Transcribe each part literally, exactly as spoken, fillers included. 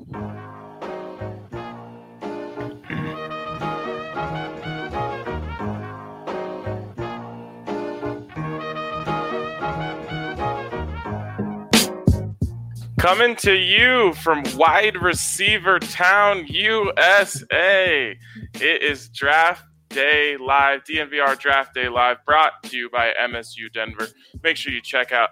Coming to you from Wide Receiver Town, U S A. It is Draft Day Live, D N V R Draft Day Live, brought to you by M S U Denver. Make sure you check out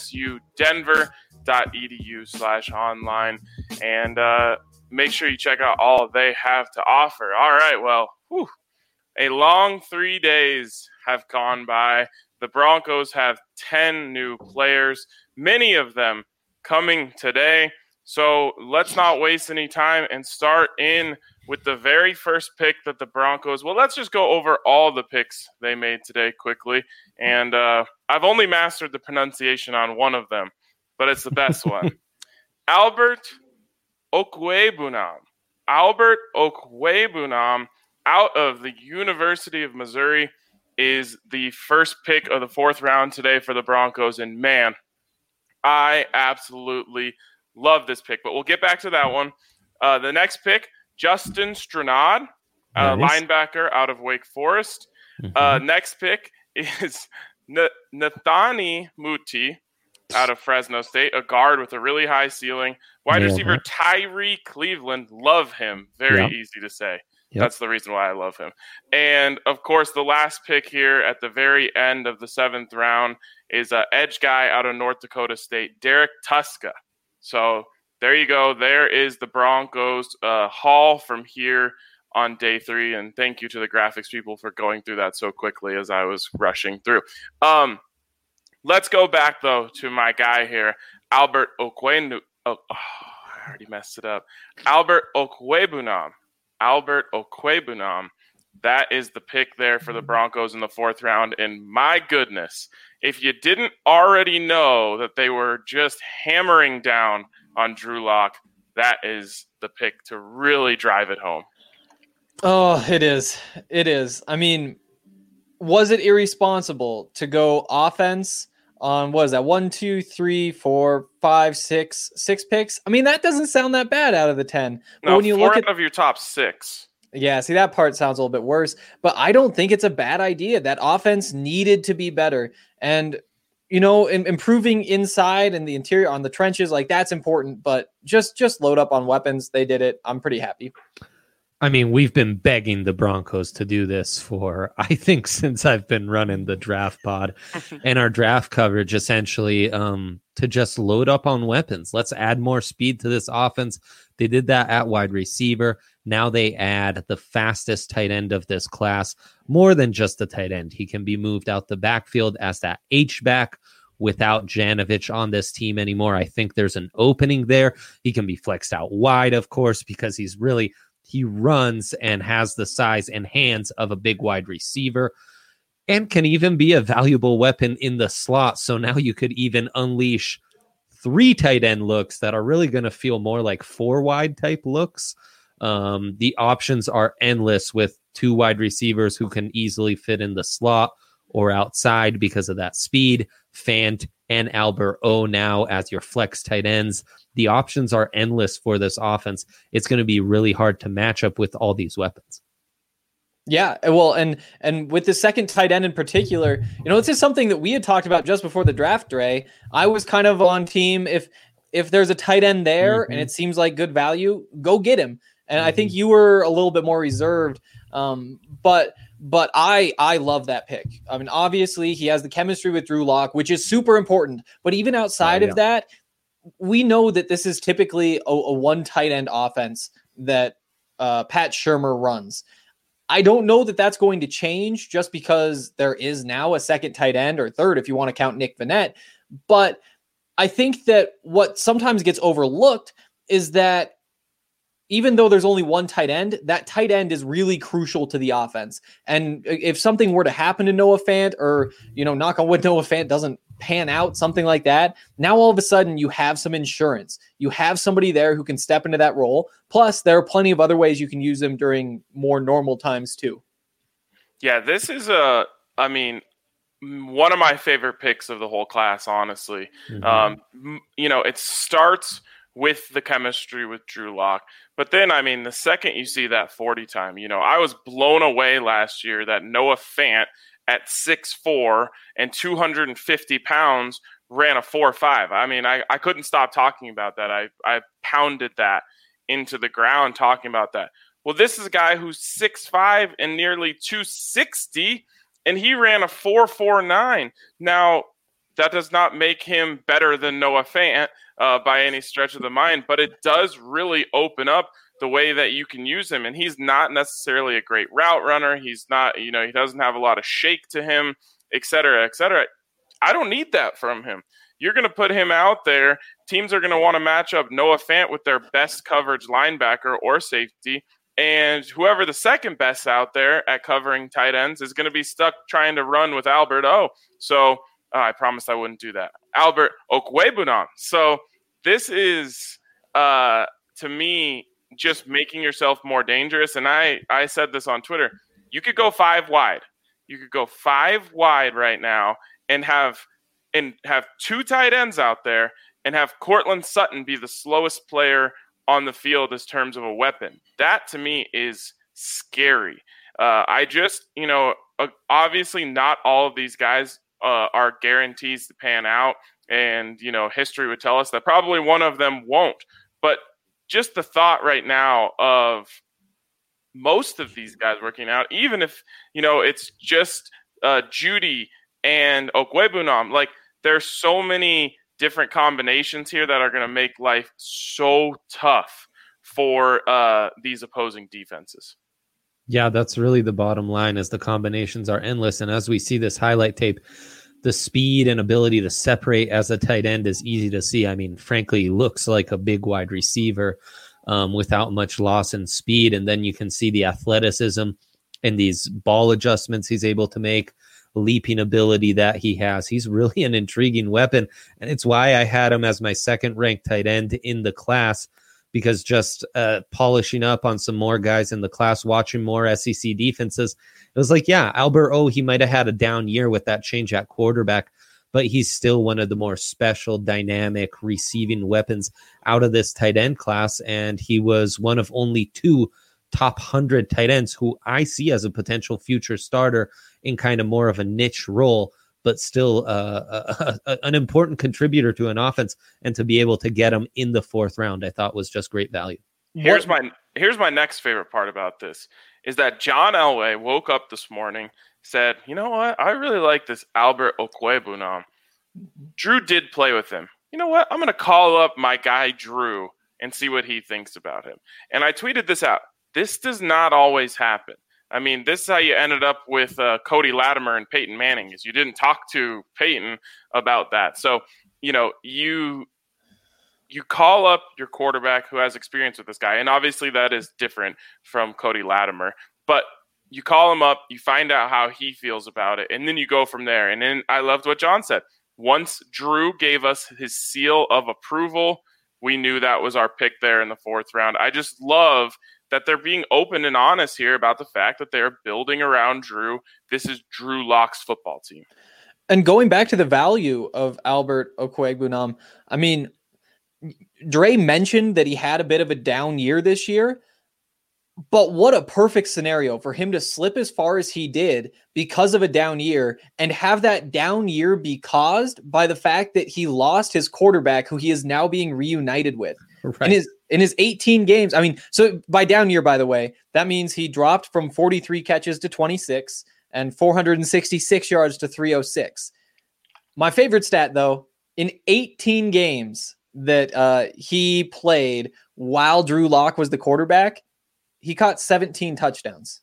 msudenver.edu slash online and uh, make sure you check out all they have to offer. All right, well, whew, a long three days have gone by. The Broncos have ten new players, many of them coming today. So let's not waste any time and start in with the very first pick that the Broncos, well, let's just go over all the picks they made today quickly. And uh, I've only mastered the pronunciation on one of them, but it's the best one. Albert Okwuegbunam. Albert Okwuegbunam out of the University of Missouri is the first pick of the fourth round today for the Broncos. And man, I absolutely love this pick, but we'll get back to that one. Uh, the next pick, Justin Strnad, uh, nice. Linebacker out of Wake Forest. Mm-hmm. Uh, next pick is N- Nathani Muti out of Fresno State, a guard with a really high ceiling. Wide Nailed receiver it. Tyree Cleveland, love him. Very yep. easy to say. Yep. That's the reason why I love him. And, of course, the last pick here at the very end of the seventh round is an edge guy out of North Dakota State, Derek Tuska. So there you go. There is the Broncos uh, haul from here on day three. And thank you to the graphics people for going through that so quickly as I was rushing through. Um, let's go back, though, to my guy here, Albert Okwuegbunam. Oh, oh, I already messed it up. Albert Okwuegbunam. Albert Okwuegbunam. That is the pick there for the Broncos in the fourth round. And my goodness, if you didn't already know that they were just hammering down on Drew Lock, that is the pick to really drive it home. Oh, it is. It is. I mean, was it irresponsible to go offense on, what is that, one, two, three, four, five, six, six picks? I mean, that doesn't sound that bad out of the ten. But no, when you four look at of your top six. Yeah, see, that part sounds a little bit worse, but I don't think it's a bad idea. That offense needed to be better. And, you know, in, improving inside and the interior on the trenches, like that's important, but just, just load up on weapons. They did it. I'm pretty happy. I mean, we've been begging the Broncos to do this for, I think, since I've been running the draft pod and our draft coverage, essentially, um, to just load up on weapons. Let's add more speed to this offense. They did that at wide receiver. Now they add the fastest tight end of this class, more than just a tight end. He can be moved out the backfield as that H-back without Janovich on this team anymore. I think there's an opening there. He can be flexed out wide, of course, because he's really... He runs and has the size and hands of a big wide receiver and can even be a valuable weapon in the slot. So now you could even unleash three tight end looks that are really going to feel more like four wide type looks. Um, the options are endless with two wide receivers who can easily fit in the slot or outside because of that speed. Fant and Albert O now as your flex tight ends. The options are endless for this offense. It's going to be really hard to match up with all these weapons. Yeah, well, and and with the second tight end in particular, you know, this is something that we had talked about just before the draft, Dre. I was kind of on team if if there's a tight end there mm-hmm. and it seems like good value, go get him. And mm-hmm. I think you were a little bit more reserved, um, but but I I love that pick. I mean, obviously he has the chemistry with Drew Lock, which is super important. But even outside oh, yeah. of that, we know that this is typically a, a one tight end offense that uh, Pat Shurmur runs. I don't know that that's going to change just because there is now a second tight end or third, if you want to count Nick Vannett. But I think that what sometimes gets overlooked is that even though there's only one tight end, that tight end is really crucial to the offense. And if something were to happen to Noah Fant or, you know, knock on wood, Noah Fant doesn't pan out, something like that, now all of a sudden you have some insurance. You have somebody there who can step into that role. Plus, there are plenty of other ways you can use them during more normal times too. Yeah, this is a, I mean, one of my favorite picks of the whole class, honestly. Mm-hmm. Um, you know, it starts with the chemistry with Drew Lock. But then, I mean, the second you see that forty time, you know, I was blown away last year that Noah Fant at six foot four and two hundred fifty pounds ran a four five. I mean, I, I couldn't stop talking about that. I, I pounded that into the ground talking about that. Well, this is a guy who's six five and nearly two sixty, and he ran a four forty-nine. Now, that does not make him better than Noah Fant uh, by any stretch of the mind, but it does really open up the way that you can use him. And he's not necessarily a great route runner. He's not, you know, he doesn't have a lot of shake to him, et cetera, et cetera. I don't need that from him. You're going to put him out there. Teams are going to want to match up Noah Fant with their best coverage linebacker or safety. And whoever the second best out there at covering tight ends is going to be stuck trying to run with Albert O. So uh, I promised I wouldn't do that. Albert Okwuegbunam. So this is, uh, to me, just making yourself more dangerous. And I, I said this on Twitter. You could go five wide. You could go five wide right now and have and have two tight ends out there and have Cortland Sutton be the slowest player on the field as terms of a weapon. That to me is scary. Uh, I just, you know, obviously not all of these guys uh, are guarantees to pan out. And, you know, history would tell us that probably one of them won't. But just the thought right now of most of these guys working out, even if, you know, it's just uh, Judy and Okwuegbunam, like there's so many different combinations here that are going to make life so tough for uh, these opposing defenses. Yeah, that's really the bottom line, is the combinations are endless. And as we see this highlight tape, the speed and ability to separate as a tight end is easy to see. I mean, frankly, he looks like a big wide receiver um, without much loss in speed. And then you can see the athleticism and these ball adjustments he's able to make, leaping ability that he has. He's really an intriguing weapon. And it's why I had him as my second ranked tight end in the class, because just uh, polishing up on some more guys in the class, watching more S E C defenses, it was like, yeah, Albert O, he might have had a down year with that change at quarterback, but he's still one of the more special, dynamic receiving weapons out of this tight end class. And he was one of only two top one hundred tight ends who I see as a potential future starter in kind of more of a niche role, but still uh, a, a, an important contributor to an offense. And to be able to get him in the fourth round, I thought was just great value. Here's my here's my next favorite part about this is that John Elway woke up this morning, said, you know what? I really like this Albert Okwuegbunam. Drew did play with him. You know what? I'm going to call up my guy Drew and see what he thinks about him. And I tweeted this out. This does not always happen. I mean, this is how you ended up with uh, Cody Latimer and Peyton Manning, is you didn't talk to Peyton about that. So, you know, you you call up your quarterback who has experience with this guy, and obviously that is different from Cody Latimer, but you call him up, you find out how he feels about it, and then you go from there. And then I loved what John said. Once Drew gave us his seal of approval, we knew that was our pick there in the fourth round. I just love that they're being open and honest here about the fact that they're building around Drew. This is Drew Lock's football team. And going back to the value of Albert Okwuegbunam, I mean, Dre mentioned that he had a bit of a down year this year, but what a perfect scenario for him to slip as far as he did because of a down year, and have that down year be caused by the fact that he lost his quarterback, who he is now being reunited with. Right. In his in his eighteen games. I mean, so by down year, by the way, that means he dropped from forty-three catches to twenty-six and four hundred sixty-six yards to three oh six. My favorite stat, though, in eighteen games that uh, he played while Drew Lock was the quarterback, he caught seventeen touchdowns.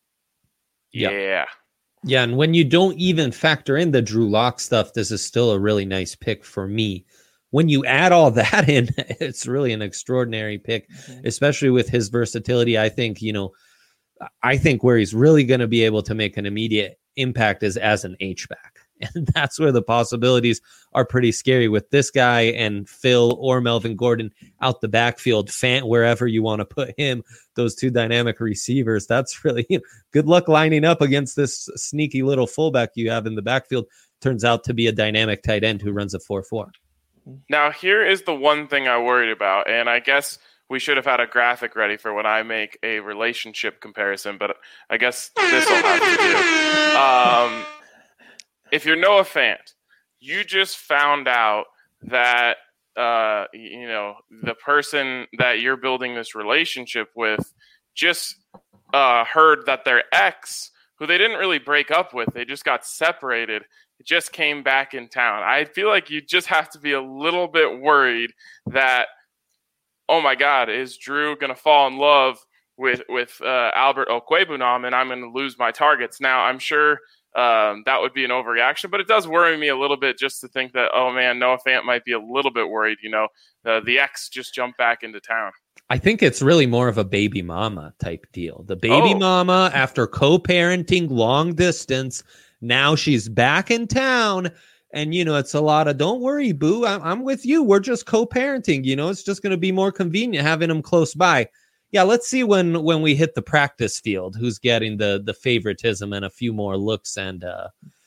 Yeah. Yeah. Yeah, and when you don't even factor in the Drew Lock stuff, this is still a really nice pick for me. When you add all that in, it's really an extraordinary pick, mm-hmm. especially with his versatility. I think, you know, I think where he's really going to be able to make an immediate impact is as an H-back. And that's where the possibilities are pretty scary with this guy and Phil or Melvin Gordon out the backfield, Fant, wherever you want to put him, those two dynamic receivers. That's really, you know, good luck lining up against this sneaky little fullback you have in the backfield. Turns out to be a dynamic tight end who runs a four four. Now, here is the one thing I worried about, and I guess we should have had a graphic ready for when I make a relationship comparison, but I guess this will have to do. Um, if you're Noah Fant, you just found out that uh, you know the person that you're building this relationship with just uh, heard that their ex, who they didn't really break up with, they just got separated, just came back in town. I feel like you just have to be a little bit worried that, oh my God, is Drew going to fall in love with with uh, Albert Okwuegbunam and I'm going to lose my targets? Now, I'm sure um, that would be an overreaction, but it does worry me a little bit just to think that, oh man, Noah Fant might be a little bit worried. You know, uh, the ex just jumped back into town. I think it's really more of a baby mama type deal. The baby Oh. mama, after co-parenting long distance, now she's back in town. And, you know, it's a lot of, don't worry, boo, I'm, I'm with you. We're just co-parenting. You know, it's just going to be more convenient having them close by. Yeah, let's see when when we hit the practice field, who's getting the the favoritism and a few more looks and, uh,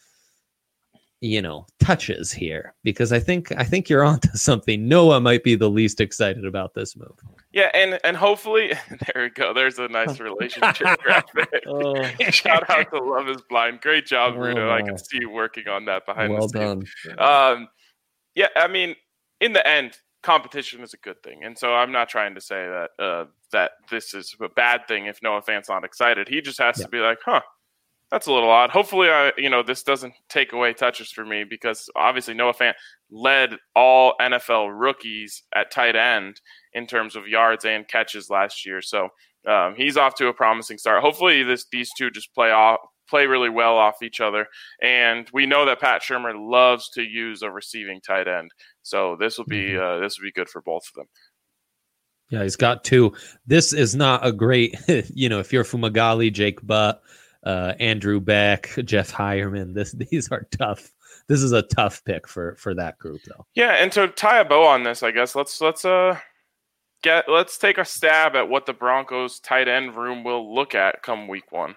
you know, touches here. Because I think I think you're onto something. Noah might be the least excited about this move. Yeah, and, and hopefully, there we go. There's a nice relationship graphic. Oh. Shout out to Love is Blind. Great job, Bruno. Oh, I my. can see you working on that behind Well the scenes. done. Um, yeah, I mean, in the end, competition is a good thing. And so I'm not trying to say that uh, that this is a bad thing if Noah Fant's not excited. He just has Yeah. to be like, huh, that's a little odd. Hopefully, I, you know, this doesn't take away touches for me because obviously Noah Fant led all N F L rookies at tight end in terms of yards and catches last year. So um, he's off to a promising start. Hopefully this these two just play off, play really well off each other. And we know that Pat Shurmur loves to use a receiving tight end. So this will be uh, this will be good for both of them. Yeah, he's got two. This is not a great, you know, if you're Fumagalli, Jake Butt, uh, Andrew Beck, Jeff Hireman, this these are tough. This is a tough pick for for that group, though. Yeah, and to tie a bow on this, I guess let's let's uh get let's take a stab at what the Broncos tight end room will look at come week one.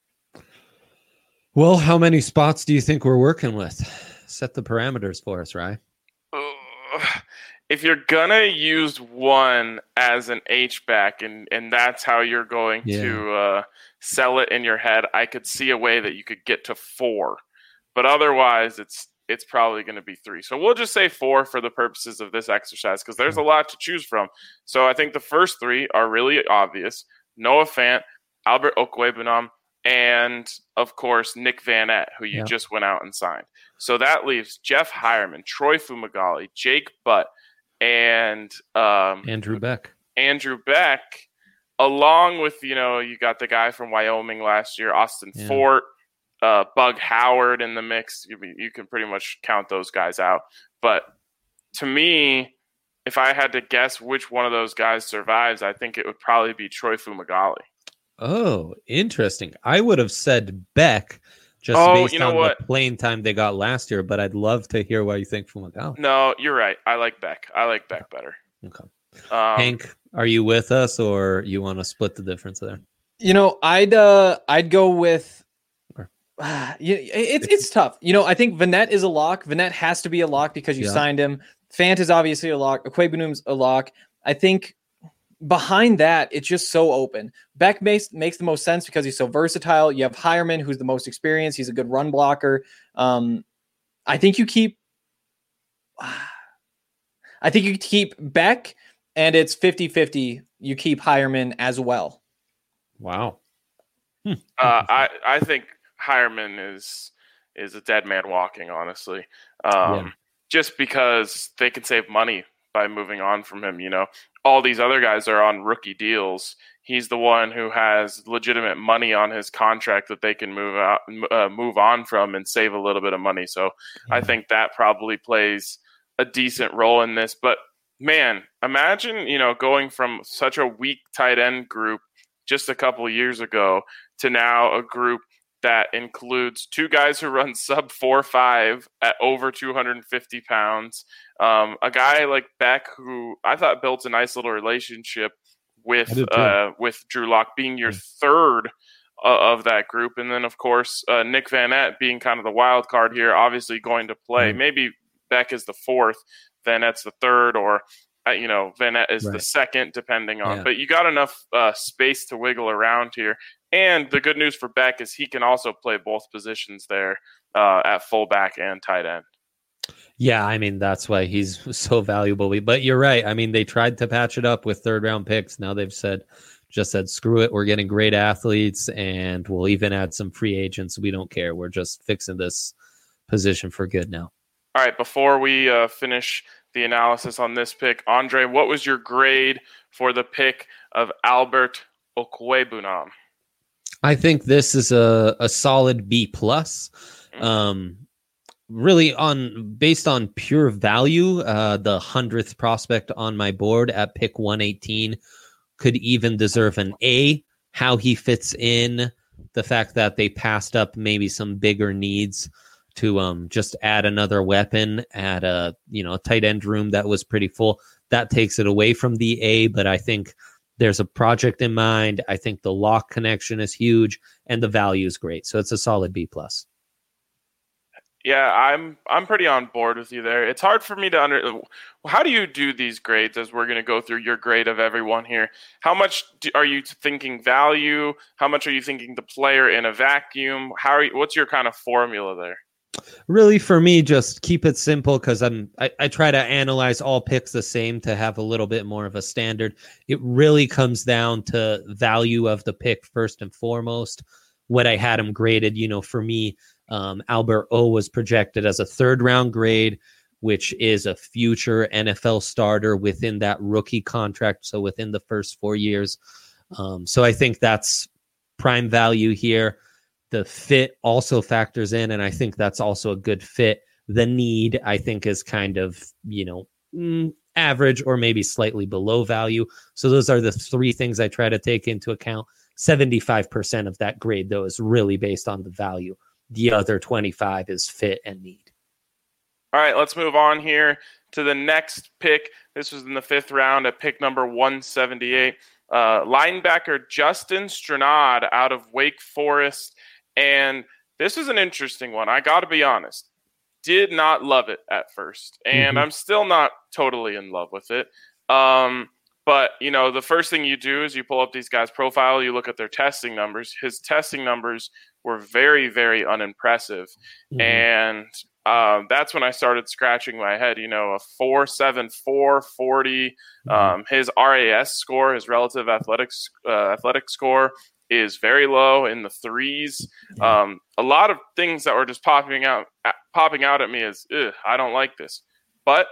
Well, how many spots do you think we're working with? Set the parameters for us, right? Ugh. If you're gonna use one as an H back and and that's how you're going Yeah. to uh, sell it in your head, I could see a way that you could get to four, but otherwise it's it's probably going to be three. So we'll just say four for the purposes of this exercise because there's a lot to choose from. So I think the first three are really obvious: Noah Fant, Albert Okwuegbunam, and of course Nick Van Ette, who you Yeah. just went out and signed. So that leaves Jeff Hireman, Troy Fumagalli, Jake Butt, and um, Andrew Beck. Andrew Beck, along with, you know, you got the guy from Wyoming last year, Austin Yeah. Fort, uh, Bug Howard in the mix. You, you can pretty much count those guys out. But to me, if I had to guess which one of those guys survives, I think it would probably be Troy Fumagalli. Oh, interesting. I would have said Beck just Oh, based you know on what? the playing time they got last year, but I'd love to hear what you think from Fumagalli. No, you're right. I like Beck. I like Beck better. Okay. Um, Hank, are you with us or you want to split the difference there? You know, I'd uh, I'd go with. Sure. Uh, you, it's it's tough. You know, I think Vanette is a lock. Vanette has to be a lock because you Yeah. signed him. Fant is obviously a lock. Okwuegbunam's a lock. I think behind that, it's just so open. Beck makes makes the most sense because he's so versatile. You have Hireman, who's the most experienced. He's a good run blocker. Um, I think you keep. I think you keep Beck, and it's fifty-fifty. You keep Hireman as well. Wow. Uh, I I think Hireman is is a dead man walking, honestly. Um, Yeah. Just because they can save money by moving on from him. You know, all these other guys are on rookie deals. He's the one who has legitimate money on his contract that they can move out, uh, move on from, and save a little bit of money. So I think that probably plays a decent role in this. But man, imagine, you know, going from such a weak tight end group just a couple of years ago to now a group that includes two guys who run sub four five at over two hundred fifty pounds. Um, a guy like Beck, who I thought built a nice little relationship I with did too. uh, with Drew Lock, being your third uh, of that group, and then of course uh, Nick Van Ette being kind of the wild card here, obviously going to play. Mm. Maybe Beck is the fourth. Van Ette's the third, or uh, you know, Van Ette is Right. the second, depending on. Yeah. But you got enough uh, space to wiggle around here. And the good news for Beck is he can also play both positions there uh, at fullback and tight end. Yeah, I mean, that's why he's so valuable. But you're right. I mean, they tried to patch it up with third round picks. Now they've said, just said, screw it. We're getting great athletes, and we'll even add some free agents. We don't care. We're just fixing this position for good now. All right, before we uh, finish the analysis on this pick, Andre, what was your grade for the pick of Albert Okwuegbunam? I think this is a, a solid B plus. Um, really on based on pure value, uh, the hundredth prospect on my board at pick one eighteen could even deserve an A. How he fits in, the fact that they passed up maybe some bigger needs to um just add another weapon at a you know tight end room that was pretty full, that takes it away from the A. But I think there's a project in mind. I think the lock connection is huge, and the value is great. So it's a solid B plus. Yeah, I'm I'm pretty on board with you there. It's hard for me to under. How do you do these grades? As we're going to go through your grade of everyone here. How much do, are you thinking value? How much are you thinking the player in a vacuum? How are you, what's your kind of formula there? Really, for me, just keep it simple, because I'm I, I try to analyze all picks the same to have a little bit more of a standard. It really comes down to value of the pick first and foremost. What I had him graded, you know, for me, um, Albert O was projected as a third round grade, which is a future N F L starter within that rookie contract. So within the first four years. Um, so I think that's prime value here. The fit also factors in, and I think that's also a good fit. The need, I think, is kind of, you know, mm, average or maybe slightly below value. So those are the three things I try to take into account. seventy-five percent of that grade, though, is really based on the value. The other twenty-five is fit and need. All right, let's move on here to the next pick. This was in the fifth round at pick number one seventy-eight. Uh, linebacker Justin Strnad out of Wake Forest. And this is an interesting one. I got to be honest. Did not love it at first. And Mm-hmm. I'm still not totally in love with it. Um, but, you know, the first thing you do is you pull up these guys' profile. You look at their testing numbers. His testing numbers were very, very unimpressive. Mm-hmm. And um, that's when I started scratching my head. You know, a four seven four forty. Mm-hmm. Um, his R A S score, his relative athletics uh, athletic score, is very low in the threes. Yeah. Um, a lot of things that were just popping out, popping out at me is, I don't like this. But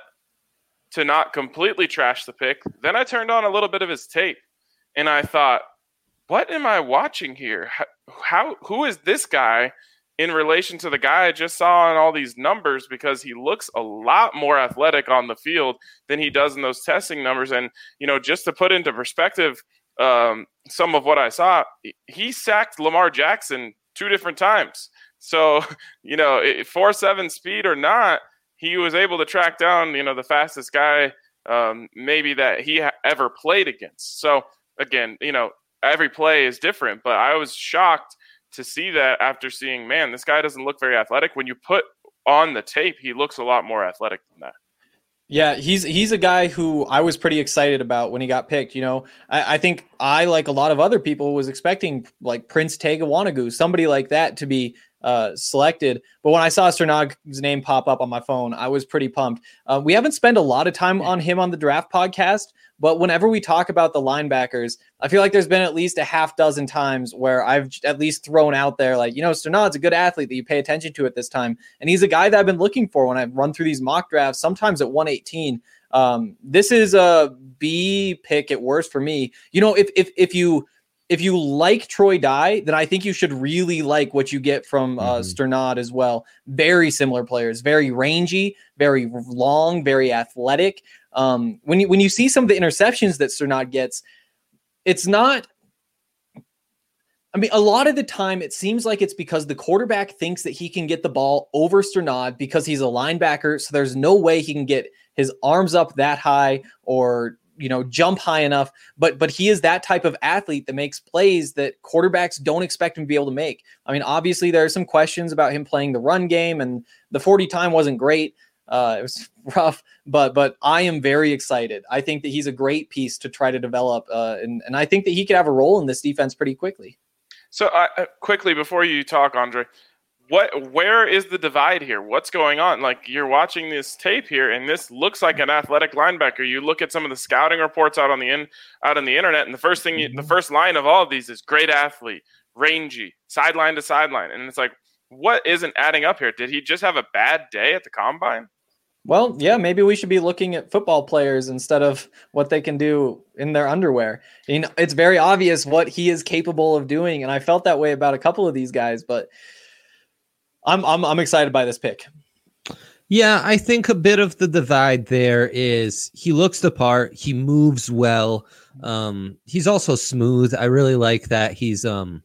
to not completely trash the pick, then I turned on a little bit of his tape, and I thought, what am I watching here? How, how who is this guy in relation to the guy I just saw in all these numbers? Because he looks a lot more athletic on the field than he does in those testing numbers. And, you know, just to put into perspective, um, some of what I saw, he sacked Lamar Jackson two different times. So, you know, four seven speed or not, he was able to track down, you know, the fastest guy um, maybe that he ha- ever played against. So, again, you know, every play is different, but I was shocked to see that after seeing, man, this guy doesn't look very athletic. When you put on the tape, he looks a lot more athletic than that. Yeah, he's he's a guy who I was pretty excited about when he got picked. You know, I, I think I, like a lot of other people, was expecting like Prince Tega Wanagou, somebody like that, to be uh, selected. But when I saw Strnad's name pop up on my phone, I was pretty pumped. Uh, we haven't spent a lot of time on him on the draft podcast, but whenever we talk about the linebackers, I feel like there's been at least a half dozen times where I've at least thrown out there, like, you know, Strnad's a good athlete that you pay attention to at this time. And he's a guy that I've been looking for when I run through these mock drafts, sometimes at one eighteen. Um, this is a B pick at worst for me. You know, if if if you if you like Troy Dye, then I think you should really like what you get from uh, Mhm. Strnad as well. Very similar players, very rangy, very long, very athletic. Um, when you when you see some of the interceptions that Strnad gets, it's not. I mean, a lot of the time it seems like it's because the quarterback thinks that he can get the ball over Strnad because he's a linebacker. So there's no way he can get his arms up that high or, you know, jump high enough. But but he is that type of athlete that makes plays that quarterbacks don't expect him to be able to make. I mean, obviously there are some questions about him playing the run game, and the forty time wasn't great. Uh, it was rough, but but I am very excited. I think that he's a great piece to try to develop, uh, and and I think that he could have a role in this defense pretty quickly. So uh, quickly before you talk, Andre, what where is the divide here? What's going on? Like, you're watching this tape here, and this looks like an athletic linebacker. You look at some of the scouting reports out on the in out on the internet, and the first thing, you, the first line of all of these is great athlete, rangy, sideline to sideline, and it's like, what isn't adding up here? Did he just have a bad day at the combine? Well, yeah, maybe we should be looking at football players instead of what they can do in their underwear. You know, it's very obvious what he is capable of doing, and I felt that way about a couple of these guys, but I'm I'm I'm excited by this pick. Yeah, I think a bit of the divide there is he looks the part, he moves well. Um, he's also smooth. I really like that. He's um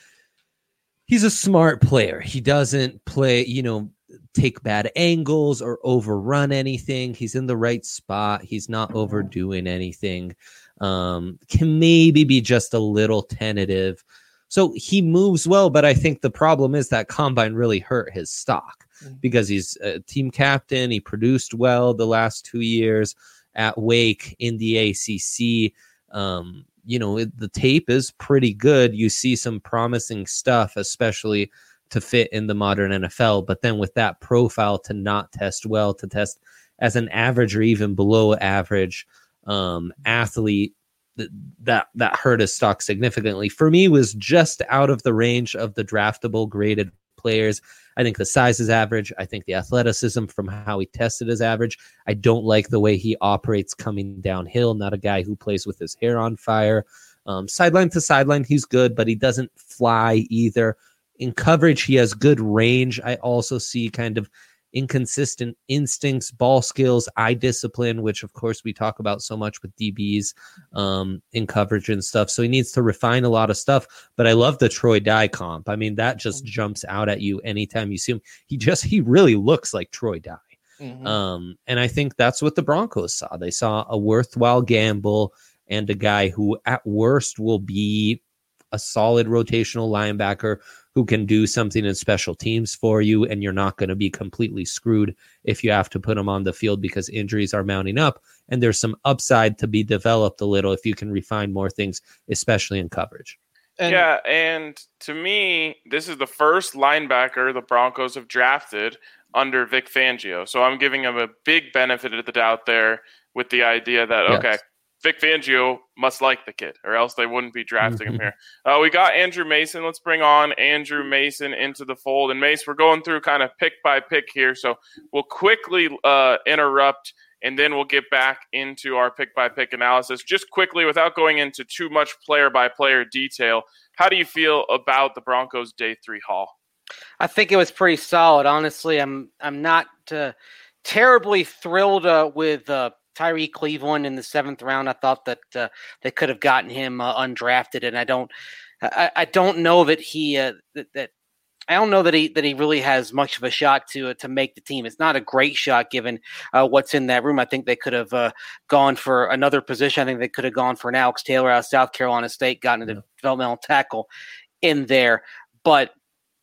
he's a smart player. He doesn't play, you know, take bad angles or overrun anything. He's in the right spot. He's not overdoing anything. Um, can maybe be just a little tentative. So he moves well, but I think the problem is that combine really hurt his stock because he's a team captain. He produced well the last two years at Wake in the A C C. Um, you know, it, the tape is pretty good. You see some promising stuff, especially to fit in the modern N F L. But then with that profile to not test well, to test as an average or even below average um, athlete, that that hurt his stock significantly. For me, was just out of the range of the draftable graded players. I think the size is average. I think the athleticism from how he tested is average. I don't like the way he operates coming downhill. Not a guy who plays with his hair on fire. Um, sideline to sideline, he's good, but he doesn't fly either. In coverage, he has good range. I also see kind of inconsistent instincts, ball skills, eye discipline, which of course we talk about so much with D Bs um, in coverage and stuff. So he needs to refine a lot of stuff. But I love the Troy Dye comp. I mean, that just jumps out at you anytime you see him. He just, he really looks like Troy Dye. Mm-hmm. Um, and I think that's what the Broncos saw. They saw a worthwhile gamble and a guy who at worst will be a solid rotational linebacker who can do something in special teams for you, and you're not going to be completely screwed if you have to put him on the field because injuries are mounting up, and there's some upside to be developed a little if you can refine more things, especially in coverage. And yeah, and to me, this is the first linebacker the Broncos have drafted under Vic Fangio, so I'm giving him a big benefit of the doubt there with the idea that, yes. okay, Vic Fangio must like the kid, or else they wouldn't be drafting him here. Uh, we got Andrew Mason. Let's bring on Andrew Mason into the fold. And Mace, we're going through kind of pick by pick here, so we'll quickly uh, interrupt, and then we'll get back into our pick by pick analysis. Just quickly, without going into too much player by player detail, how do you feel about the Broncos' day three haul? I think it was pretty solid. Honestly, I'm I'm not uh, terribly thrilled uh, with. Uh, Tyree Cleveland in the seventh round. I thought that uh, they could have gotten him uh, undrafted, and I don't, I, I don't know that he, uh, that, that I don't know that he that he really has much of a shot to uh, to make the team. It's not a great shot given uh, what's in that room. I think they could have uh, gone for another position. I think they could have gone for an Alex Taylor out of South Carolina State, gotten a yeah. developmental tackle in there. But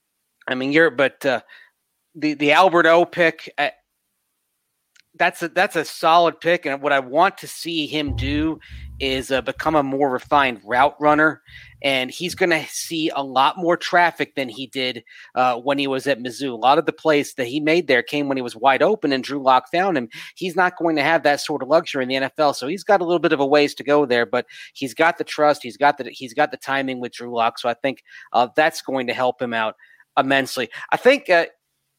I mean, you're but uh, the the Albert O pick. I, That's a that's a solid pick, and what I want to see him do is uh, become a more refined route runner, and he's going to see a lot more traffic than he did uh, when he was at Mizzou. A lot of the plays that he made there came when he was wide open, and Drew Lock found him. He's not going to have that sort of luxury in the N F L, so he's got a little bit of a ways to go there. But he's got the trust, he's got the he's got the timing with Drew Lock, so I think uh, that's going to help him out immensely. I think. Uh,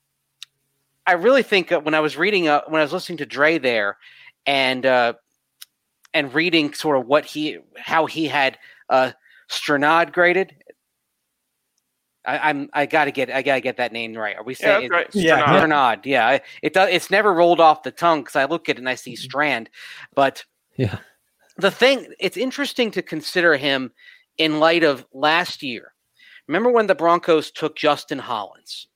I really think uh, when I was reading, uh, when I was listening to Dre there, and uh, and reading sort of what he, how he had uh, Strnad graded. I, I'm I gotta get I gotta get that name right. Are we saying yeah, right. yeah, Strnad? Yeah, it does. It's never rolled off the tongue because I look at it and I see Strand, but yeah, the thing it's interesting to consider him in light of last year. Remember when the Broncos took Justin Hollins?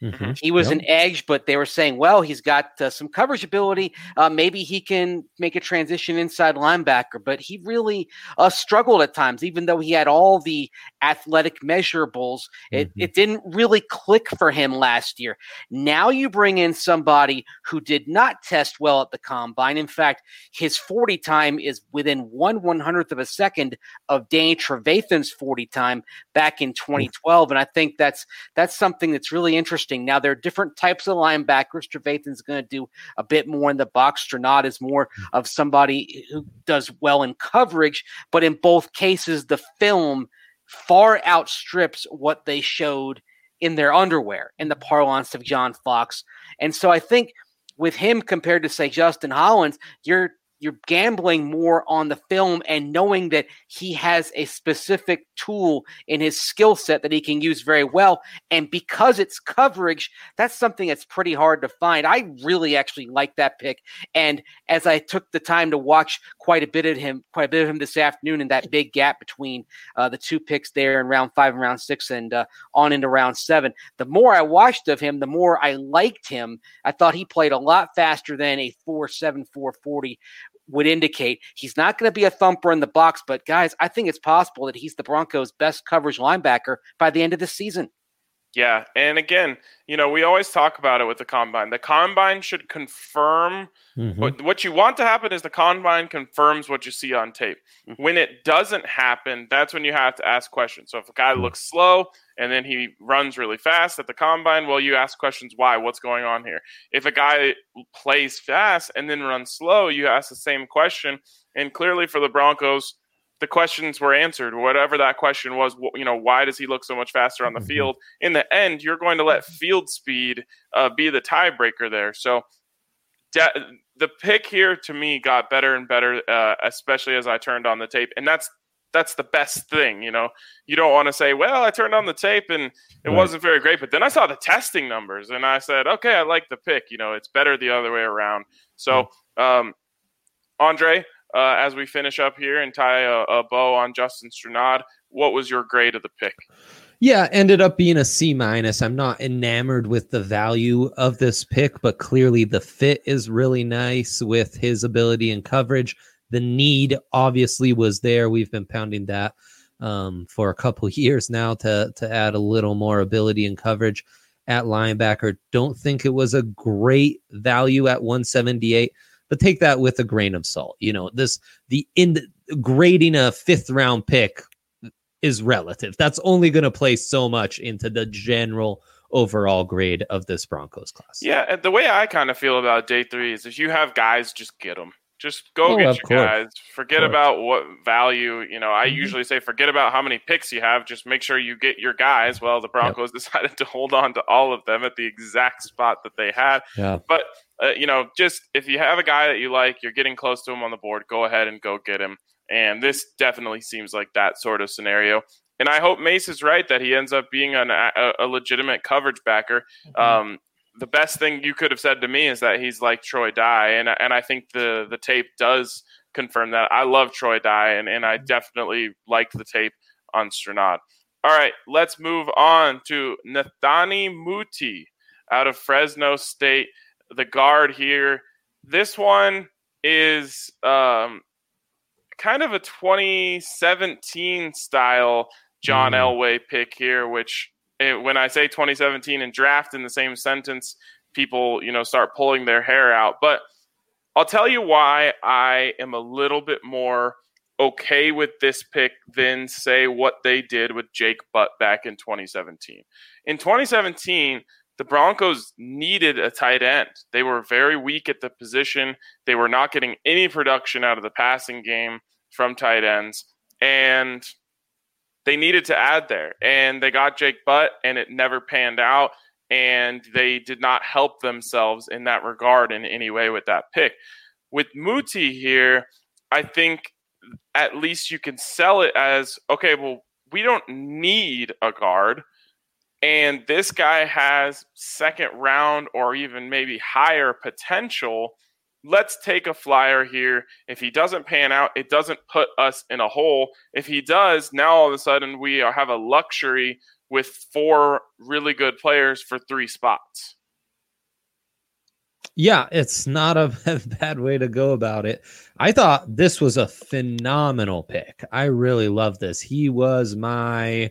Mm-hmm. He was Yep. an edge, but they were saying, well, he's got uh, some coverage ability. Uh, maybe he can make a transition inside linebacker, but he really uh, struggled at times, even though he had all the athletic measurables. It, Mm-hmm. it didn't really click for him last year. Now you bring in somebody who did not test well at the combine. In fact, his forty time is within one one hundredth of a second of Danny Trevathan's forty time back in twenty twelve. And I think that's that's something that's really interesting. Now, there are different types of linebackers. Trevathan's going to do a bit more in the box. Strenad is more of somebody who does well in coverage, but in both cases, the film far outstrips what they showed in their underwear, in the parlance of John Fox. And so I think with him compared to, say, Justin Hollins, you're you're gambling more on the film and knowing that he has a specific tool in his skill set that he can use very well. And because it's coverage, that's something that's pretty hard to find. I really actually like that pick. And as I took the time to watch quite a bit of him, quite a bit of him this afternoon in that big gap between uh, the two picks there in round five and round six and uh, on into round seven, the more I watched of him, the more I liked him. I thought he played a lot faster than a four seven, four forty would indicate. He's not going to be a thumper in the box, but guys, I think it's possible that he's the Broncos' best coverage linebacker by the end of the season. Yeah, and again, you know, we always talk about it with the combine. The combine should confirm Mm-hmm. what, what you want to happen is the combine confirms what you see on tape. Mhm. When it doesn't happen, that's when you have to ask questions. So if a guy Mhm. looks slow and then he runs really fast at the combine, well, you ask questions, why? What's going on here? If a guy plays fast and then runs slow, you ask the same question. And clearly for the Broncos, the questions were answered. Whatever that question was, you know, why does he look so much faster on the Mhm. field? In the end, you're going to let field speed uh, be the tiebreaker there. So de- the pick here to me got better and better, uh, especially as I turned on the tape. And that's that's the best thing, you know. You don't want to say, well, I turned on the tape and it Right. wasn't very great. But then I saw the testing numbers and I said, okay, I like the pick. You know, it's better the other way around. So, um, Andre, uh, as we finish up here and tie a, a bow on Justin Strenad, what was your grade of the pick? Yeah, ended up being a C minus. I'm not enamored with the value of this pick, but clearly the fit is really nice with his ability and coverage. The need obviously was there. We've been pounding that um, for a couple years now to to add a little more ability and coverage at linebacker. Don't think it was a great value at one seventy-eight, but take that with a grain of salt. You know, this the in grading a fifth round pick is relative. That's only going to play so much into the general overall grade of this Broncos class. Yeah, and the way I kind of feel about day three is if you have guys, just get them. Just go Oh, get of your course. guys. Forget course. about what value, you know, I Mhm. usually say forget about how many picks you have. Just make sure you get your guys. Well, the Broncos decided to hold on to all of them at the exact spot that they had. Yeah. But, uh, you know, just if you have a guy that you like, you're getting close to him on the board, go ahead and go get him. And this definitely seems like that sort of scenario. And I hope Mace is right that he ends up being an, a, a legitimate coverage backer. Mm-hmm. Um, the best thing you could have said to me is that he's like Troy Dye, and and I think the the tape does confirm that. I love Troy Dye, and, and I definitely liked the tape on Strenad. All right, let's move on to Nathani Muti out of Fresno State, the guard here. This one is um, kind of a twenty seventeen style John Mm. Elway pick here, which eh, when I say twenty seventeen and draft in the same sentence, people, you know, start pulling their hair out. But I'll tell you why I am a little bit more okay with this pick than, say, what they did with Jake Butt back in twenty seventeen. In twenty seventeen, the Broncos needed a tight end. They were very weak at the position. They were not getting any production out of the passing game from tight ends. And they needed to add there. And they got Jake Butt, and it never panned out. And they did not help themselves in that regard in any way with that pick. With Muti here, I think at least you can sell it as, okay, well, we don't need a guard. And this guy has second round or even maybe higher potential. Let's take a flyer here. If he doesn't pan out, it doesn't put us in a hole. If he does, now all of a sudden we are, have a luxury with four really good players for three spots. Yeah, it's not a bad way to go about it. I thought this was a phenomenal pick. I really love this. He was my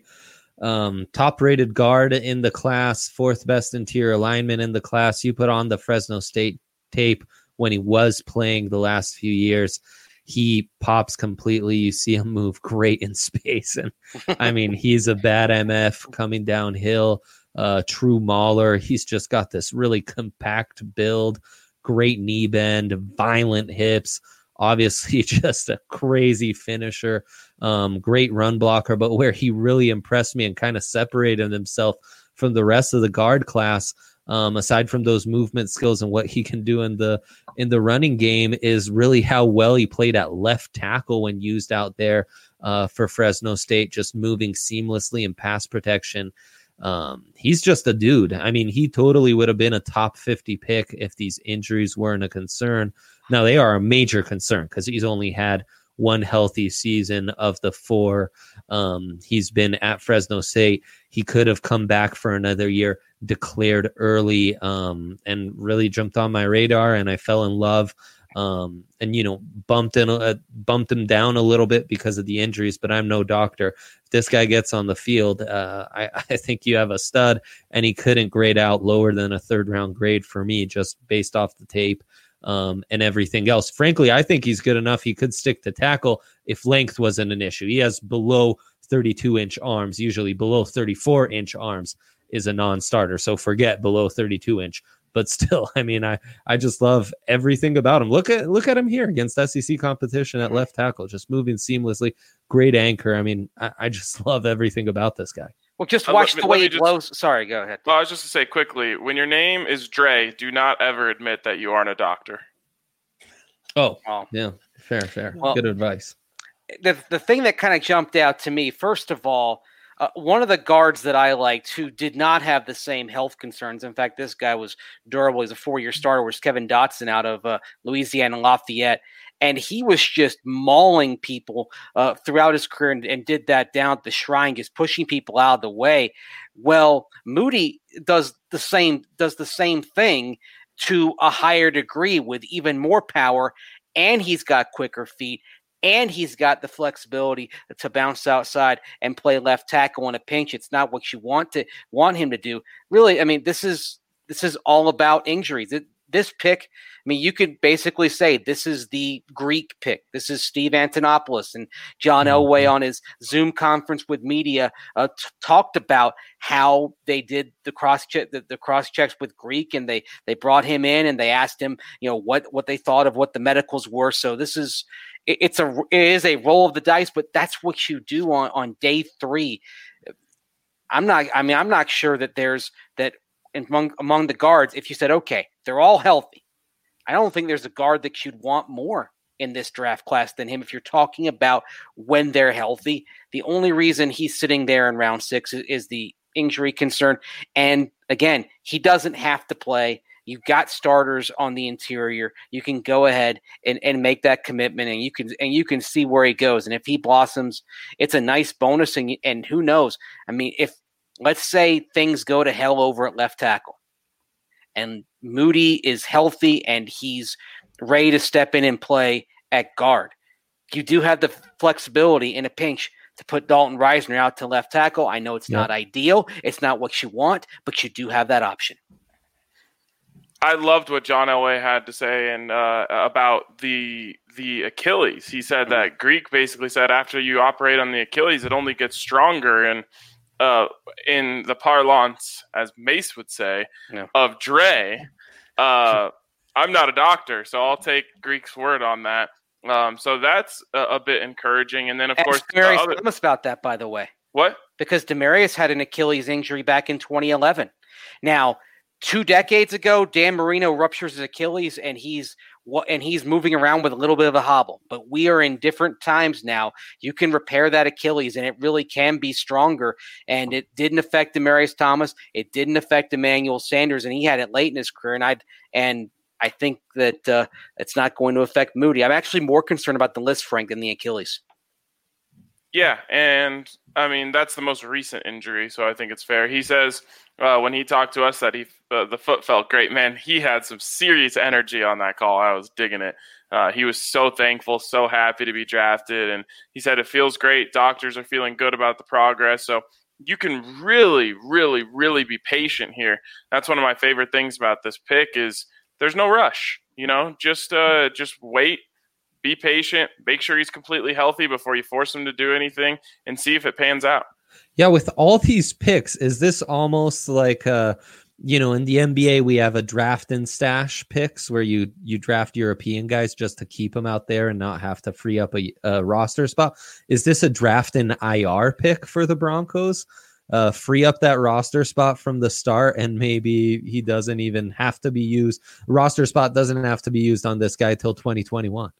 um, top-rated guard in the class, fourth best interior lineman in the class. You put on the Fresno State tape when he was playing the last few years. He pops completely. You see him move great in space. And I mean, he's a bad M F coming downhill. Uh, true mauler. He's just got this really compact build, great knee bend, violent hips, obviously just a crazy finisher, um, great run blocker. But where he really impressed me and kind of separated himself from the rest of the guard class, um, aside from those movement skills and what he can do in the in the running game, is really how well he played at left tackle when used out there uh, for Fresno State, just moving seamlessly in pass protection. Um, he's just a dude. I mean, he totally would have been a top fifty pick if these injuries weren't a concern. Now, they are a major concern because he's only had one healthy season of the four. Um, he's been at Fresno State. He could have come back for another year, declared early, um, and really jumped on my radar, and I fell in love. Um, and, you know, bumped in, uh, bumped him down a little bit because of the injuries, but I'm no doctor. If this guy gets on the field, uh, I, I think you have a stud, and he couldn't grade out lower than a third round grade for me, just based off the tape, um, and everything else. Frankly, I think he's good enough. He could stick to tackle if length wasn't an issue. He has below thirty-two inch arms, usually below thirty-four inch arms is a non-starter. So forget below thirty-two inch. But still, I mean, I, I just love everything about him. Look at look at him here against S E C competition at left tackle, just moving seamlessly. Great anchor. I mean, I, I just love everything about this guy. Well, just watch uh, the way he just, blows. Sorry, go ahead. Well, I was just to say quickly, when your name is Dre, do not ever admit that you aren't a doctor. Oh, oh. yeah, fair, fair. Well, good advice. The the thing that kind of jumped out to me, first of all, Uh, one of the guards that I liked who did not have the same health concerns. In fact, this guy was durable. He's a four-year starter. Was Kevin Dotson out of uh, Louisiana Lafayette. And he was just mauling people uh, throughout his career and, and did that down at the Shrine, just pushing people out of the way. Well, Moody does the same, does the same thing to a higher degree with even more power, and he's got quicker feet. And he's got the flexibility to bounce outside and play left tackle in a pinch. It's not what you want to want him to do. Really, I mean, this is this is all about injuries. It, this pick, I mean, you could basically say this is the Greek pick. This is Steve Antonopoulos, and John Elway on his Zoom conference with media uh, t- talked about how they did the cross check, the, the cross checks with Greek, and they they brought him in and they asked him, you know, what what they thought of what the medicals were. So this is. It's a it is a roll of the dice, but that's what you do on, on day three. I'm not. I mean, I'm not sure that there's that among among the guards. If you said, okay, they're all healthy, I don't think there's a guard that you'd want more in this draft class than him. If you're talking about when they're healthy, the only reason he's sitting there in round six is, is the injury concern. And again, he doesn't have to play. You've got starters on the interior. You can go ahead and, and make that commitment, and you can and you can see where he goes. And if he blossoms, it's a nice bonus. And, and who knows? I mean, if let's say things go to hell over at left tackle, and Moody is healthy and he's ready to step in and play at guard, you do have the flexibility in a pinch to put Dalton Reisner out to left tackle. I know it's yep. not ideal. It's not what you want, but you do have that option. I loved what John Elway had to say and uh, about the the Achilles. He said that Greek basically said after you operate on the Achilles, it only gets stronger. And uh, in the parlance, as Mace would say, yeah. of Dre, uh, I'm not a doctor, so I'll take Greek's word on that. Um, so that's a, a bit encouraging. And then, of Ask course, Demarius other... Thomas about that, by the way. What? Because Demarius had an Achilles injury back in twenty eleven. Now, Two decades ago, Dan Marino ruptures his Achilles, and he's and he's moving around with a little bit of a hobble. But we are in different times now. You can repair that Achilles, and it really can be stronger. And it didn't affect Demarius Thomas. It didn't affect Emmanuel Sanders, and he had it late in his career. And I and I think that uh, it's not going to affect Moody. I'm actually more concerned about the Lisfranc than the Achilles. Yeah, and I mean that's the most recent injury, so I think it's fair. He says uh, when he talked to us that he uh, the foot felt great. Man, he had some serious energy on that call. I was digging it. Uh, he was so thankful, so happy to be drafted, and he said it feels great. Doctors are feeling good about the progress, so you can really, really, really be patient here. That's one of my favorite things about this pick is there's no rush. You know, just uh, just wait. Be patient, make sure he's completely healthy before you force him to do anything and see if it pans out. Yeah, with all these picks, is this almost like, uh, you know, in the N B A, we have a draft and stash picks where you you draft European guys just to keep them out there and not have to free up a, a roster spot. Is this a draft and I R pick for the Broncos? Uh, free up that roster spot from the start, and maybe he doesn't even have to be used. Roster spot doesn't have to be used on this guy till twenty twenty-one.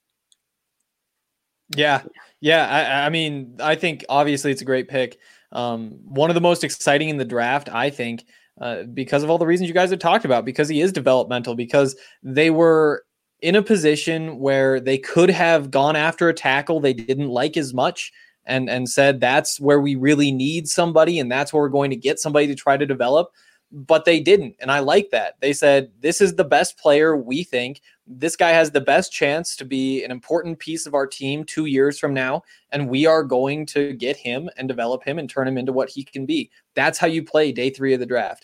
Yeah. Yeah. I, I mean, I think obviously it's a great pick. Um, one of the most exciting in the draft, I think, uh, because of all the reasons you guys have talked about, because he is developmental, because they were in a position where they could have gone after a tackle they didn't like as much and, and said, that's where we really need somebody. And that's where we're going to get somebody to try to develop. But they didn't. And I like that. They said, this is the best player we think. This guy has the best chance to be an important piece of our team two years from now. And we are going to get him and develop him and turn him into what he can be. That's how you play day three of the draft.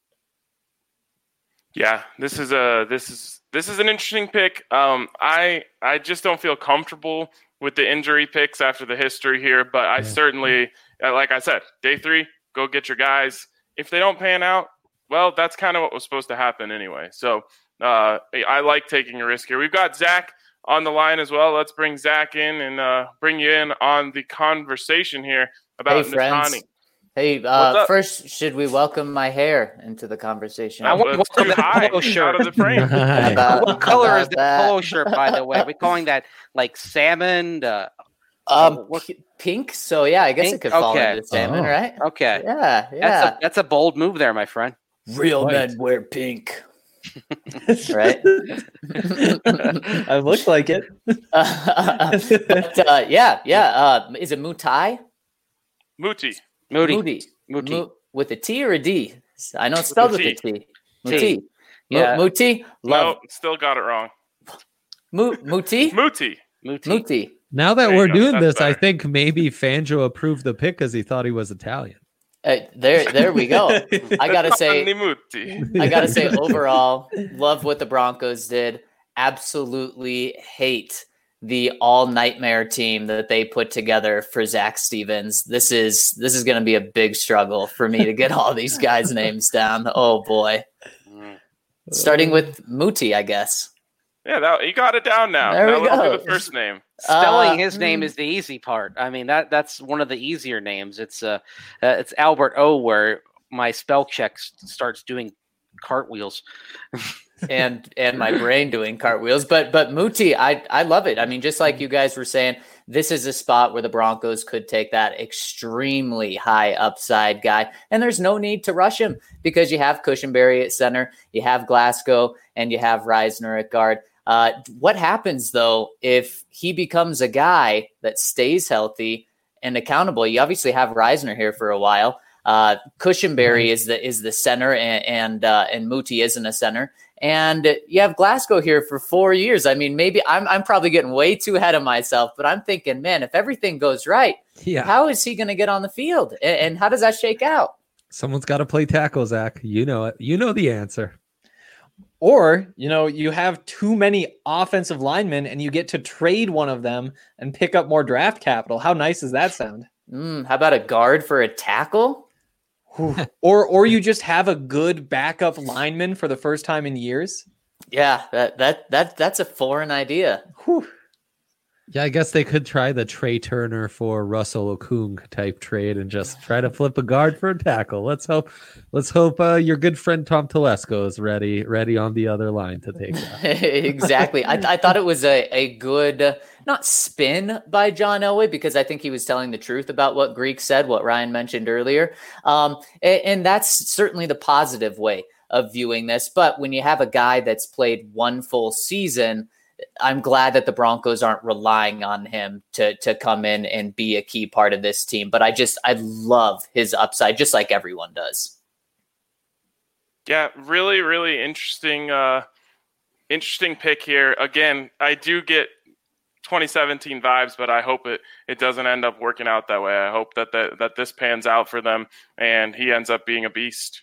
Yeah, this is a this is this is an interesting pick. Um, I I just don't feel comfortable with the injury picks after the history here, but I yeah. certainly, like I said, day three, go get your guys. If they don't pan out, well, that's kind of what was supposed to happen anyway. So uh, I like taking a risk here. We've got Zach on the line as well. Let's bring Zach in and uh, bring you in on the conversation here about hey, friends. Natani. Hey, uh, first, should we welcome my hair into the conversation? I want to welcome the polo shirt. Out of the frame. about, what color is the that? polo shirt, by the way? Are we calling that like salmon? Uh, Um, p- pink. So yeah, I guess pink? it could fall okay. into salmon, oh. right? Okay. Yeah, yeah. That's a, that's a bold move there, my friend. Real Right. men wear pink, right? I look like it. uh, but, uh, yeah, yeah. Uh, is it Mutai? Muti. Moody. Moody. Muti. Mu- with a T or a D? I know it's spelled with, a a T. T. Muti. Yeah. Mu- Muti. Love. No, still got it wrong. Mu- Muti. Muti. Muti. Muti. Now that There you we're go. doing That's this, I better. think maybe Fangio approved the pick because he thought he was Italian. Uh, there, there we go. I gotta say, Muti. I gotta say, overall, love what the Broncos did. Absolutely hate the all nightmare team that they put together for Zach Stevens. This is this is going to be a big struggle for me to get all these guys' names down. Oh boy, starting with Muti, I guess. Yeah, that, you got it down now. There now we let's go. do the first name. Spelling Uh, his name is the easy part. I mean that that's one of the easier names. It's uh, uh it's Albert O, where my spell check s- starts doing cartwheels. and and my brain doing cartwheels. But but Muti, I I love it. I mean, just like you guys were saying, this is a spot where the Broncos could take that extremely high upside guy, and there's no need to rush him because you have Cushenberry at center, you have Glasgow, and you have Reisner at guard. Uh, what happens though if he becomes a guy that stays healthy and accountable? You obviously have Reisner here for a while. Uh, Cushenberry mm-hmm. is the is the center, and and, uh, and Muti isn't a center. And you have Glasgow here for four years. I mean, maybe I'm I'm probably getting way too ahead of myself, but I'm thinking, man, if everything goes right, Yeah. how is he going to get on the field? And, and how does that shake out? Someone's got to play tackle, Zach. You know it. You know the answer. Or, you know, you have too many offensive linemen and you get to trade one of them and pick up more draft capital. How nice does that sound? Mm, how about a guard for a tackle? or or you just have a good backup lineman for the first time in years. Yeah, that that that that's a foreign idea. Whew. Yeah, I guess they could try the Trey Turner for Russell Okung type trade and just try to flip a guard for a tackle. Let's hope. Let's hope uh, your good friend Tom Telesco is ready, ready on the other line to take that. Exactly. I, I thought it was a a good uh, not spin by John Elway, because I think he was telling the truth about what Greek said, what Ryan mentioned earlier, um, and, and that's certainly the positive way of viewing this. But when you have a guy that's played one full season, I'm glad that the Broncos aren't relying on him to to come in and be a key part of this team. But I just I love his upside, just like everyone does. Yeah, really, really interesting, uh, interesting pick here. Again, I do get twenty seventeen vibes, but I hope it, it doesn't end up working out that way. I hope that, that that this pans out for them and he ends up being a beast.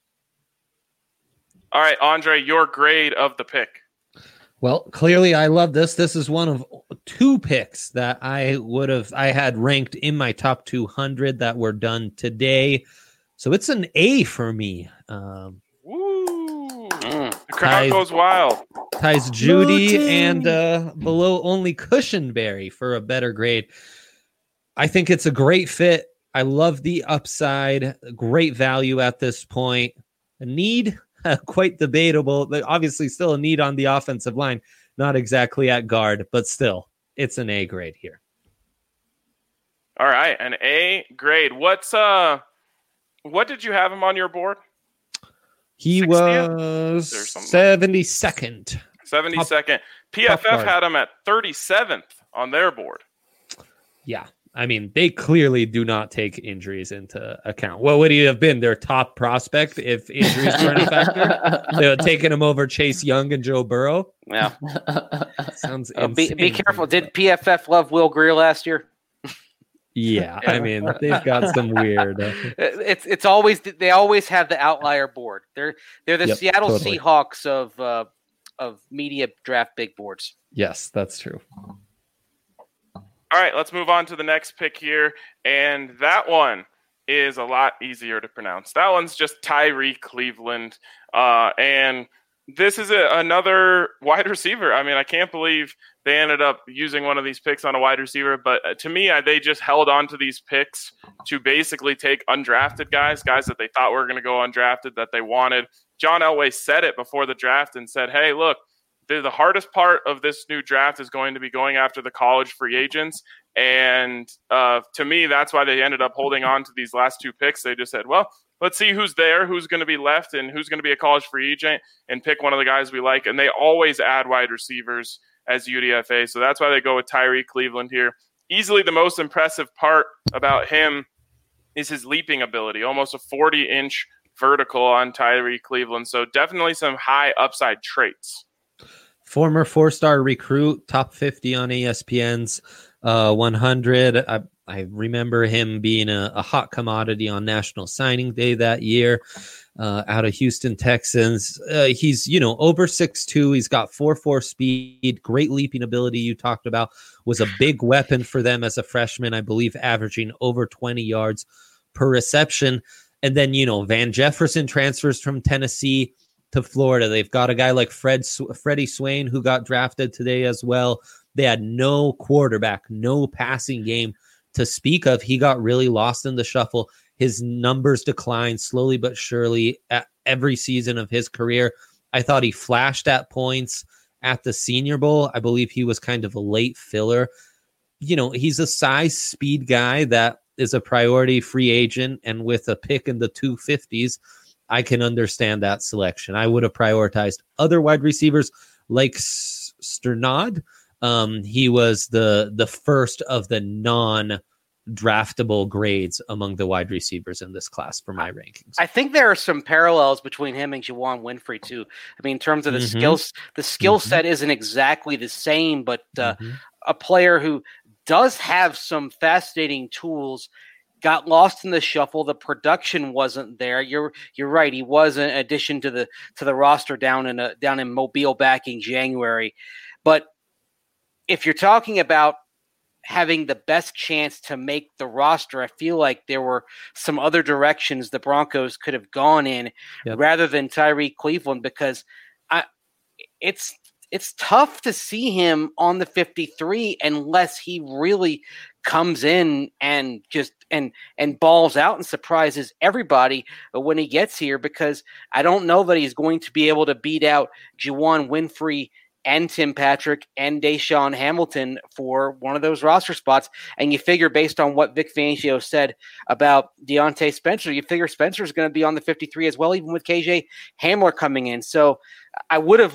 All right, Andre, your grade of the pick. Well, clearly I love this. This is one of two picks that I would have I had ranked in my top two hundred that were done today. So it's an A for me. Um, Woo! Mm. The crowd Ties- goes wild. ties Judy Mooting. and uh, below only Cushionberry for a better grade. I think it's a great fit. I love the upside. Great value at this point. A need, quite debatable. But obviously still a need on the offensive line. Not exactly at guard, but still, it's an A grade here. All right, an A grade. What's uh, what did you have him on your board? He sixtieth? was Or something. seventy-second. seventy-second. P F F guard. had him at thirty-seventh on their board. Yeah. I mean, they clearly do not take injuries into account. What would he have been? Their top prospect if injuries weren't a factor? They would have taken him over Chase Young and Joe Burrow. Yeah. Sounds Uh, be, be insane. careful. Did P F F love Will Greer last year? Yeah, I mean, they've got some weird. Uh, It's it's always they always have the outlier board. They're they're the Yep, Seattle totally. Seahawks of uh, of media draft big boards. yes, that's true. All right, let's move on to the next pick here. And that one is a lot easier to pronounce. That one's just Tyree Cleveland. Uh, and this is a, another wide receiver. I mean, I can't believe they ended up using one of these picks on a wide receiver. But uh, to me, I, they just held on to these picks to basically take undrafted guys, guys that they thought were going to go undrafted, that they wanted. John Elway said it before the draft and said, hey, look, the, the hardest part of this new draft is going to be going after the college free agents. And uh, to me, that's why they ended up holding on to these last two picks. They just said, well, let's see who's there, who's going to be left, and who's going to be a college free agent, and pick one of the guys we like. And they always add wide receivers as U D F A. So that's why they go with Tyree Cleveland here. Easily the most impressive part about him is his leaping ability, almost a forty-inch vertical on Tyree Cleveland. So definitely some high upside traits. Former four-star recruit, top fifty on E S P N's uh, one hundred. I, I remember him being a, a hot commodity on National Signing Day that year uh, out of Houston Texans. Uh, he's, you know, over six two. He's got four four speed, great leaping ability you talked about. Was a big weapon for them as a freshman, I believe, averaging over twenty yards per reception. And then, you know, Van Jefferson transfers from Tennessee to Florida. They've got a guy like Fred Freddie Swain who got drafted today as well. They had no quarterback, no passing game to speak of. He got really lost in the shuffle. His numbers declined slowly but surely at every season of his career. I thought he flashed at points at the Senior Bowl. I believe he was kind of a late filler. You know, he's a size speed guy that is a priority free agent, and with a pick in the two fifties, I can understand that selection. I would have prioritized other wide receivers like S- Sternad. Um, he was the the first of the non-draftable grades among the wide receivers in this class for my rankings. I think there are some parallels between him and Juwan Winfrey too. I mean, in terms of the Mhm. skills, the skill Mhm. set isn't exactly the same, but uh, Mhm. a player who does have some fascinating tools. Got lost in the shuffle. The production wasn't there. You're you're right. He was an addition to the to the roster down in a, down in Mobile back in January. But if you're talking about having the best chance to make the roster, I feel like there were some other directions the Broncos could have gone in Yep. rather than Tyree Cleveland, because I it's it's tough to see him on the fifty-three unless he really comes in and just and and balls out and surprises everybody when he gets here, because I don't know that he's going to be able to beat out Juwan Winfrey and Tim Patrick and Deshaun Hamilton for one of those roster spots. And you figure, based on what Vic Fangio said about Deontay Spencer, you figure Spencer's going to be on the fifty-three as well, even with K J Hamler coming in. So I would have liked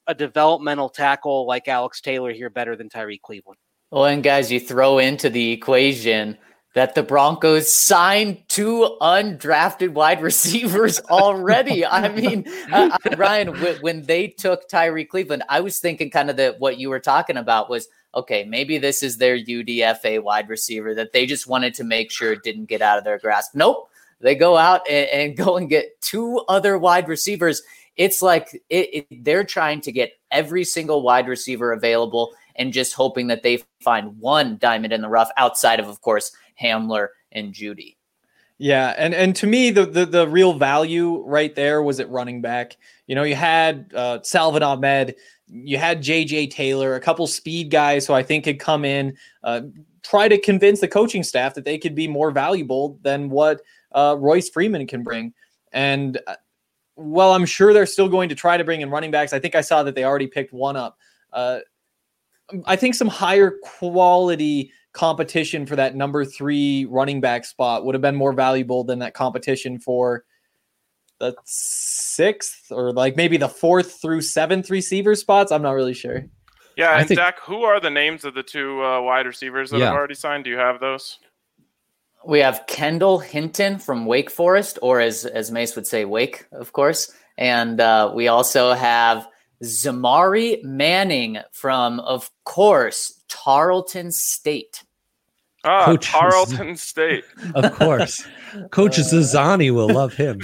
a developmental tackle like Alex Taylor here better than Tyree Cleveland. Well, and guys, you throw into the equation that the Broncos signed two undrafted wide receivers already. I mean, uh, Ryan, w- when they took Tyree Cleveland, I was thinking kind of that what you were talking about was, okay, maybe this is their U D F A wide receiver that they just wanted to make sure it didn't get out of their grasp. Nope. They go out and, and go and get two other wide receivers. It's like it, it, they're trying to get every single wide receiver available and just hoping that they find one diamond in the rough outside of, of course, Hamler and Judy. Yeah, and and to me, the, the the real value right there was at running back. You know, you had uh, Salvin Ahmed, you had J J Taylor, a couple speed guys who I think could come in, uh, try to convince the coaching staff that they could be more valuable than what uh, Royce Freeman can bring. And uh, well, I'm sure they're still going to try to bring in running backs. I think I saw that they already picked one up. Uh, I think some higher quality competition for that number three running back spot would have been more valuable than that competition for the sixth or like maybe the fourth through seventh receiver spots. I'm not really sure. Yeah, I and think- Zach, who are the names of the two uh, wide receivers that Yeah. have already signed? Do you have those? We have Kendall Hinton from Wake Forest, or as, as Mace would say, Wake, of course. And uh, we also have Zamari Manning from, of course, Tarleton State. Ah, Coach- Tarleton State. Of course. Coach Zazani will love him.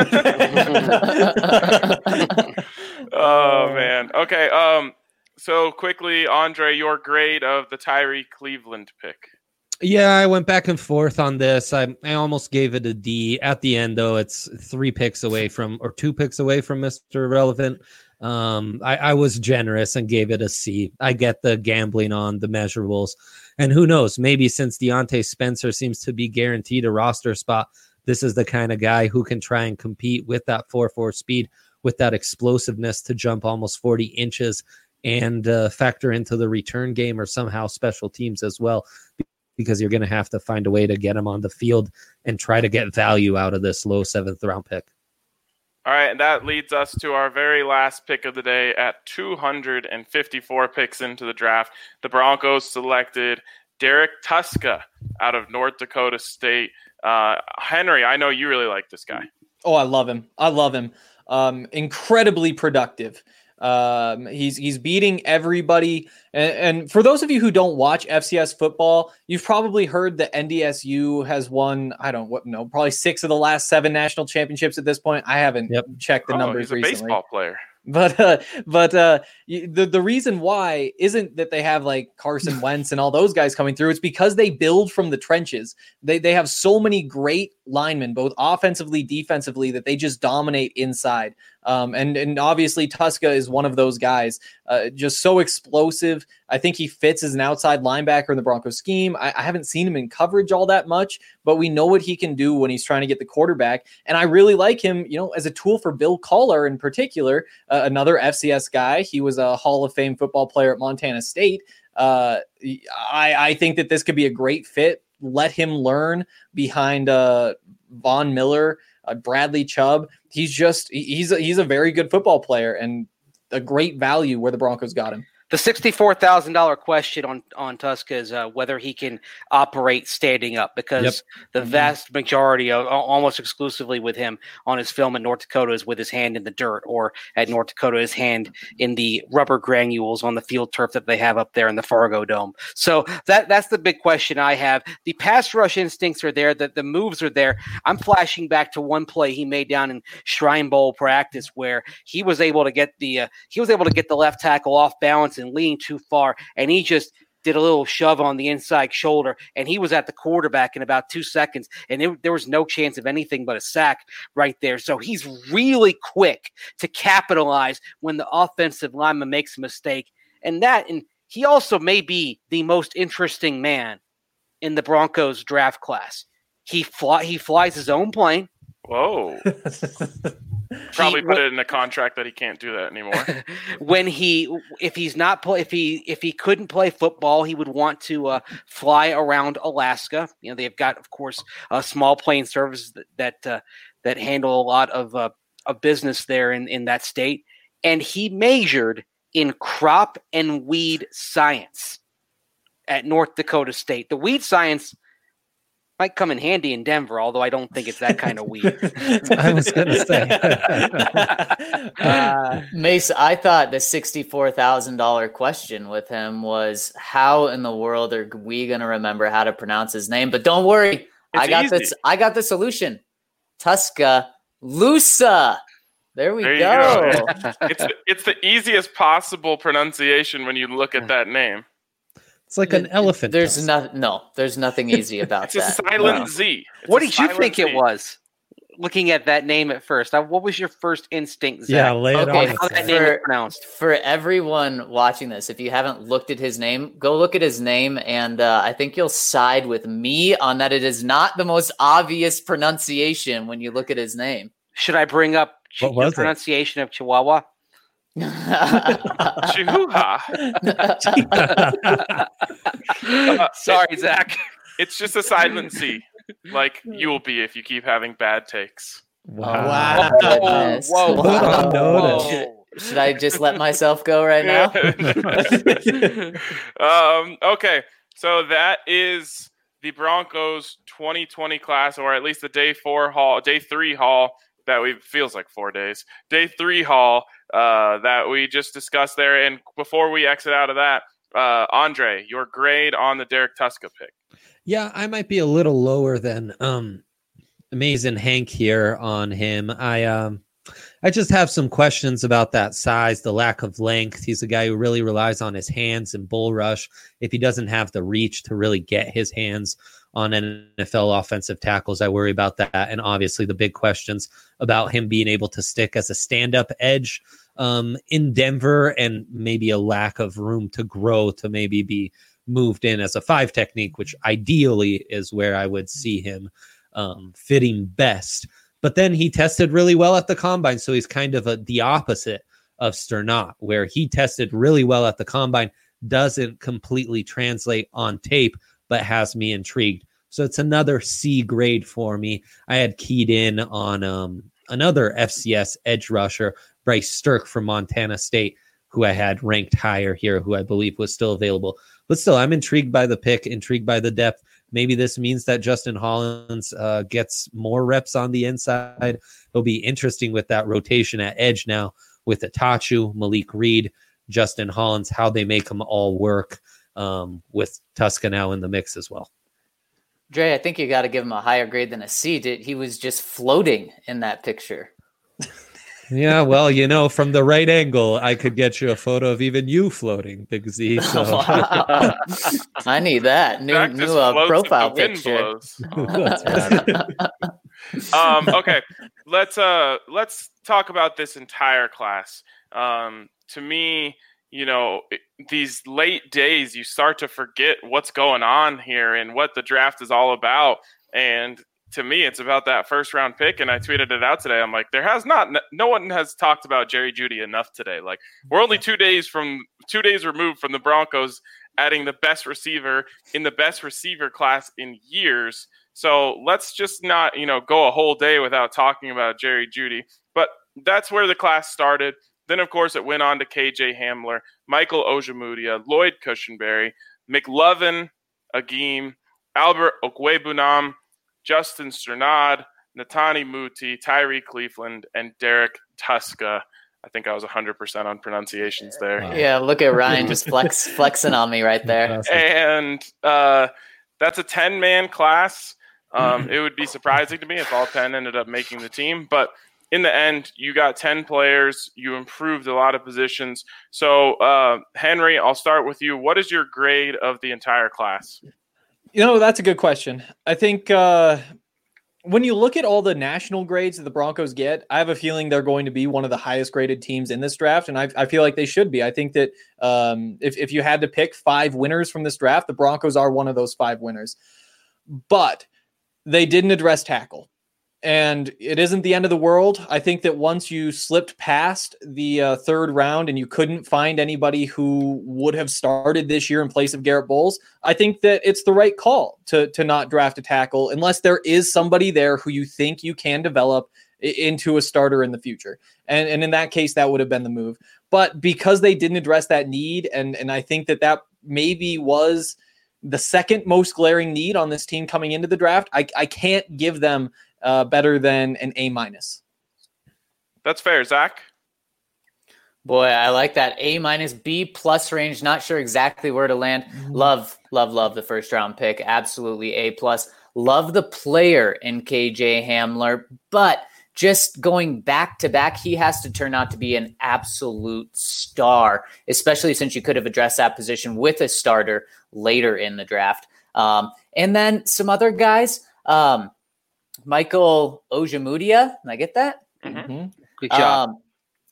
Oh man. Okay. Um. So quickly, Andre, your grade of the Tyree Cleveland pick. Yeah, I went back and forth on this. I, I almost gave it a D. At the end, though, it's three picks away from, or two picks away from Mister Irrelevant. Um, I, I was generous and gave it a C. I get the gambling on the measurables. And who knows, maybe since Deontay Spencer seems to be guaranteed a roster spot, this is the kind of guy who can try and compete with that four four speed, with that explosiveness to jump almost forty inches and uh, factor into the return game or somehow special teams as well, because you're going to have to find a way to get him on the field and try to get value out of this low seventh round pick. All right, and that leads us to our very last pick of the day at two hundred fifty-four picks into the draft. The Broncos selected Derek Tuska out of North Dakota State. Uh, Henry, I know you really like this guy. Oh, I love him. I love him. Um, incredibly productive. Um, he's he's beating everybody. And, and for those of you who don't watch F C S football, you've probably heard that N D S U has won, I don't what no, probably six of the last seven national championships at this point. I haven't Yep. checked the Oh, numbers he's a recently. baseball player. But uh, but uh, y- the the reason why isn't that they have like Carson Wentz and all those guys coming through. It's because they build from the trenches. They they have so many great linemen, both offensively, defensively, that they just dominate inside. Um, and and obviously Tuska is one of those guys. Uh, just so explosive. I think he fits as an outside linebacker in the Broncos scheme. I, I haven't seen him in coverage all that much, but we know what he can do when he's trying to get the quarterback. And I really like him, you know, as a tool for Bill Collar in particular. Uh, another F C S guy. He was a Hall of Fame football player at Montana State. Uh, I, I think that this could be a great fit. Let him learn behind uh, Von Miller, uh, Bradley Chubb. He's just he's a, he's a very good football player and a great value where the Broncos got him. The sixty-four thousand dollars question on, on Tuska is uh, whether he can operate standing up, because Yep. the vast majority of almost exclusively with him on his film in North Dakota is with his hand in the dirt, or at North Dakota, his hand in the rubber granules on the field turf that they have up there in the Fargo Dome. So that that's the big question I have. The pass rush instincts are there, the, the moves are there. I'm flashing back to one play he made down in Shrine Bowl practice where he was able to get the uh, he was able to get the left tackle off balance and leaning too far, and he just did a little shove on the inside shoulder, and he was at the quarterback in about two seconds, and it, there was no chance of anything but a sack right there. So he's really quick to capitalize when the offensive lineman makes a mistake, and that, and he also may be the most interesting man in the Broncos draft class. He fly, he flies his own plane. Whoa. Probably He- put it in a contract that he can't do that anymore. when he if he's not play if he if he couldn't play football, he would want to uh, fly around Alaska. You know, they've got, of course, uh, small plane services that that, uh, that handle a lot of uh, of business there in, in that state. And he measured in crop and weed science at North Dakota State. The weed science might come in handy in Denver, although I don't think it's that kind of weed. I was going to say. uh, Mace, I thought the sixty-four thousand dollars question with him was, how in the world are we going to remember how to pronounce his name? But don't worry. It's I got easy. this. I got the solution. Tuscaloosa. There we There you go. go. It's the, it's the easiest possible pronunciation when you look at that name. It's like an elephant. There's tusk. no, no, there's nothing easy about It's a that. silent No. Z. It's What a did you silent think it Z. was? Looking at that name at first, Uh, what was your first instinct, Zach? Yeah, lay it Okay, on. How us, that Zach. name is For- pronounced? For everyone watching this, if you haven't looked at his name, go look at his name, and uh, I think you'll side with me on that. It is not the most obvious pronunciation when you look at his name. Should I bring up ch- What the was it? pronunciation of Chihuahua? Chihuahua. Sorry, Zach. It's just a silent C, like you will be if you keep having bad takes. Wow. Wow. Goodness. Whoa, Put on notice. whoa. Should I just let myself go right now? um, okay, so that is the Broncos twenty twenty class, or at least the day four haul, day three haul that we feels like four days. Day three haul uh, that we just discussed there. And before we exit out of that, uh, Andre, your grade on the Derek Tuska pick. Yeah, I might be a little lower than um Amazing Hank here on him. I um I just have some questions about that size, the lack of length. He's a guy who really relies on his hands and bull rush. If he doesn't have the reach to really get his hands on N F L offensive tackles, I worry about that. And obviously the big questions about him being able to stick as a stand-up edge um, in Denver, and maybe a lack of room to grow to maybe be moved in as a five technique, which ideally is where I would see him um, fitting best. But then he tested really well at the combine. So he's kind of a, the opposite of Sternat, where he tested really well at the combine, doesn't completely translate on tape, but has me intrigued. So it's another C grade for me. I had keyed in on um, another F C S edge rusher, Bryce Stirk from Montana State, who I had ranked higher here, who I believe was still available. But still, I'm intrigued by the pick, intrigued by the depth. Maybe this means that Justin Hollins uh, gets more reps on the inside. It'll be interesting with that rotation at edge now with Itachu, Malik Reed, Justin Hollins, how they make them all work um, with Tuska now in the mix as well. Dre, I think you got to give him a higher grade than a C. Did he was just floating in that picture? Yeah, well, you know, from the right angle, I could get you a photo of even you floating, Big Z. So. Wow. I need that new Zach new just uh, floats if profile the wind picture. blows. That's right. um, okay, let's uh let's talk about this entire class. Um, to me, you know, it- these late days, you start to forget what's going on here and what the draft is all about. And to me, it's about that first round pick. And I tweeted it out today. I'm like, there has not, no one has talked about Jerry Jeudy enough today. Like, we're only two days from two days removed from the Broncos adding the best receiver in the best receiver class in years. So let's just not, you know, go a whole day without talking about Jerry Jeudy. But that's where the class started. Then, of course, it went on to K J Hamler, Michael Ojemudia, Lloyd Cushenberry, McLovin, Agim, Albert Okwebunam, Justin Sternad, Natani Muti, Tyree Cleveland, and Derek Tuska. I think I was one hundred percent on pronunciations there. Wow. Yeah, look at Ryan just flex flexing on me right there. Awesome. And uh, that's a ten-man class. Um, it would be surprising to me if all ten ended up making the team. But in the end, you got ten players. You improved a lot of positions. So, uh, Henry, I'll start with you. What is your grade of the entire class? You know, that's a good question. I think uh, when you look at all the national grades that the Broncos get, I have a feeling they're going to be one of the highest graded teams in this draft. And I, I feel like they should be. I think that um, if, if you had to pick five winners from this draft, the Broncos are one of those five winners. But they didn't address tackle. And it isn't the end of the world. I think that once you slipped past the uh, third round and you couldn't find anybody who would have started this year in place of Garrett Bowles, I think that it's the right call to, to not draft a tackle unless there is somebody there who you think you can develop into a starter in the future. And, and in that case, that would have been the move. But because they didn't address that need, and, and I think that that maybe was the second most glaring need on this team coming into the draft, I, I can't give them uh, better than an A minus. That's fair, Zach. Boy, I like that A minus B plus range. Not sure exactly where to land. Mm-hmm. Love, love, love the first round pick. Absolutely A plus. Love the player in K J Hamler, but just going back to back, he has to turn out to be an absolute star, especially since you could have addressed that position with a starter later in the draft. Um, and then some other guys, um, Michael Ojemudia. Can I get that? Mm-hmm. Good job. Um,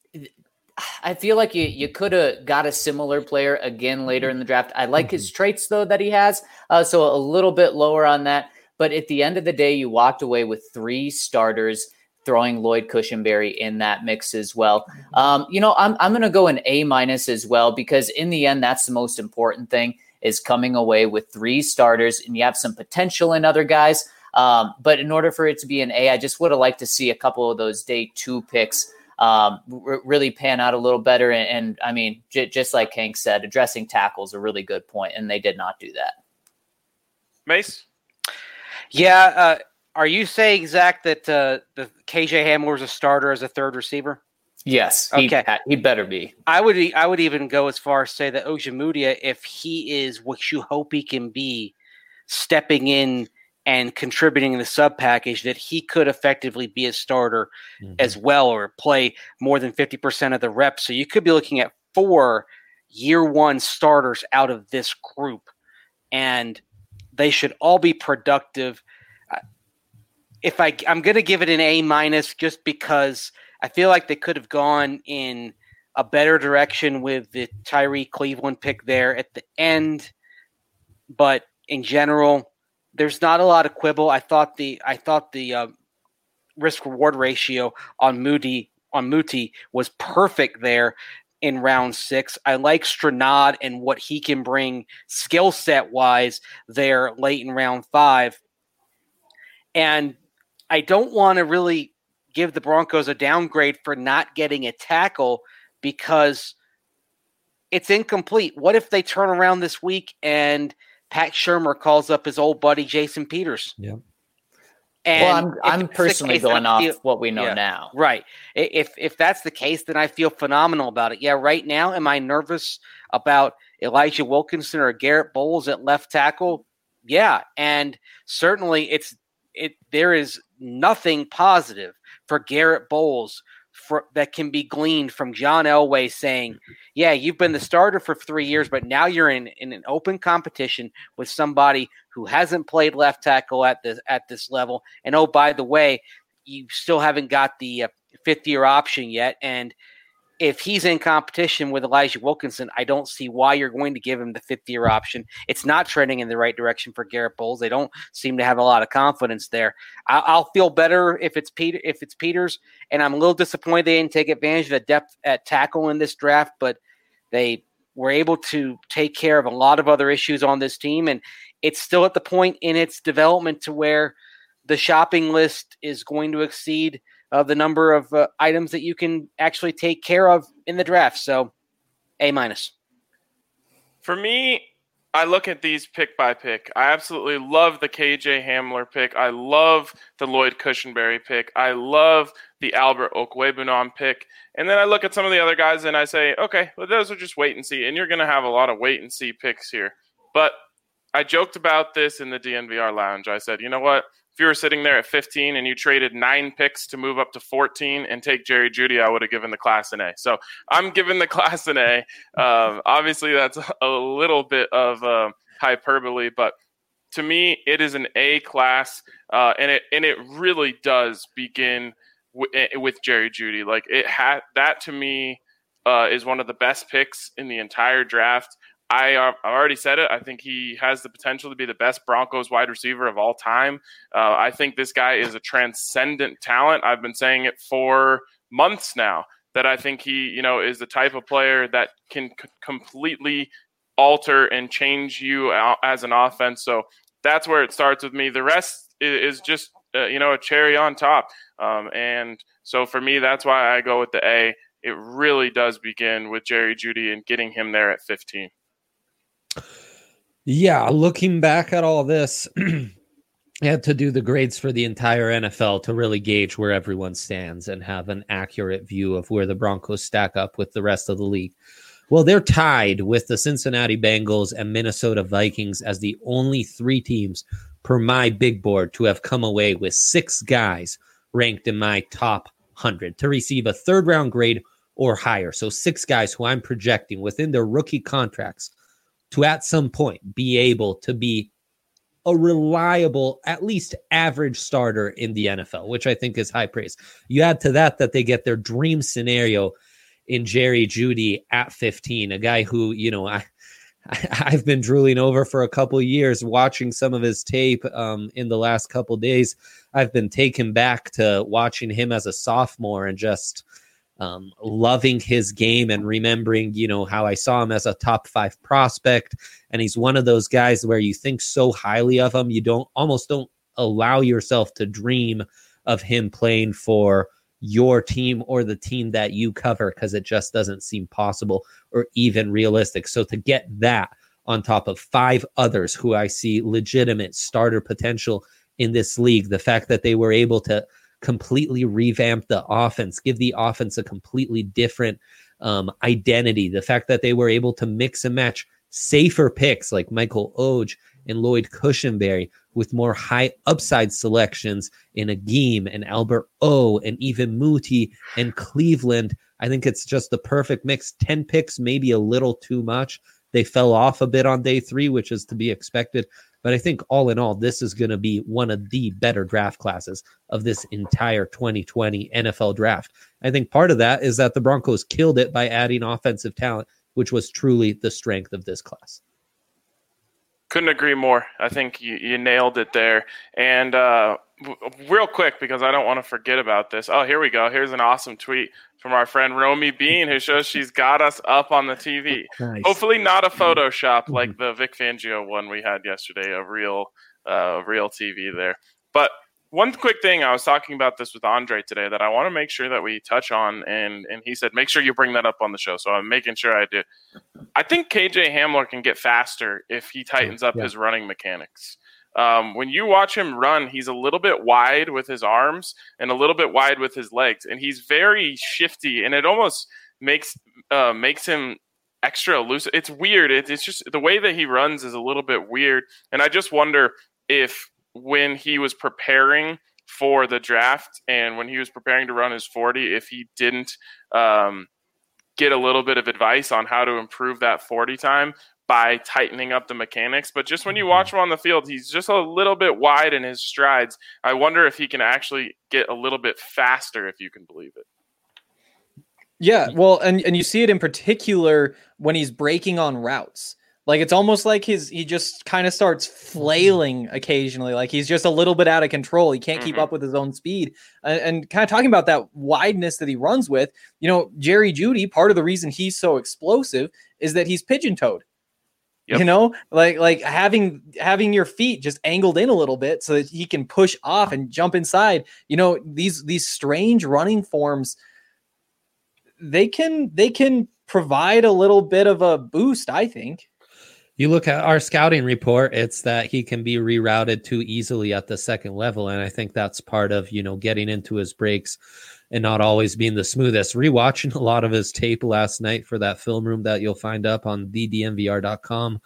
I feel like you, you could have got a similar player again later in the draft. I like his traits, though, that he has, uh, so a little bit lower on that. But at the end of the day, you walked away with three starters, throwing Lloyd Cushenberry in that mix as well. Um, you know, I'm I'm going to go an A minus as well, because in the end, that's the most important thing, is coming away with three starters, and you have some potential in other guys. Um, but in order for it to be an A, I just would have liked to see a couple of those day two picks um, r- really pan out a little better. And, and I mean, j- just like Hank said, addressing tackle is a really good point, and they did not do that. Mace? Yeah. Uh, are you saying, Zach, that uh, the K J Hamler is a starter as a third receiver? Yes. Okay. He, he better be. I would I would even go as far as say that Ojemudia, if he is what you hope he can be, stepping in and contributing in the sub package, that he could effectively be a starter mm-hmm. as well, or play more than fifty percent of the reps. So you could be looking at four year one starters out of this group, and they should all be productive. If I, I'm going to give it an A minus, just because I feel like they could have gone in a better direction with the Tyree Cleveland pick there at the end. But in general, there's not a lot of quibble. I thought the I thought the uh, risk reward ratio on Moody on Muti was perfect there in round six. I like Stranad and what he can bring skill set wise there late in round five. And I don't want to really give the Broncos a downgrade for not getting a tackle, because it's incomplete. What if they turn around this week and Pat Shurmur calls up his old buddy Jason Peters? Yeah. And well, I'm I'm personally case, going off feel, what we know yeah, now. Right. If if that's the case, then I feel phenomenal about it. Yeah, right now, am I nervous about Elijah Wilkinson or Garrett Bowles at left tackle? Yeah, and certainly it's it. There is nothing positive for Garrett Bowles for, that can be gleaned from John Elway saying, yeah, you've been the starter for three years, but now you're in, in an open competition with somebody who hasn't played left tackle at this, at this level. And, oh, by the way, you still haven't got the uh, fifth year option yet. And if he's in competition with Elijah Wilkinson, I don't see why you're going to give him the fifth year option. It's not trending in the right direction for Garrett Bowles. They don't seem to have a lot of confidence there. I- I'll feel better if it's Peter, if it's Peters, and I'm a little disappointed they didn't take advantage of the depth at tackle in this draft, but they were able to take care of a lot of other issues on this team, and it's still at the point in its development to where the shopping list is going to exceed Uh, the number of uh, items that you can actually take care of in the draft. So, A minus. For me, I look at these pick by pick. I absolutely love the K J Hamler pick. I love the Lloyd Cushenberry pick. I love the Albert Okwuegbunam pick. And then I look at some of the other guys and I say, okay, well, those are just wait and see. And you're going to have a lot of wait and see picks here. But I joked about this in the D N V R lounge. I said, you know what? If you were sitting there at fifteen and you traded nine picks to move up to fourteen and take Jerry Jeudy, I would have given the class an A. So I'm giving the class an A. Um, obviously, that's a little bit of uh, hyperbole, but to me, it is an A class, uh, and it and it really does begin w- with Jerry Jeudy. Like it had that to me uh, is one of the best picks in the entire draft. I, uh, I already said it. I think he has the potential to be the best Broncos wide receiver of all time. Uh, I think this guy is a transcendent talent. I've been saying it for months now, that I think he, you know, is the type of player that can c- completely alter and change you as an offense. So that's where it starts with me. The rest is, is just uh, you know, a cherry on top. Um, and so for me, that's why I go with the A. It really does begin with Jerry Jeudy and getting him there at fifteen. Yeah, looking back at all this, I had to do the grades for the entire N F L to really gauge where everyone stands and have an accurate view of where the Broncos stack up with the rest of the league. Well, they're tied with the Cincinnati Bengals and Minnesota Vikings as the only three teams per my big board to have come away with six guys ranked in my top one hundred to receive a third round grade or higher. So six guys who I'm projecting within their rookie contracts to at some point be able to be a reliable, at least average starter in the N F L, which I think is high praise. You add to that that they get their dream scenario in Jerry Jeudy at fifteen, a guy who, you know, I, I've been drooling over for a couple of years, watching some of his tape um, in the last couple of days. I've been taken back to watching him as a sophomore and just um, loving his game and remembering, you know, how I saw him as a top five prospect. And he's one of those guys where you think so highly of him, you don't almost don't allow yourself to dream of him playing for your team or the team that you cover, because it just doesn't seem possible or even realistic. So to get that on top of five others who I see legitimate starter potential in this league, the fact that they were able to completely revamp the offense, give the offense a completely different um, identity, the fact that they were able to mix and match safer picks like Michael Oge and Lloyd Cushenberry with more high upside selections in Agim and Albert O and even Muti and Cleveland. I think it's just the perfect mix. ten picks, maybe a little too much. They fell off a bit on day three, which is to be expected. But I think all in all, this is going to be one of the better draft classes of this entire twenty twenty N F L draft. I think part of that is that the Broncos killed it by adding offensive talent, which was truly the strength of this class. Couldn't agree more. I think you, you nailed it there. And uh, w- real quick, because I don't want to forget about this. Oh, here we go. Here's an awesome tweet from our friend Romy Bean, who shows she's got us up on the T V. Nice. Hopefully not a Photoshop like the Vic Fangio one we had yesterday, a real, uh, real T V there. But one quick thing, I was talking about this with Andre today that I want to make sure that we touch on, and, and he said, make sure you bring that up on the show. So I'm making sure I do. I think K J Hamler can get faster if he tightens up yeah. his running mechanics. Um, when you watch him run, he's a little bit wide with his arms and a little bit wide with his legs, and he's very shifty, and it almost makes uh, makes him extra elusive. It's weird. It, it's just the way that he runs is a little bit weird, and I just wonder if when he was preparing for the draft and when he was preparing to run his forty, if he didn't um, get a little bit of advice on how to improve that forty time by tightening up the mechanics. But just when you watch him on the field, he's just a little bit wide in his strides. I wonder if he can actually get a little bit faster, if you can believe it. Yeah, well, and, and you see it in particular when he's breaking on routes. Like, it's almost like his he just kind of starts flailing occasionally. Like, he's just a little bit out of control. He can't keep Mhm. up with his own speed. And, and kind of talking about that wideness that he runs with, you know, Jerry Jeudy, part of the reason he's so explosive is that he's pigeon-toed. Yep. You know, like like having having your feet just angled in a little bit so that he can push off and jump inside. You know, these these strange running forms, they can they can provide a little bit of a boost, I think. You look at our scouting report, it's that he can be rerouted too easily at the second level. And I think that's part of, you know, getting into his breaks and not always being the smoothest. Rewatching a lot of his tape last night for that film room that you'll find up on the d n v r dot com.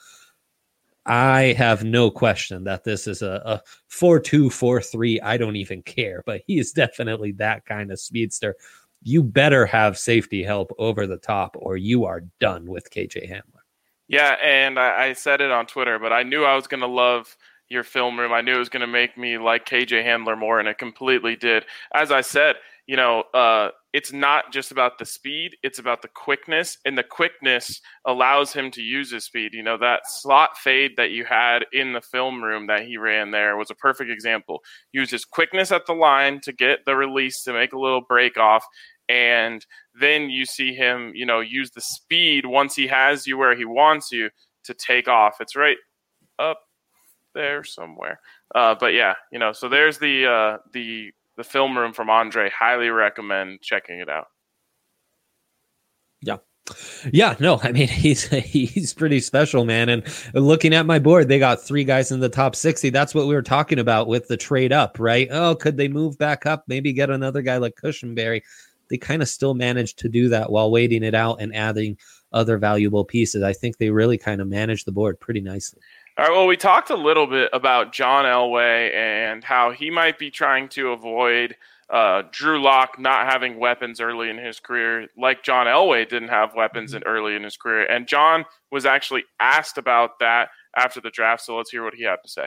I have no question that this is a, a four two, four three. I don't even care, but he is definitely that kind of speedster. You better have safety help over the top or you are done with K J Hamler. Yeah, and I, I said it on Twitter, but I knew I was going to love your film room. I knew it was going to make me like K J Hamler more, and it completely did. As I said, you know, uh, it's not just about the speed, it's about the quickness, and the quickness allows him to use his speed. You know, that slot fade that you had in the film room that he ran there was a perfect example. Use his quickness at the line to get the release, to make a little break off, and then you see him, you know, use the speed once he has you where he wants you to take off. It's right up there somewhere. Uh, but yeah, you know, so there's the uh, the the film room from Andre. Highly recommend checking it out. Yeah. Yeah, no, I mean, he's he's pretty special, man. And looking at my board, they got three guys in the top sixty. That's what we were talking about with the trade up, right? Oh, could they move back up? Maybe get another guy like Cushenberry. They kind of still managed to do that while waiting it out and adding other valuable pieces. I think they really kind of managed the board pretty nicely. All right, well, we talked a little bit about John Elway and how he might be trying to avoid Uh, Drew Lock not having weapons early in his career, like John Elway didn't have weapons in early in his career. And John was actually asked about that after the draft. So let's hear what he had to say.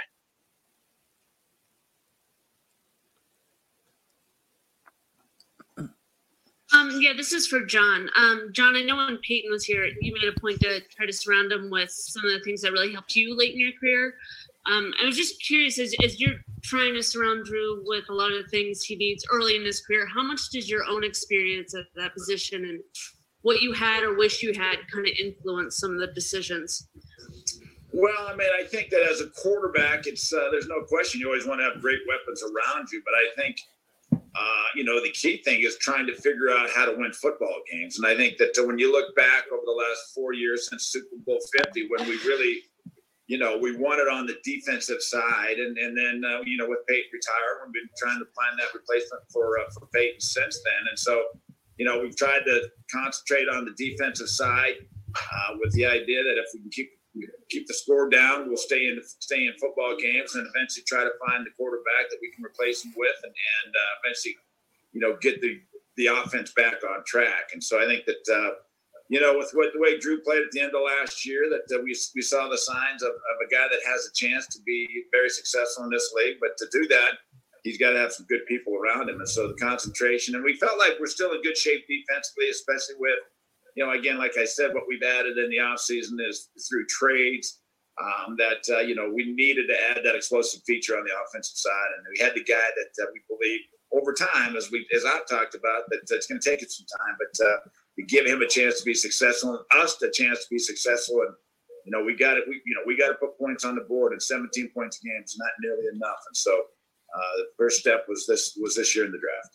Um, yeah, this is for John. Um, John, I know when Peyton was here, you made a point to try to surround him with some of the things that really helped you late in your career. Um, I was just curious, as, as you're trying to surround Drew with a lot of the things he needs early in his career, how much does your own experience at that position and what you had or wish you had kind of influence some of the decisions? Well, I mean, I think that as a quarterback, it's uh, there's no question you always want to have great weapons around you. But I think, uh, you know, the key thing is trying to figure out how to win football games. And I think that when you look back over the last four years since Super Bowl fifty, when we really – you know, we won it on the defensive side, and and then uh, you know, with Peyton retired, we've been trying to find that replacement for uh, for Peyton since then. And so, you know, we've tried to concentrate on the defensive side uh, with the idea that if we can keep keep the score down, we'll stay in stay in football games, and eventually try to find the quarterback that we can replace him with, and and uh, eventually, you know, get the the offense back on track. And so I think that. Uh, You know, with what, the way Drew played at the end of last year, that uh, we we saw the signs of, of a guy that has a chance to be very successful in this league. But to do that, he's got to have some good people around him. And so the concentration, and we felt like we're still in good shape defensively, especially with, you know, again, like I said, what we've added in the offseason is through trades um, that, uh, you know, we needed to add that explosive feature on the offensive side. And we had the guy that uh, we believe over time, as we as I've talked about, that it's going to take it some time, but uh, you give him a chance to be successful, and us a chance to be successful. And you know, we got it. We you know we got to put points on the board, and seventeen points a game is not nearly enough. And so uh, the first step was this was this year in the draft.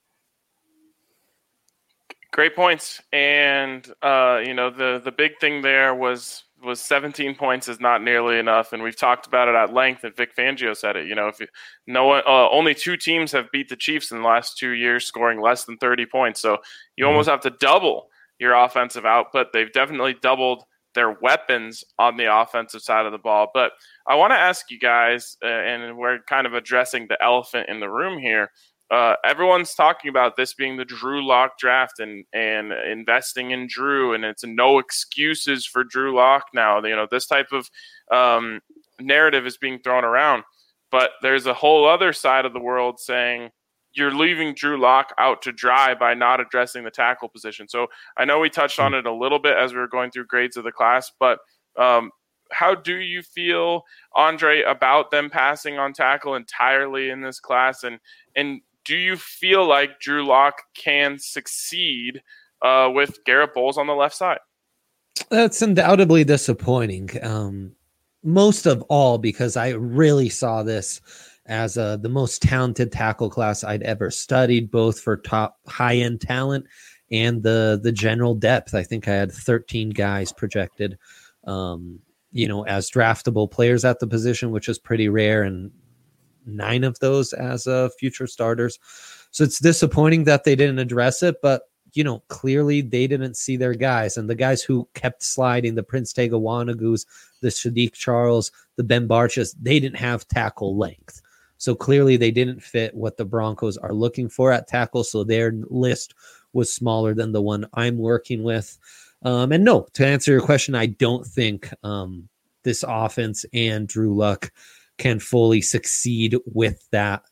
Great points, and uh, you know the the big thing there was. was seventeen points is not nearly enough, and we've talked about it at length, and Vic Fangio said it. You know, if you, no one, uh, only two teams have beat the Chiefs in the last two years, scoring less than thirty points. So you almost have to double your offensive output. They've definitely doubled their weapons on the offensive side of the ball. But I want to ask you guys, uh, and we're kind of addressing the elephant in the room here. Uh, everyone's talking about this being the Drew Lock draft and, and investing in Drew, and it's no excuses for Drew Lock now. You know, this type of um, narrative is being thrown around, but there's a whole other side of the world saying you're leaving Drew Lock out to dry by not addressing the tackle position. So I know we touched on it a little bit as we were going through grades of the class, but um, how do you feel, Andre, about them passing on tackle entirely in this class? And, and, do you feel like Drew Lock can succeed uh, with Garrett Bowles on the left side? That's undoubtedly disappointing. Um, most of all, because I really saw this as uh, the most talented tackle class I'd ever studied, both for top high-end talent and the the general depth. I think I had thirteen guys projected, um, you know, as draftable players at the position, which is pretty rare, and nine of those as uh, future starters. So it's disappointing that they didn't address it, but you know, clearly they didn't see their guys, and the guys who kept sliding, the Prince Tega Wanagus, the Sadiq Charles, the Ben Barchas, they didn't have tackle length. So clearly they didn't fit what the Broncos are looking for at tackle. So their list was smaller than the one I'm working with. Um, and no, to answer your question, I don't think um, this offense and Drew Luck can fully succeed with that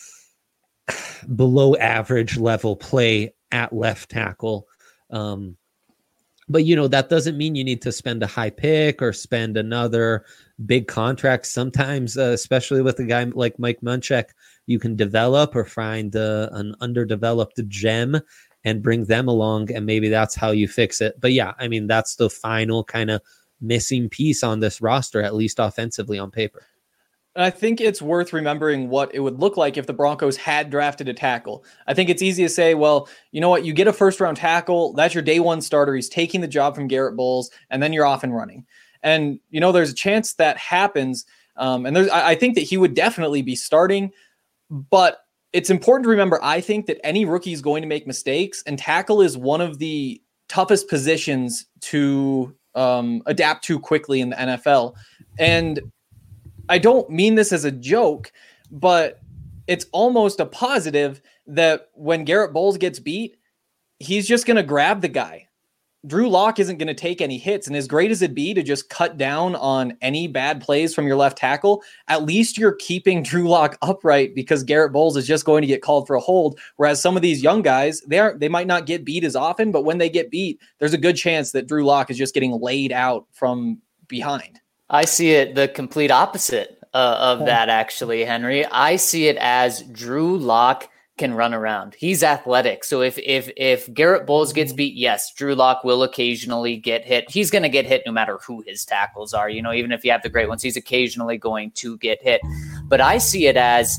below average level play at left tackle. Um, but, you know, that doesn't mean you need to spend a high pick or spend another big contract. Sometimes, uh, especially with a guy like Mike Munchak, you can develop or find uh, an underdeveloped gem and bring them along, and maybe that's how you fix it. But yeah, I mean, that's the final kind of missing piece on this roster, at least offensively on paper. And I think it's worth remembering what it would look like if the Broncos had drafted a tackle. I think it's easy to say, well, you know what? You get a first round tackle. That's your day one starter. He's taking the job from Garrett Bowles, and then you're off and running. And, you know, there's a chance that happens. Um, and there's, I, I think that he would definitely be starting, but it's important to remember, I think that any rookie is going to make mistakes, and tackle is one of the toughest positions to um, adapt to quickly in the N F L. And I don't mean this as a joke, but it's almost a positive that when Garrett Bowles gets beat, he's just going to grab the guy. Drew Lock isn't going to take any hits. And as great as it'd be to just cut down on any bad plays from your left tackle, at least you're keeping Drew Lock upright because Garrett Bowles is just going to get called for a hold. Whereas some of these young guys, they aren't, they might not get beat as often, but when they get beat, there's a good chance that Drew Lock is just getting laid out from behind. I see it the complete opposite uh, of that, actually, Henry. I see it as Drew Lock can run around. He's athletic. So if if if Garrett Bowles gets beat, yes, Drew Lock will occasionally get hit. He's going to get hit no matter who his tackles are. You know, even if you have the great ones, he's occasionally going to get hit. But I see it as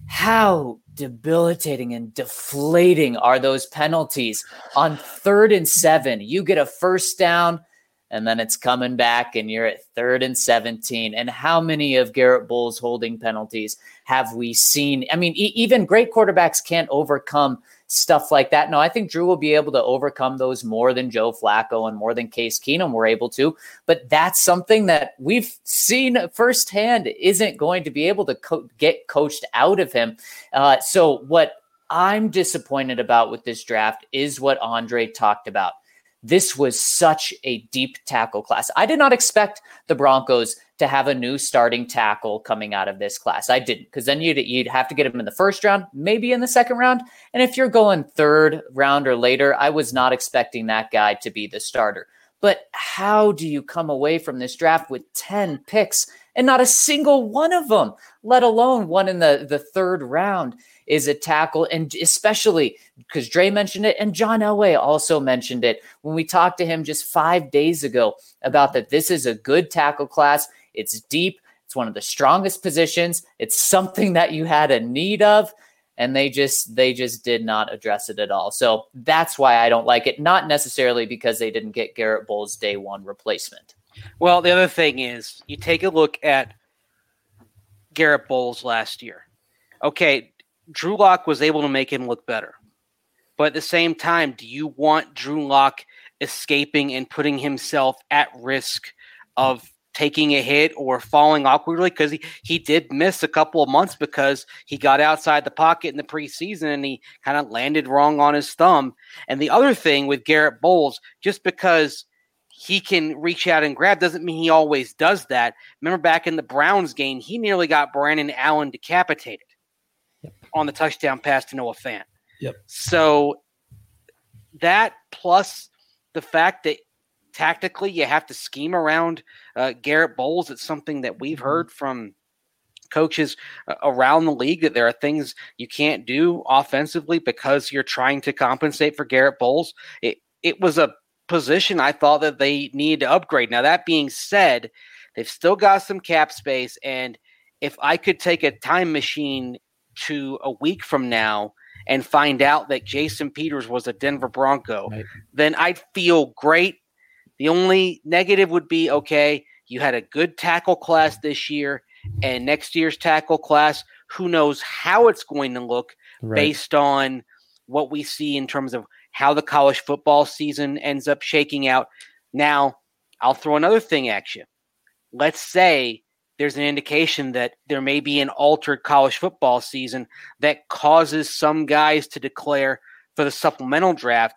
how debilitating and deflating are those penalties on third and seven. You get a first down, and then it's coming back and you're at third and seventeen. And how many of Garrett Bowles' holding penalties have we seen? I mean, e- even great quarterbacks can't overcome stuff like that. No, I think Drew will be able to overcome those more than Joe Flacco and more than Case Keenum were able to. But that's something that we've seen firsthand isn't going to be able to co- get coached out of him. Uh, so what I'm disappointed about with this draft is what Andre talked about. This was such a deep tackle class. I did not expect the Broncos to have a new starting tackle coming out of this class. I didn't, because then you'd, you'd have to get him in the first round, maybe in the second round. And if you're going third round or later, I was not expecting that guy to be the starter. But how do you come away from this draft with ten picks and not a single one of them, let alone one in the, the third round, is a tackle? And especially because Dre mentioned it and John Elway also mentioned it when we talked to him just five days ago about that this is a good tackle class. It's deep. It's one of the strongest positions. It's something that you had a need of. And they just they just did not address it at all. So that's why I don't like it. Not necessarily because they didn't get Garrett Bowles' day one replacement. Well, the other thing is you take a look at Garrett Bowles last year. Okay, Drew Lock was able to make him look better. But at the same time, do you want Drew Lock escaping and putting himself at risk of taking a hit or falling awkwardly? Because he, he did miss a couple of months because he got outside the pocket in the preseason and he kind of landed wrong on his thumb. And the other thing with Garrett Bowles, just because he can reach out and grab doesn't mean he always does that. Remember back in the Browns game, he nearly got Brandon Allen decapitated yep. on the touchdown pass to Noah Fant. Yep. So that plus the fact that tactically you have to scheme around uh, Garrett Bowles. It's something that we've heard from coaches uh, around the league, that there are things you can't do offensively because you're trying to compensate for Garrett Bowles. It, it was a position I thought that they needed to upgrade. Now, that being said, they've still got some cap space. And if I could take a time machine to a week from now and find out that Jason Peters was a Denver Bronco, right, then I'd feel great. The only negative would be, okay, you had a good tackle class this year, and next year's tackle class, who knows how it's going to look right. based on what we see in terms of how the college football season ends up shaking out. Now, I'll throw another thing at you. Let's say there's an indication that there may be an altered college football season that causes some guys to declare for the supplemental draft.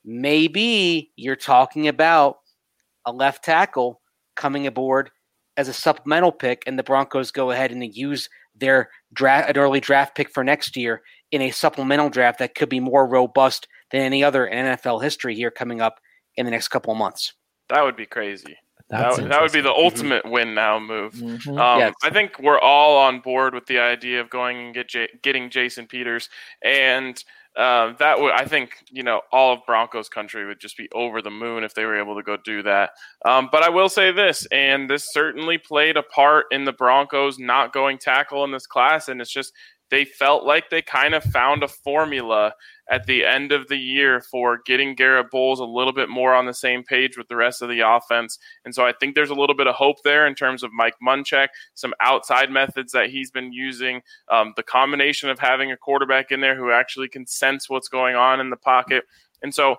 Maybe you're talking about a left tackle coming aboard as a supplemental pick, and the Broncos go ahead and use their draft, an early draft pick for next year in a supplemental draft that could be more robust than any other in N F L history here coming up in the next couple of months. That would be crazy. That's that, that would be the interesting. ultimate win now move. Mhm. Um, Yes. I think we're all on board with the idea of going and get J- getting Jason Peters, and uh, that would, I think, you know, all of Broncos country would just be over the moon if they were able to go do that. Um, but I will say this, and this certainly played a part in the Broncos not going tackle in this class, and it's just they felt like they kind of found a formula at the end of the year for getting Garrett Bowles a little bit more on the same page with the rest of the offense. And so I think there's a little bit of hope there in terms of Mike Munchak, some outside methods that he's been using, um, the combination of having a quarterback in there who actually can sense what's going on in the pocket. And so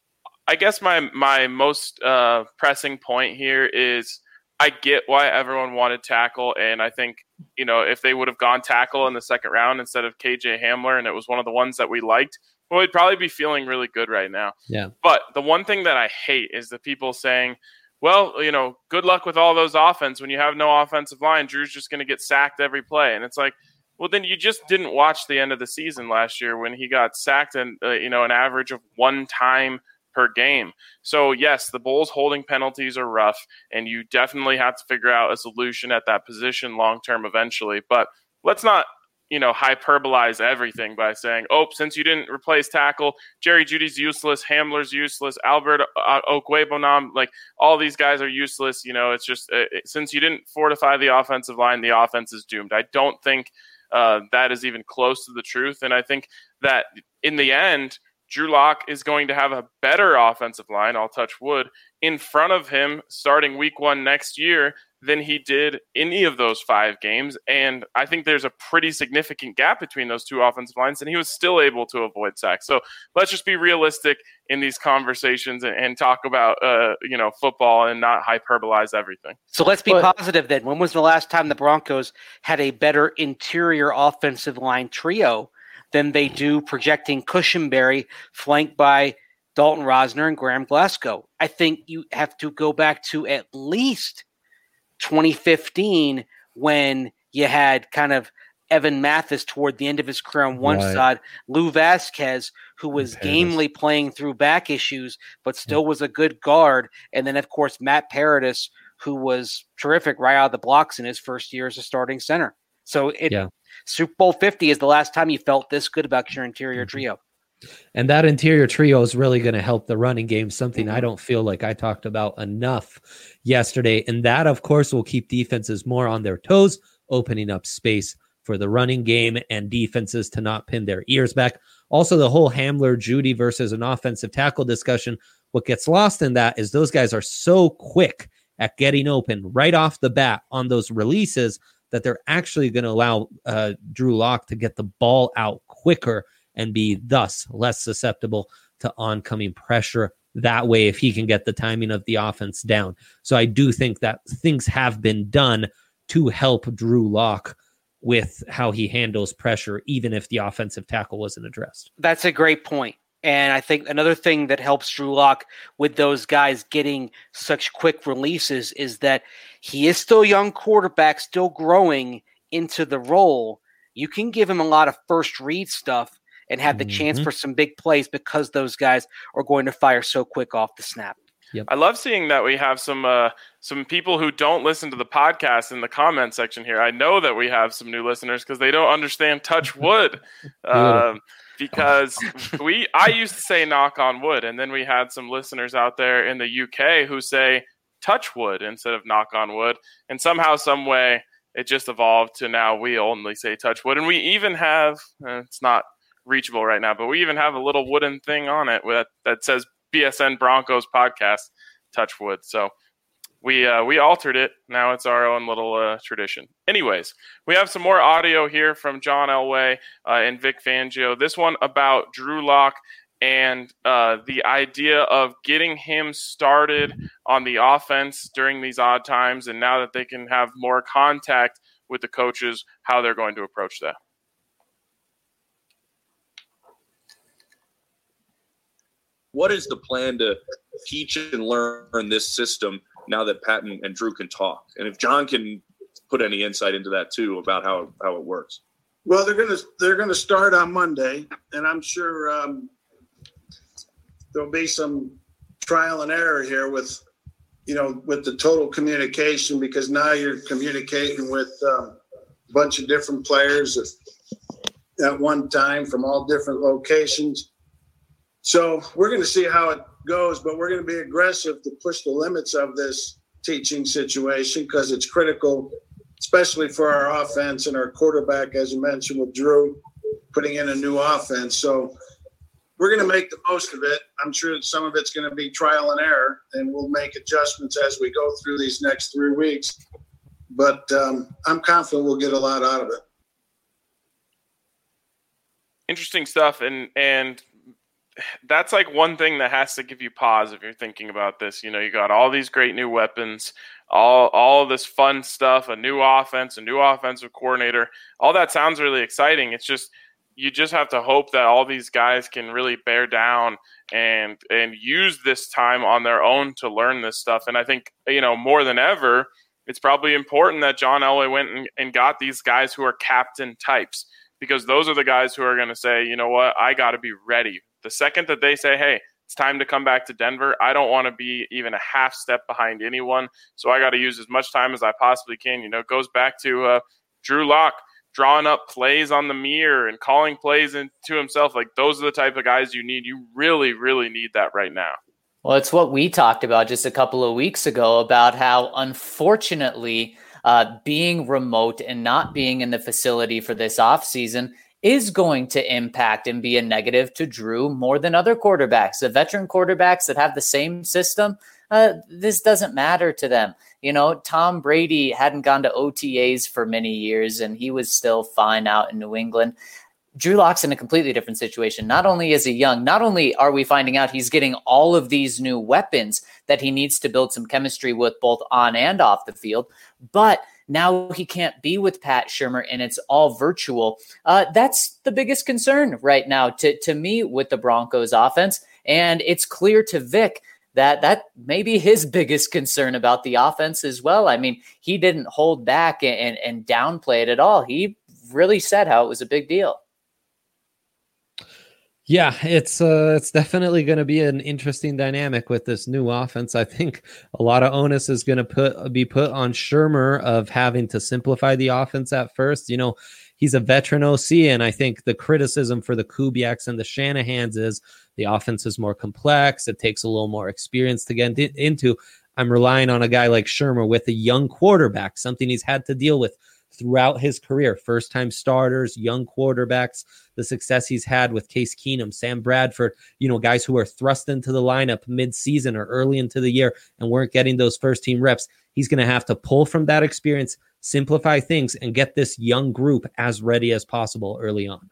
I guess my, my most uh, pressing point here is I get why everyone wanted tackle, and I think, you know, if they would have gone tackle in the second round instead of K J Hamler, and it was one of the ones that we liked, well, we'd probably be feeling really good right now. Yeah. But the one thing that I hate is the people saying, well, you know, good luck with all those offense. When you have no offensive line, Drew's just going to get sacked every play. And it's like, well, then you just didn't watch the end of the season last year when he got sacked and, uh, you know, an average of one time per game. So yes, the Bulls holding penalties are rough, and you definitely have to figure out a solution at that position long term eventually. But let's not, you know, hyperbolize everything by saying, oh, since you didn't replace tackle, Jerry Jeudy's useless, Hamler's useless, Albert uh, Okwuegbunam, like all these guys are useless. You know, it's just uh, since you didn't fortify the offensive line, the offense is doomed. I don't think uh, that is even close to the truth. And I think that in the end, Drew Lock is going to have a better offensive line, I'll touch wood, in front of him starting week one next year than he did any of those five games. And I think there's a pretty significant gap between those two offensive lines, and he was still able to avoid sacks. So let's just be realistic in these conversations and, and talk about, uh, you know, football and not hyperbolize everything. So let's be But- positive then. When was the last time the Broncos had a better interior offensive line trio than they do projecting Cushenberry flanked by Dalton Rosner and Graham Glasgow? I think you have to go back to at least twenty fifteen when you had kind of Evan Mathis toward the end of his career on one Right. side, Lou Vasquez, who was Paradis. gamely playing through back issues, but still was a good guard. And then, of course, Matt Paradis, who was terrific right out of the blocks in his first year as a starting center. So it, Yeah. Super Bowl fifty is the last time you felt this good about your interior Mhm. trio. And that interior trio is really going to help the running game, something I don't feel like I talked about enough yesterday. And that, of course, will keep defenses more on their toes, opening up space for the running game and defenses to not pin their ears back. Also, the whole Hamler, Jeudy versus an offensive tackle discussion, what gets lost in that is those guys are so quick at getting open right off the bat on those releases that they're actually going to allow uh, Drew Lock to get the ball out quicker and be thus less susceptible to oncoming pressure that way if he can get the timing of the offense down. So I do think that things have been done to help Drew Lock with how he handles pressure, even if the offensive tackle wasn't addressed. That's a great point. And I think another thing that helps Drew Lock with those guys getting such quick releases is that he is still a young quarterback, still growing into the role. You can give him a lot of first read stuff and have the Mhm. chance for some big plays because those guys are going to fire so quick off the snap. I love seeing that we have some uh, some people who don't listen to the podcast in the comment section here. I know that we have some new listeners because they don't understand touch wood. um, because we I used to say knock on wood, and then we had some listeners out there in the U K who say touch wood instead of knock on wood. And somehow, some way, it just evolved to now we only say touch wood. And we even have, uh, it's not reachable right now, but we even have a little wooden thing on it that, that says B S N Broncos podcast, touch wood. So we uh, we altered it. Now it's our own little uh, tradition. Anyways, we have some more audio here from John Elway uh, and Vic Fangio. This one about Drew Lock and uh, the idea of getting him started on the offense during these odd times, and now that they can have more contact with the coaches, how they're going to approach that. What is the plan to teach and learn this system now that Pat and, and Drew can talk? And if John can put any insight into that too about how, how it works. Well, they're gonna they're gonna start on Monday, and I'm sure um, there'll be some trial and error here with, you know, with the total communication, because now you're communicating with um, a bunch of different players at, at one time from all different locations. So we're going to see how it goes, but we're going to be aggressive to push the limits of this teaching situation because it's critical, especially for our offense and our quarterback, as you mentioned, with Drew putting in a new offense. So we're going to make the most of it. I'm sure some of it's going to be trial and error, and we'll make adjustments as we go through these next three weeks. But um, I'm confident we'll get a lot out of it. Interesting stuff. And, and that's like one thing that has to give you pause if you're thinking about this. You know, you got all these great new weapons, all, all this fun stuff, a new offense, a new offensive coordinator. All that sounds really exciting. It's just, you just have to hope that all these guys can really bear down and and use this time on their own to learn this stuff. And I think, you know, more than ever, it's probably important that John Elway went and, and got these guys who are captain types, because those are the guys who are going to say, you know what, I got to be ready. The second that they say, hey, it's time to come back to Denver, I don't want to be even a half step behind anyone. So I got to use as much time as I possibly can. You know, it goes back to uh, Drew Lock drawing up plays on the mirror and calling plays into himself. Like, those are the type of guys you need. You really, really need that right now. Well, it's what we talked about just a couple of weeks ago about how, unfortunately, uh, being remote and not being in the facility for this offseason is going to impact and be a negative to Drew more than other quarterbacks. The veteran quarterbacks that have the same system, uh, this doesn't matter to them. You know, Tom Brady hadn't gone to O T As for many years, and he was still fine out in New England. Drew Lock's in a completely different situation. Not only is he young, not only are we finding out he's getting all of these new weapons that he needs to build some chemistry with both on and off the field, but now he can't be with Pat Shurmur and it's all virtual. Uh, that's the biggest concern right now to, to me with the Broncos offense. And it's clear to Vic that that may be his biggest concern about the offense as well. I mean, he didn't hold back and, and downplay it at all. He really said how it was a big deal. Yeah, it's uh, it's definitely going to be an interesting dynamic with this new offense. I think a lot of onus is going to put be put on Shurmur of having to simplify the offense at first. You know, he's a veteran O C, and I think the criticism for the Kubiaks and the Shanahans is the offense is more complex. It takes a little more experience to get into. I'm relying on a guy like Shurmur with a young quarterback, something he's had to deal with throughout his career. First-time starters, young quarterbacks, the success he's had with Case Keenum, Sam Bradford, you know, guys who are thrust into the lineup mid-season or early into the year and weren't getting those first-team reps. He's going to have to pull from that experience, simplify things, and get this young group as ready as possible early on.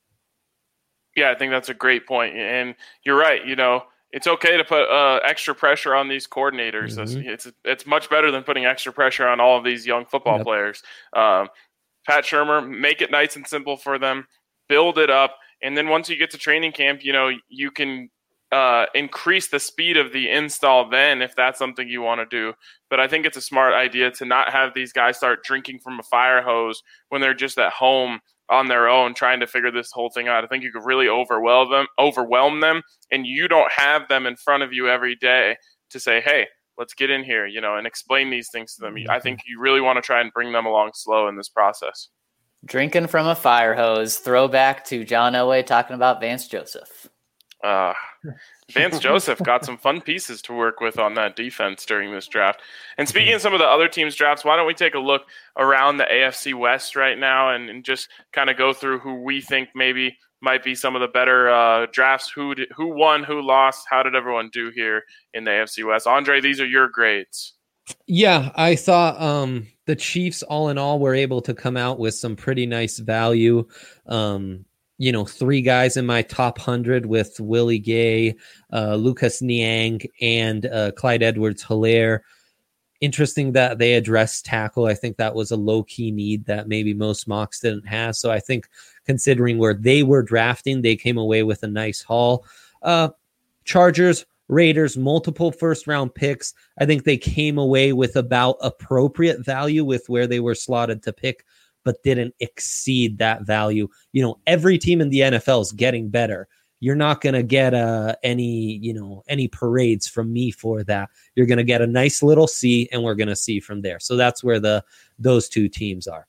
Yeah, I think that's a great point. And you're right, you know, it's okay to put uh, extra pressure on these coordinators. Mm-hmm. It's it's much better than putting extra pressure on all of these young football yep. players. Um, Pat Shurmur, make it nice and simple for them, build it up, and then once you get to training camp, you know, you can uh, increase the speed of the install then if that's something you want to do. But I think it's a smart idea to not have these guys start drinking from a fire hose when they're just at home on their own trying to figure this whole thing out. I think you could really overwhelm them, overwhelm them, and you don't have them in front of you every day to say, hey, let's get in here, you know, and explain these things to them. I think you really want to try and bring them along slow in this process. Drinking from a fire hose, throwback to John Elway talking about Vance Joseph. Uh, Vance Joseph got some fun pieces to work with on that defense during this draft. And speaking of some of the other teams' drafts, why don't we take a look around the A F C West right now and, and just kind of go through who we think maybe might be some of the better uh, drafts, who did, who won, who lost, how did everyone do here in the A F C West? Andre, these are your grades. Yeah, I thought um, the Chiefs, all in all, were able to come out with some pretty nice value. Um, you know, three guys in my top one hundred with Willie Gay, uh, Lucas Niang, and uh, Clyde Edwards-Helaire. Interesting that they addressed tackle. I think that was a low-key need that maybe most mocks didn't have. So I think considering where they were drafting, they came away with a nice haul. Uh, Chargers, Raiders, multiple first-round picks. I think they came away with about appropriate value with where they were slotted to pick, but didn't exceed that value. You know, every team in the N F L is getting better. you're not going to get uh, any, you know, any parades from me for that. You're going to get a nice little C, and we're going to see from there. So that's where the those two teams are.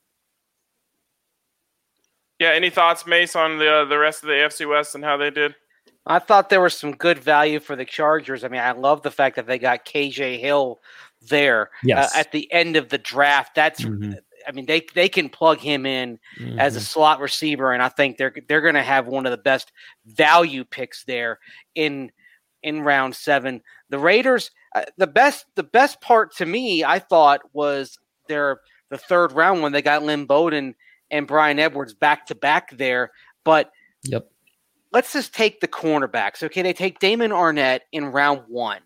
Yeah. Any thoughts, Mace, on the uh, the rest of the A F C West and how they did? I thought there was some good value for the Chargers. I mean, I love the fact that they got K J Hill there Yes. uh, at the end of the draft. That's, Mhm. I mean, they they can plug him in Mhm. as a slot receiver, and I think they're they're going to have one of the best value picks there in in round seven. The Raiders, uh, the best the best part to me, I thought, was their the third round when they got Lynn Bowden and Brian Edwards back to back there. But Yep. let's just take the cornerbacks. Okay, they take Damon Arnett in round one.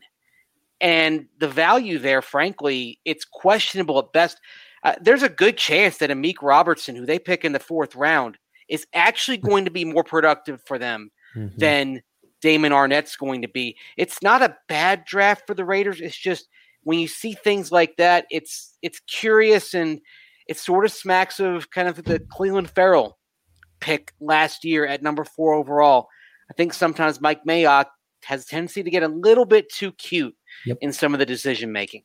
And the value there, frankly, it's questionable at best. Uh, there's a good chance that Amik Robertson, who they pick in the fourth round, is actually going to be more productive for them Mhm. than Damon Arnett's going to be. It's not a bad draft for the Raiders. It's just when you see things like that, it's it's curious, and it sort of smacks of kind of the Cleveland Farrell pick last year at number four overall. I think sometimes Mike Mayock has a tendency to get a little bit too cute Yep. in some of the decision making.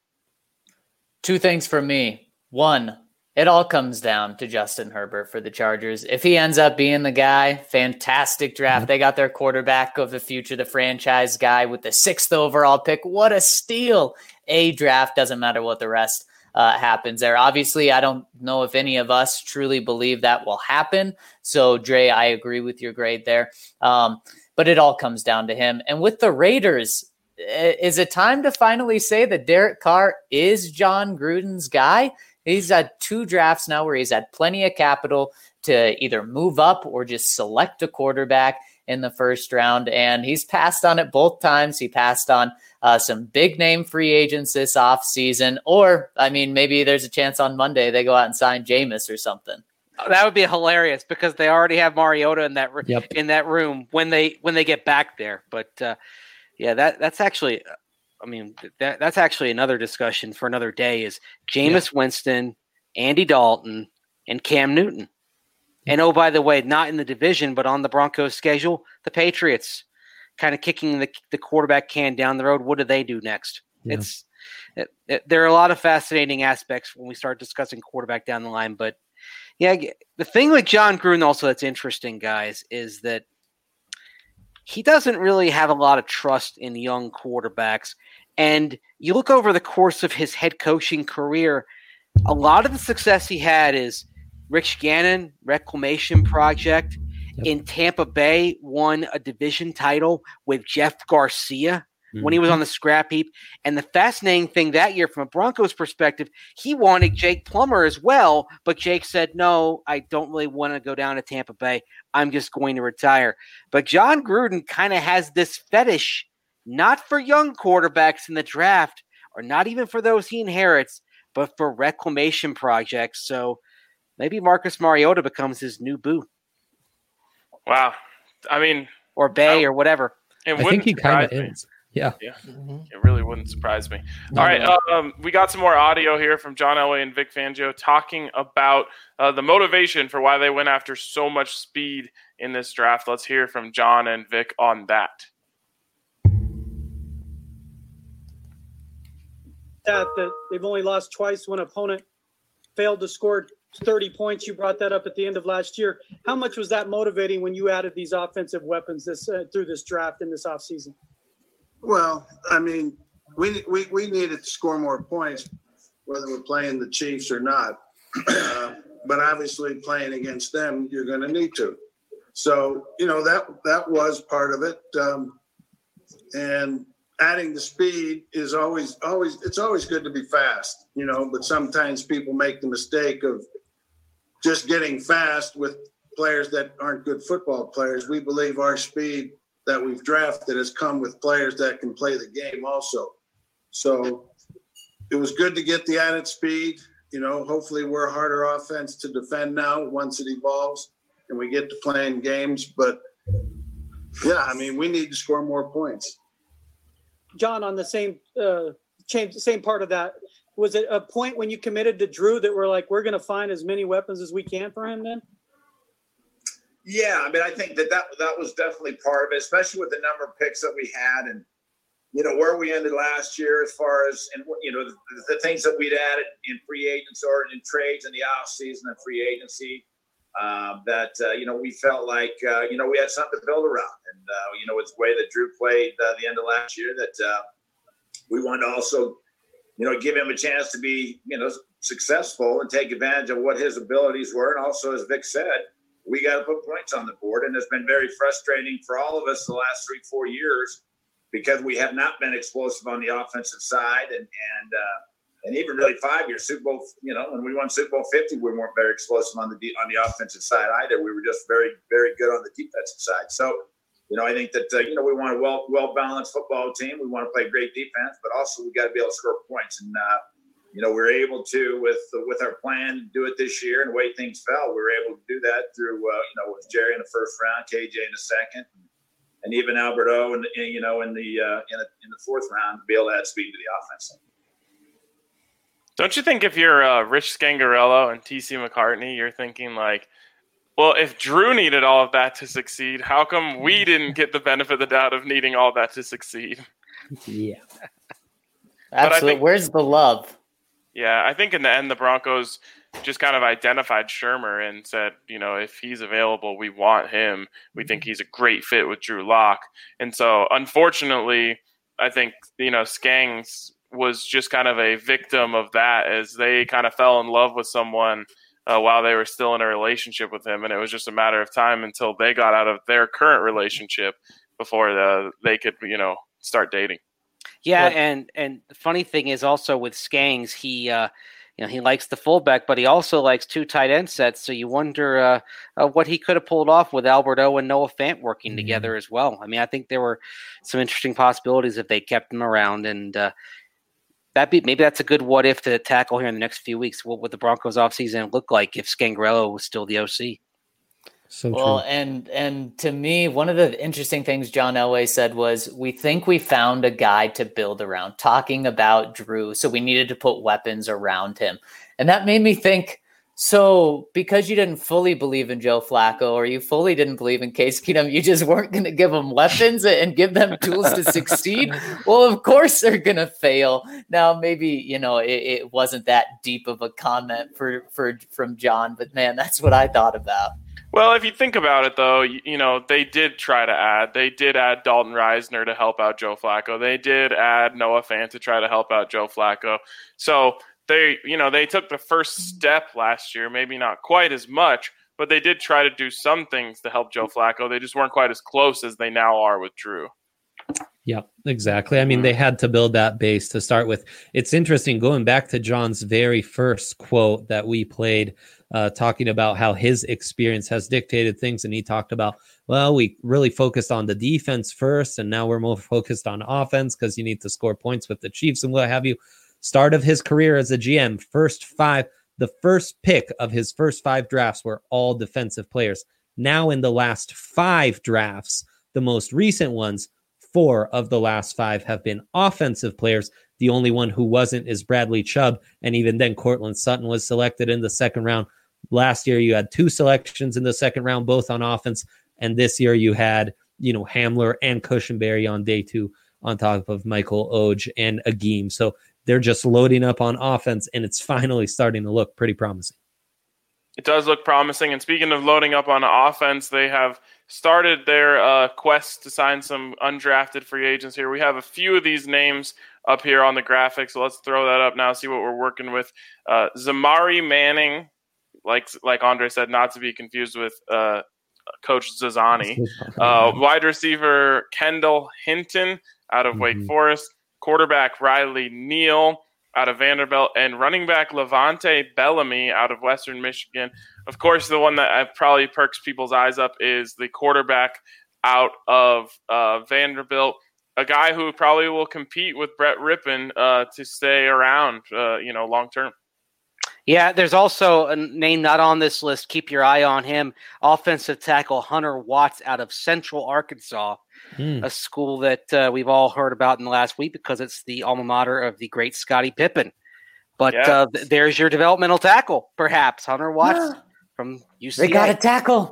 Two things for me. One, it all comes down to Justin Herbert for the Chargers. If he ends up being the guy, fantastic draft. They got their quarterback of the future, the franchise guy with the sixth overall pick. What a steal. A draft, doesn't matter what the rest uh, happens there. Obviously, I don't know if any of us truly believe that will happen. So, Dre, I agree with your grade there. Um, but it all comes down to him. And with the Raiders, is it time to finally say that Derek Carr is John Gruden's guy? He's had two drafts now where he's had plenty of capital to either move up or just select a quarterback in the first round. And he's passed on it both times. He passed on uh, some big name free agents this offseason. Or, I mean, maybe there's a chance on Monday they go out and sign Jameis or something. That would be hilarious because they already have Mariota in that Yep. in that room when they when they get back there. But uh, yeah, that that's actually, I mean, that that's actually another discussion for another day. Is Jameis Winston, Andy Dalton, and Cam Newton. And oh, by the way, not in the division, but on the Broncos schedule, the Patriots kind of kicking the the quarterback can down the road. What do they do next? Yeah. It's it, it, there are a lot of fascinating aspects when we start discussing quarterback down the line, but. Yeah, the thing with John Gruden also that's interesting, guys, is that he doesn't really have a lot of trust in young quarterbacks. And you look over the course of his head coaching career, a lot of the success he had is Rich Gannon, Reclamation Project. Yep. In Tampa Bay, won a division title with Jeff Garcia when he was on the scrap heap. And the fascinating thing that year from a Broncos perspective, he wanted Jake Plummer as well, but Jake said, no, I don't really want to go down to Tampa Bay. I'm just going to retire. But John Gruden kind of has this fetish, not for young quarterbacks in the draft, or not even for those he inherits, but for reclamation projects. So maybe Marcus Mariota becomes his new boo. Wow. I mean, or Bay I, or whatever. It I think he kind of is. Yeah. Yeah. Mm-hmm. It really wouldn't surprise me. No, All right. No. Um, we got some more audio here from John Elway and Vic Fangio talking about uh, the motivation for why they went after so much speed in this draft. Let's hear from John and Vic on that. That, that they've only lost twice when an opponent failed to score thirty points. You brought that up at the end of last year. How much was that motivating when you added these offensive weapons this uh, through this draft in this offseason? Well, I mean, we, we we needed to score more points, whether we're playing the Chiefs or not. Uh, but obviously, playing against them, you're going to need to. So, you know, that that was part of it. Um, and adding the speed is always always it's always good to be fast, you know. But sometimes people make the mistake of just getting fast with players that aren't good football players. We believe our speed that we've drafted has come with players that can play the game also. So it was good to get the added speed. You know, hopefully we're a harder offense to defend now once it evolves and we get to playing games. But, yeah, I mean, we need to score more points. John, on the same uh, change, same part of that, was it a point when you committed to Drew that we're like, we're going to find as many weapons as we can for him then? Yeah, I mean, I think that, that that was definitely part of it, especially with the number of picks that we had, and you know where we ended last year as far as and you know the, the things that we'd added in free agents or in trades in the off season and free agency. Um, that uh, you know we felt like uh, you know we had something to build around, and uh, you know it's the way that Drew played uh, the end of last year that uh, we wanted to also you know give him a chance to be you know successful and take advantage of what his abilities were, and also as Vic said, we got to put points on the board, and it's been very frustrating for all of us the last three four years because we have not been explosive on the offensive side, and and uh, And even really five years, Super Bowl, you know, when we won Super Bowl fifty, we weren't very explosive on the on the offensive side either. We were just very, very good on the defensive side. So, you know, I think that, uh, you know, we want a well, well-balanced football team. We want to play great defense, but also we got to be able to score points. And, uh, you know, we were able to, with with our plan, do it this year. And the way things fell, we were able to do that through, uh, you know, with Jerry in the first round, K J in the second, and even Alberto, in the, you know, in the, uh, in, the, in the fourth round to be able to add speed to the offense. Don't you think if you're uh, Rich Scangarello and T C McCartney, you're thinking like, well, if Drew needed all of that to succeed, how come we didn't get the benefit of the doubt of needing all that to succeed? Yeah. Absolutely. think, Where's the love? Yeah, I think in the end, the Broncos just kind of identified Shermer and said, you know, if he's available, we want him. We think he's a great fit with Drew Lock. And so, unfortunately, I think, you know, Skangs was just kind of a victim of that as they kind of fell in love with someone uh, while they were still in a relationship with him. And it was just a matter of time until they got out of their current relationship before the, they could, you know, start dating. Yeah. And, and the funny thing is also with Skangs, he, uh, you know, he likes the fullback, but he also likes two tight end sets. So you wonder uh, uh, what he could have pulled off with Alberto and Noah Fant working mm-hmm. together as well. I mean, I think there were some interesting possibilities if they kept him around, and, uh, That be maybe that's a good what if to tackle here in the next few weeks. What would the Broncos offseason look like if Scangarello was still the O C? So well, true. and and to me, one of the interesting things John Elway said was, we think we found a guy to build around, talking about Drew. So we needed to put weapons around him. And that made me think, so because you didn't fully believe in Joe Flacco, or you fully didn't believe in Case Keenum, you just weren't going to give them weapons and give them tools to succeed? Well, of course they're going to fail. Now, maybe, you know, it, it wasn't that deep of a comment for, for from John, but man, that's what I thought about. Well, if you think about it, though, you, you know, they did try to add. They did add Dalton Reisner to help out Joe Flacco. They did add Noah Fant to try to help out Joe Flacco. So they, you know, they took the first step last year, maybe not quite as much, but they did try to do some things to help Joe Flacco. They just weren't quite as close as they now are with Drew. Yeah, exactly. I mean, they had to build that base to start with. It's interesting going back to John's very first quote that we played, uh, talking about how his experience has dictated things. And he talked about, well, we really focused on the defense first, and now we're more focused on offense because you need to score points with the Chiefs and what have you. Start of his career as a G M, first five, the first pick of his first five drafts were all defensive players. Now in the last five drafts, the most recent ones, four of the last five have been offensive players. The only one who wasn't is Bradley Chubb. And even then, Cortland Sutton was selected in the second round. Last year, you had two selections in the second round, both on offense. And this year you had, you know, Hamler and Cushenberry on day two on top of Michael Oj and Agim. So they're just loading up on offense, and it's finally starting to look pretty promising. It does look promising. And speaking of loading up on offense, they have started their uh, quest to sign some undrafted free agents here. We have a few of these names up here on the graphic, so let's throw that up now, see what we're working with. Uh, Zamari Manning, like like Andre said, not to be confused with uh, Coach Zazani. Uh, wide receiver Kendall Hinton out of mm-hmm. Wake Forest. Quarterback Riley Neal out of Vanderbilt, and running back Levante Bellamy out of Western Michigan. Of course, the one that probably perks people's eyes up is the quarterback out of uh, Vanderbilt, a guy who probably will compete with Brett Rippon uh, to stay around, uh, you know, long term. Yeah, there's also a name not on this list. Keep your eye on him. Offensive tackle Hunter Watts out of Central Arkansas, mm. a school that uh, we've all heard about in the last week because it's the alma mater of the great Scottie Pippen. But yes. uh, th- there's your developmental tackle, perhaps, Hunter Watts from U C A. They got a tackle.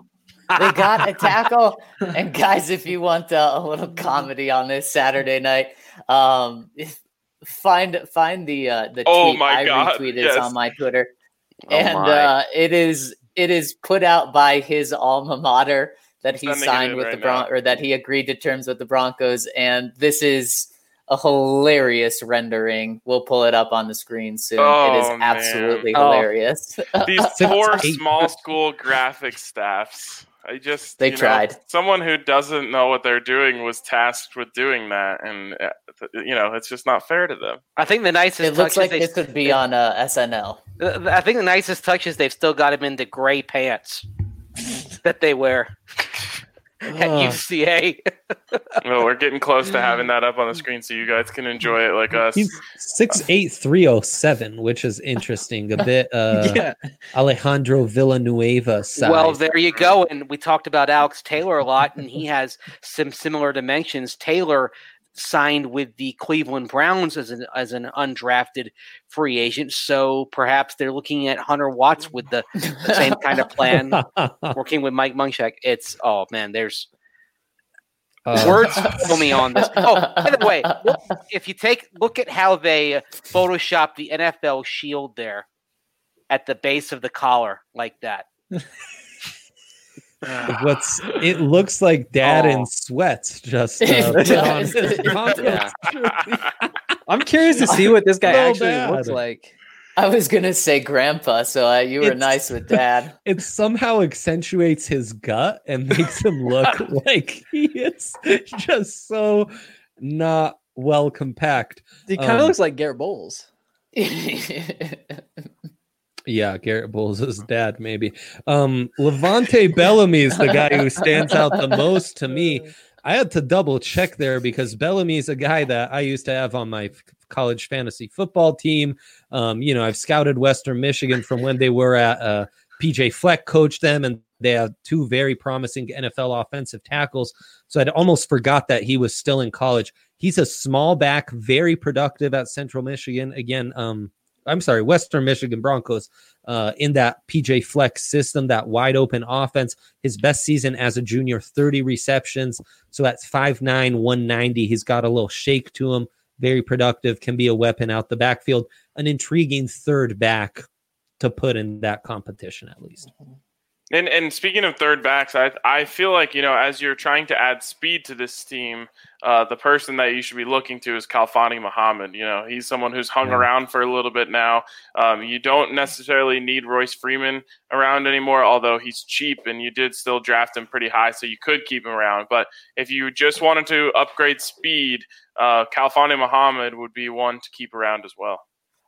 They got a tackle. And guys, if you want uh, a little comedy on this Saturday night, um, find find the uh, the Oh tweet my I God, retweeted yes. on my Twitter, Oh and my. uh, it is it is put out by his alma mater that he Sending it signed in with right the Bron now. or that he agreed to terms with the Broncos, and this is a hilarious rendering. We'll pull it up on the screen soon. Oh, it is man. absolutely Oh. hilarious. These Six, poor eight. small school graphic staffs. I just They you know, tried. someone who doesn't know what they're doing was tasked with doing that, and uh, you know it's just not fair to them. I think the nicest It looks touch like is they, this would be on uh, S N L. I think the nicest touch is they've still got him in the gray pants that they wear at Ugh. U C A. Well, we're getting close to having that up on the screen so you guys can enjoy it like us. He's six eight three oh seven, which is interesting. A bit uh, yeah. Alejandro Villanueva size. Well, there you go. And we talked about Alex Taylor a lot, and he has some similar dimensions. Taylor signed with the Cleveland Browns as an as an undrafted free agent, so perhaps they're looking at Hunter Watts with the, the same kind of plan, working with Mike Munchak. It's oh man, there's Uh, words for me on this. Oh, by the way, look, if you take look at how they photoshopped the N F L shield there at the base of the collar like that. What's it looks like dad Oh. in sweats just uh, It put does. on- Yeah. I'm curious to see what this guy So actually bad. looks like. I was gonna say grandpa, so uh, you were It's- nice with dad. It somehow accentuates his gut and makes him look like he is just so not well compact. He kind of Um, looks like Garrett Bowles. Yeah, Garrett Bowles' dad, maybe. Um, Levante Bellamy is the guy who stands out the most to me. I had to double check there because Bellamy is a guy that I used to have on my f- college fantasy football team. Um, you know, I've scouted Western Michigan from when they were at uh, P J Fleck coached them, and they have two very promising N F L offensive tackles. So I'd almost forgot that he was still in college. He's a small back, very productive at Central Michigan. Again, um, I'm sorry, Western Michigan Broncos uh, in that P J Fleck system, that wide open offense. His best season as a junior, thirty receptions. So that's five nine, one ninety. He's got a little shake to him. Very productive, can be a weapon out the backfield. An intriguing third back to put in that competition at least. And and speaking of third backs, I I feel like, you know, as you're trying to add speed to this team, uh, the person that you should be looking to is Khalfani Muhammad. You know, he's someone who's hung Yeah. around for a little bit now. Um, you don't necessarily need Royce Freeman around anymore, although he's cheap and you did still draft him pretty high, so you could keep him around. But if you just wanted to upgrade speed, uh, Khalfani Muhammad would be one to keep around as well.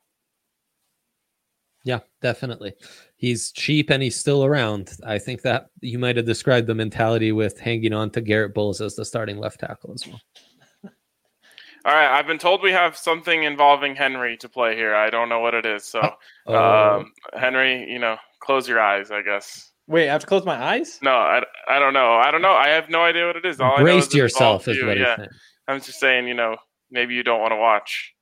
Yeah, definitely. He's cheap and he's still around. I think that you might have described the mentality with hanging on to Garrett Bowles as the starting left tackle as well. All right, I've been told we have something involving Henry to play here. I don't know what it is. So, Oh, um, Henry, you know, close your eyes, I guess. Wait, I have to close my eyes? No, I, I don't know. I don't know. I have no idea what it is. All I know brace is it yourself involves is you. what he's Yeah, saying. I'm just saying, you know, maybe you don't want to watch.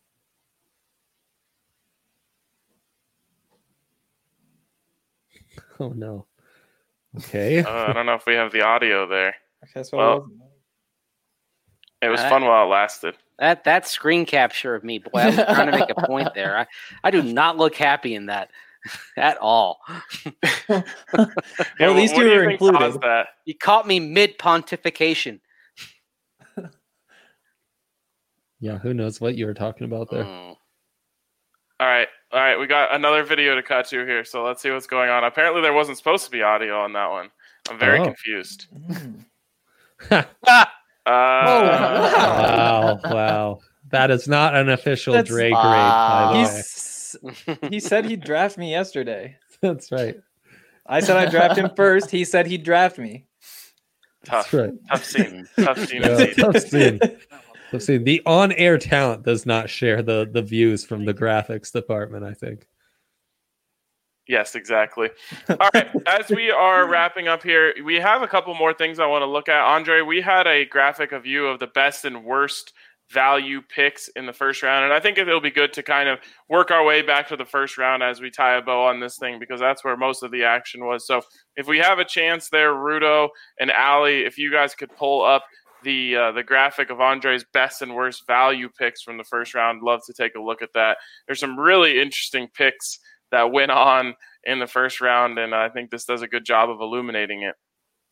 Oh no. Okay. Uh, I don't know if we have the audio there. Okay, so Well, It was Uh, fun while it lasted. That that screen capture of me, boy, I was trying to make a point there. I, I do not look happy in that at all. Yeah, Well, these what two do you are think included. caused that? You caught me mid pontification. Yeah, who knows what you were talking about there. Mm. All right, all right. We got another video to cut to here, so let's see what's going on. Apparently, there wasn't supposed to be audio on that one. I'm very Oh. confused. Ah, Uh, Wow, wow. That is not an official That's- Dre grade, Wow. by the way. He's, he said he'd draft me yesterday. That's right. I said I'd draft him first. He said he'd draft me. tough, That's right. tough scene. Tough scene. Yeah, indeed. tough scene. Let's see. The on-air talent does not share the the views from the graphics department, I think. Yes, exactly. All right. As we are wrapping up here, we have a couple more things I want to look at. Andre, we had a graphic of you of the best and worst value picks in the first round. And I think it'll be good to kind of work our way back to the first round as we tie a bow on this thing, because that's where most of the action was. So if we have a chance there, Rudo and Allie, if you guys could pull up the uh, the graphic of Andre's best and worst value picks from the first round, love to take a look at that. There's some really interesting picks that went on in the first round, and I think this does a good job of illuminating it.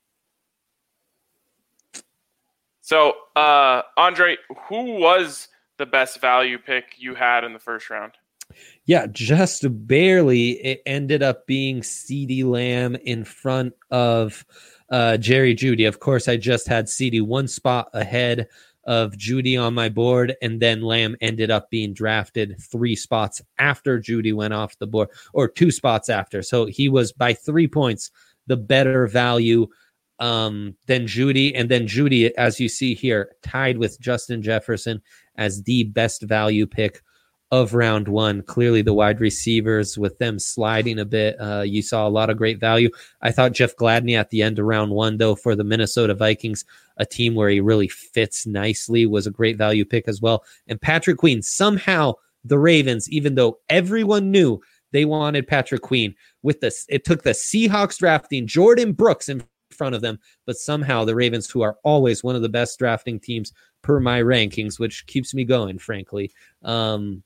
So, uh, Andre, who was the best value pick you had in the first round? Yeah, just barely. It ended up being CeeDee Lamb in front of uh, Jerry Jeudy. Of course, I just had CeeDee one spot ahead of Jeudy on my board, and then Lamb ended up being drafted three spots after Jeudy went off the board, or two spots after. So he was by three points the better value um, than Jeudy. And then Jeudy, as you see here, tied with Justin Jefferson as the best value pick of round one. Clearly the wide receivers, with them sliding a bit, uh, you saw a lot of great value. I thought Jeff Gladney at the end of round one, though, for the Minnesota Vikings, a team where he really fits nicely, was a great value pick as well. And Patrick Queen, somehow the Ravens, even though everyone knew they wanted Patrick Queen, with this, it took the Seahawks drafting Jordan Brooks in front of them, but somehow the Ravens, who are always one of the best drafting teams per my rankings, which keeps me going, frankly, um,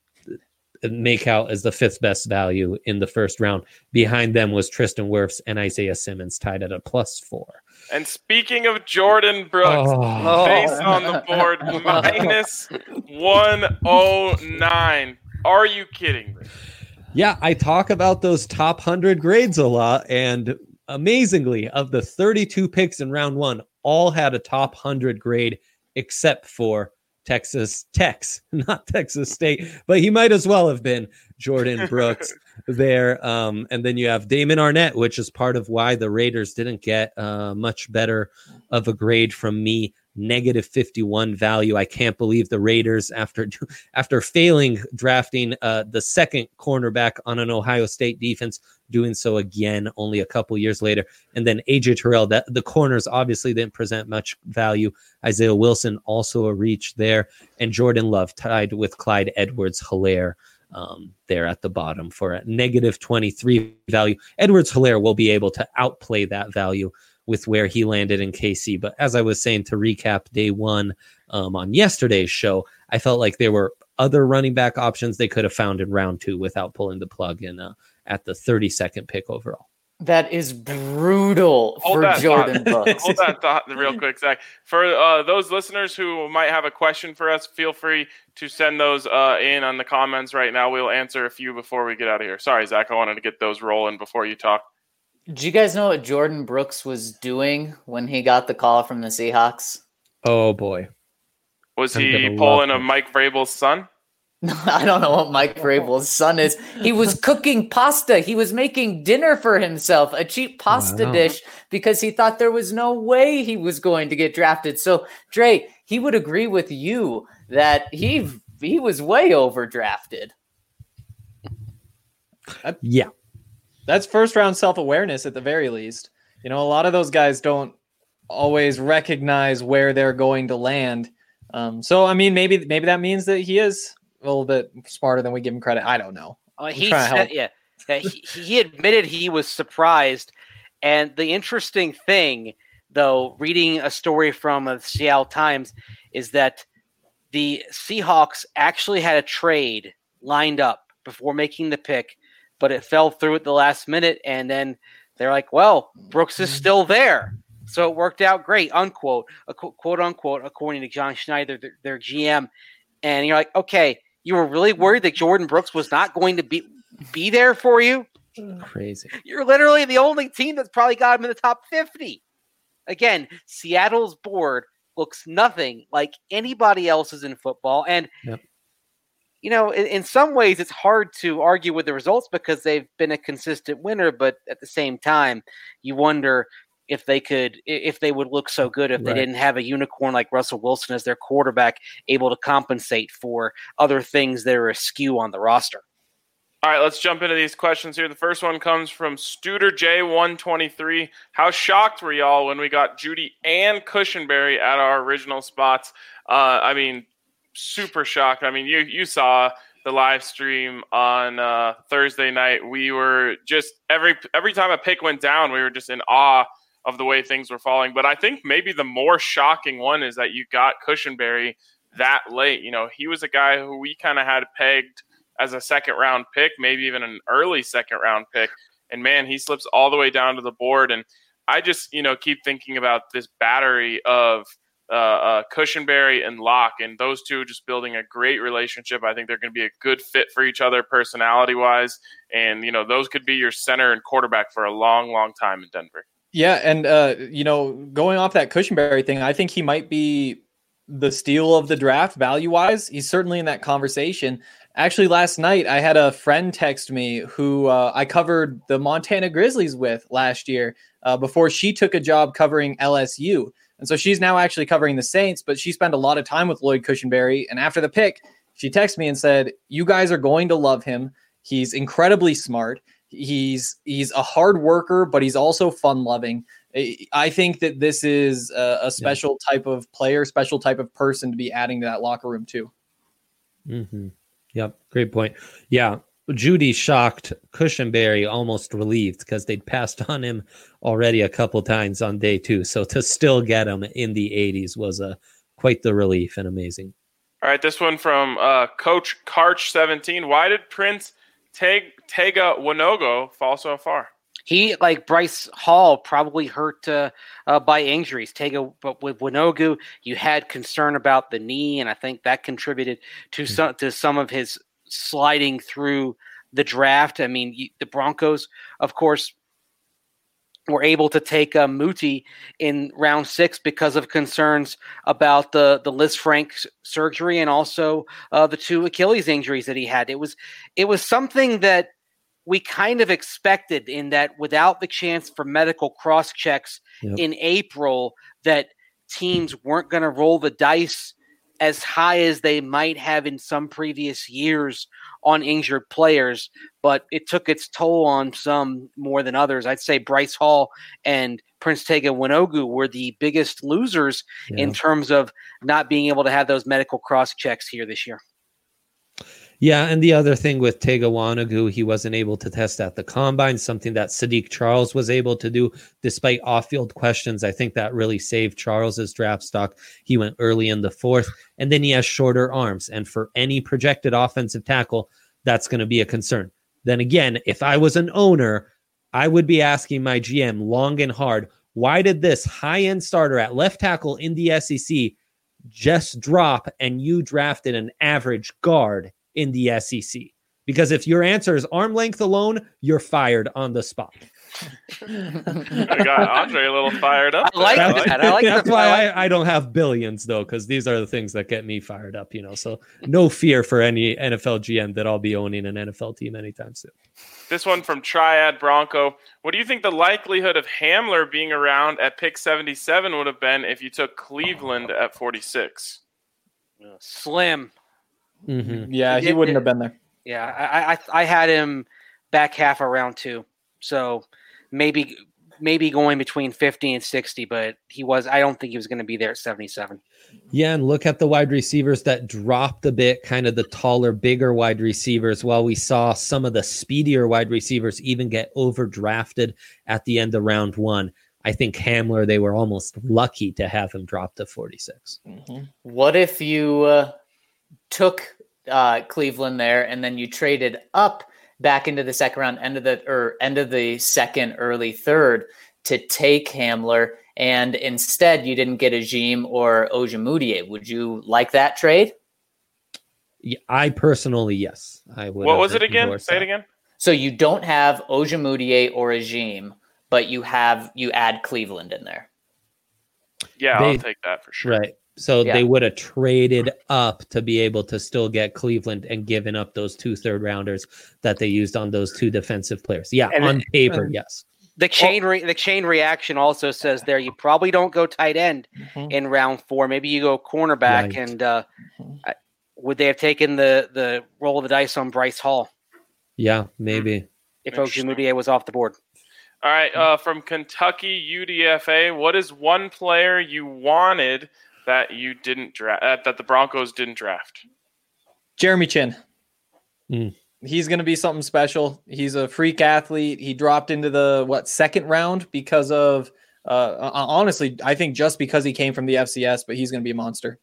make out as the fifth best value in the first round. Behind them was Tristan Wirfs and Isaiah Simmons, tied at a plus four. And speaking of Jordan Brooks, Oh. face on the board, minus one oh nine. Are you kidding me? Yeah, I talk about those top one hundred grades a lot, and amazingly, of the thirty-two picks in round one, all had a top one hundred grade except for Texas Tech's, not Texas State, but he might as well have been Jordan Brooks there. Um, and then you have Damon Arnett, which is part of why the Raiders didn't get uh, much better of a grade from me. Negative fifty-one value. I can't believe the Raiders, after after failing drafting uh, the second cornerback on an Ohio State defense, doing so again only a couple years later. And then A J Terrell, that the corners obviously didn't present much value. Isaiah Wilson, also a reach there. And Jordan Love tied with Clyde Edwards-Helaire um, there at the bottom for a negative twenty-three value. Edwards-Helaire will be able to outplay that value with where he landed in K C. But as I was saying, to recap day one um, on yesterday's show, I felt like there were other running back options they could have found in round two without pulling the plug in uh, at the thirty-second pick overall. That is brutal Hold for that Jordan thought. Brooks. Hold that thought real quick, Zach. For uh, those listeners who might have a question for us, feel free to send those uh, in on the comments right now. We'll answer a few before we get out of here. Sorry, Zach, I wanted to get those rolling before you talk. Do you guys know what Jordan Brooks was doing when he got the call from the Seahawks? Oh, boy. Was I'm he gonna pulling love a it. Mike Vrabel's son? I don't know what Mike Vrabel's son is. He was cooking pasta. He was making dinner for himself, a cheap pasta Wow. dish, because he thought there was no way he was going to get drafted. So, Dre, he would agree with you that he he was way overdrafted. Yeah. That's first round self-awareness at the very least. You know, a lot of those guys don't always recognize where they're going to land. Um, so, I mean, maybe maybe that means that he is a little bit smarter than we give him credit. I don't know. Uh, I'm he trying to said, help. yeah, yeah, he, he admitted he was surprised. And the interesting thing, though, reading a story from the Seattle Times, is that the Seahawks actually had a trade lined up before making the pick, but it fell through at the last minute. And then they're like, well, Brooks is still there. So it worked out great, unquote, a qu- quote unquote, according to John Schneider, their, their G M. And you're like, okay, you were really worried that Jordan Brooks was not going to be, be there for you? Crazy. You're literally the only team that's probably got him in the top fifty. Again, Seattle's board looks nothing like anybody else's in football. And, Yep. you know, in, in some ways it's hard to argue with the results because they've been a consistent winner. But at the same time, you wonder if they could, if they would look so good if they Right. didn't have a unicorn like Russell Wilson as their quarterback, able to compensate for other things that are askew on the roster. All right, let's jump into these questions here. The first one comes from Studer J one twenty-three. How shocked were y'all when we got Jeudy and Cushenberry at our original spots? Uh, I mean, super shocked. I mean, you you saw the live stream on uh, Thursday night. We were just every every time a pick went down, we were just in awe of the way things were falling. But I think maybe the more shocking one is that you got Cushenberry that late. You know, he was a guy who we kind of had pegged as a second round pick, maybe even an early second round pick. And man, he slips all the way down to the board. And I just, you know, keep thinking about this battery of uh, uh, Cushenberry and Locke, and those two just building a great relationship. I think they're going to be a good fit for each other personality wise. And, you know, those could be your center and quarterback for a long, long time in Denver. Yeah. And, uh, you know, going off that Cushenberry thing, I think he might be the steal of the draft value wise. He's certainly in that conversation. Actually, last night I had a friend text me who uh, I covered the Montana Grizzlies with last year uh, before she took a job covering L S U. And so she's now actually covering the Saints, but she spent a lot of time with Lloyd Cushenberry. And after the pick, she texted me and said, you guys are going to love him. He's incredibly smart. He's he's a hard worker, but he's also fun loving. I think that this is a, a special yeah. type of player, special type of person to be adding to that locker room too. Mm-hmm. Yep. Great point. Yeah. Judy shocked, Cushenberry almost relieved because they'd passed on him already a couple times on day two. So to still get him in the eighties was a quite the relief and amazing. All right. This one from uh, Coach Karch seventeen. Why did Prince Teg- Tega Wanogo fall so far? He, like Bryce Hall, probably hurt uh, uh, by injuries. Tega, but with Wanogo, you had concern about the knee, and I think that contributed to mm-hmm. some to some of his sliding through the draft. I mean, you, the Broncos, of course, were able to take uh, Muti in round six because of concerns about the the Lisfranc surgery and also uh, the two Achilles injuries that he had. It was it was something that we kind of expected, in that without the chance for medical cross checks yep. in April, that teams weren't going to roll the dice as high as they might have in some previous years on injured players. But it took its toll on some more than others. I'd say Bryce Hall and Prince Tega Wanogo were the biggest losers yeah. in terms of not being able to have those medical cross checks here this year. Yeah, and the other thing with Tega Wanogo, he wasn't able to test at the combine, something that Sadiq Charles was able to do despite off-field questions. I think that really saved Charles's draft stock. He went early in the fourth, and then he has shorter arms. And for any projected offensive tackle, that's going to be a concern. Then again, if I was an owner, I would be asking my G M long and hard, why did this high-end starter at left tackle in the S E C just drop and you drafted an average guard in the S E C? Because if your answer is arm length alone, you're fired on the spot. I got Andre a little fired up. I like there. that. I like That's that. why I, I don't have billions, though, because these are the things that get me fired up, you know. So no fear for any N F L G M that I'll be owning an N F L team anytime soon. This one from Triad Bronco. What do you think the likelihood of Hamler being around at pick seventy-seven would have been if you took Cleveland at forty-six? Slim. Mm-hmm. Yeah, he wouldn't have been there. Yeah, I, I I had him back half of round two, so maybe maybe going between fifty and sixty, but he was. I don't think he was going to be there at seventy-seven. Yeah, and look at the wide receivers that dropped a bit, kind of the taller, bigger wide receivers, while we saw some of the speedier wide receivers even get overdrafted at the end of round one. I think Hamler, they were almost lucky to have him drop to forty-six. Mm-hmm. What if you uh, took uh, Cleveland there and then you traded up back into the second round, end of the or end of the second, early third to take Hamler, and instead you didn't get Ajim or Ojemudia? Would you like that trade? Yeah, I personally, yes. I would. What was it again? Say it again. So you don't have Ojemudia or Ajim, but you have you add Cleveland in there. Yeah, They- I'll take that for sure. Right. So Yeah. they would have traded up to be able to still get Cleveland and given up those two third rounders that they used on those two defensive players. Yeah, And- on paper, and- yes. The chain re- the chain reaction also says there you probably don't go tight end Mhm. in round four. Maybe you go cornerback. Right. And uh, I- would they have taken the the roll of the dice on Bryce Hall Yeah, maybe. if Interesting. Ojemudia was off the board? All right, uh, from Kentucky U D F A, what is one player you wanted that you didn't draft, uh, that the Broncos didn't draft? Jeremy Chin. Mm. He's going to be something special. He's a freak athlete. He dropped into the what second round because of uh, honestly, I think just because he came from the F C S, but he's going to be a monster.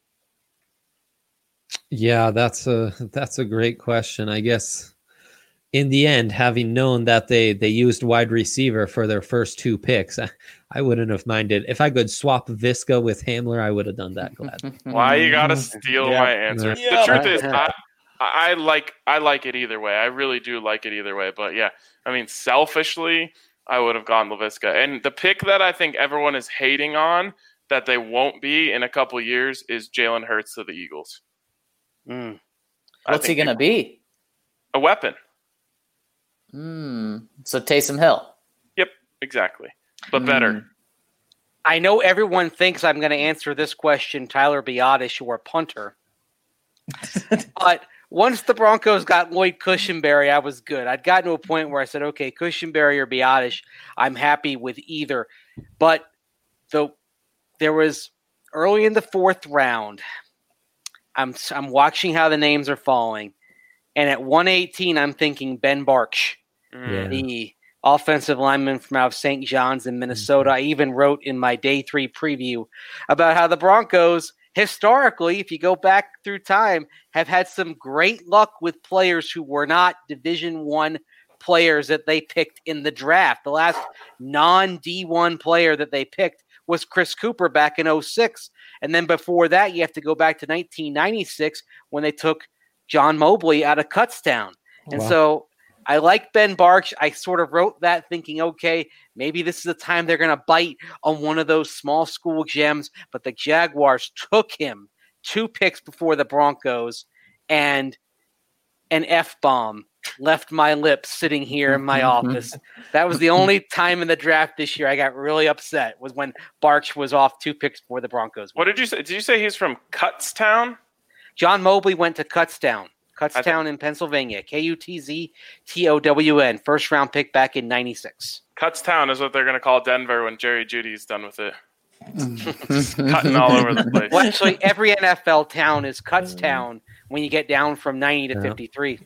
Yeah, that's a that's a great question. I guess in the end, having known that they they used wide receiver for their first two picks, I, I wouldn't have minded. If I could swap Visca with Hamler, I would have done that gladly. Why you gotta steal Yeah. my answer? Yeah. The truth is, I, I like I like it either way. I really do like it either way. But yeah, I mean, selfishly, I would have gone LaVisca. And the pick that I think everyone is hating on that they won't be in a couple years is Jalen Hurts to the Eagles. Mm. I What's he think going to be? A weapon. Hmm. So Taysom Hill. Yep, exactly. But better. Mm. I know everyone thinks I'm going to answer this question, Tyler Biadasz or punter. But once the Broncos got Lloyd Cushenberry, I was good. I'd gotten to a point where I said, okay, Cushenberry or Biadasz, I'm happy with either. But the, there was early in the fourth round, I'm I'm watching how the names are falling. And at one eighteen, I'm thinking Ben Bartsch, Yeah. the offensive lineman from out of Saint John's in Minnesota. I even wrote in my day three preview about how the Broncos, historically, if you go back through time, have had some great luck with players who were not Division One players that they picked in the draft. The last non-D one player that they picked was Chris Cooper back in oh six. And then before that, you have to go back to nineteen ninety-six when they took John Mobley out of Kutztown. And Wow. so I like Ben Bartsch. I sort of wrote that thinking, okay, maybe this is the time they're going to bite on one of those small school gems. But the Jaguars took him two picks before the Broncos, and an F-bomb left my lips sitting here in my office. That was the only time in the draft this year I got really upset, was when Bartsch was off two picks before the Broncos. What did you say? Did you say he's from Kutztown? John Mobley went to Kutztown. Kutztown in Pennsylvania. K U T Z T O W N. First round pick back in ninety-six. Kutztown is what they're going to call Denver when Jerry Judy's done with it. Just cutting all over the place. Well, actually, every N F L town is Kutztown when you get down from ninety to Yeah. fifty-three.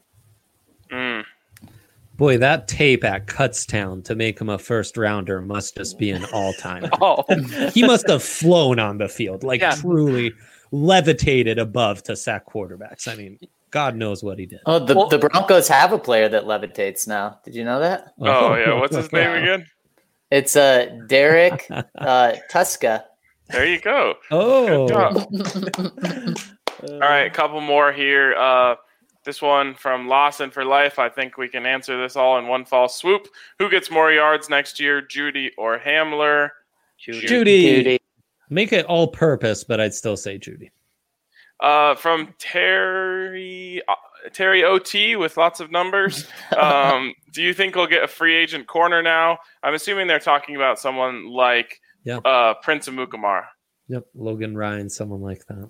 Mm. Boy, that tape at Kutztown to make him a first rounder must just be an all time. Oh, He must have flown on the field, like Yeah. truly levitated above to sack quarterbacks. I mean, God knows what he did. Oh, the, Well- the Broncos have a player that levitates now. Did you know that? Oh, yeah. What's his name again? It's uh, Derek uh, Tuska. There you go. Oh, Good job. All right, a couple more here. Uh, this one from Lawson for Life. I think we can answer this all in one fall swoop. Who gets more yards next year, Judy or Hamler? Judy. Judy. Judy. make it all purpose, but I'd still say Judy. Uh, from Terry uh, Terry O T with lots of numbers. Um, do you think we'll get a free agent corner now? I'm assuming they're talking about someone like Yeah. uh, Prince Amukamara. Yep, Logan Ryan, someone like that.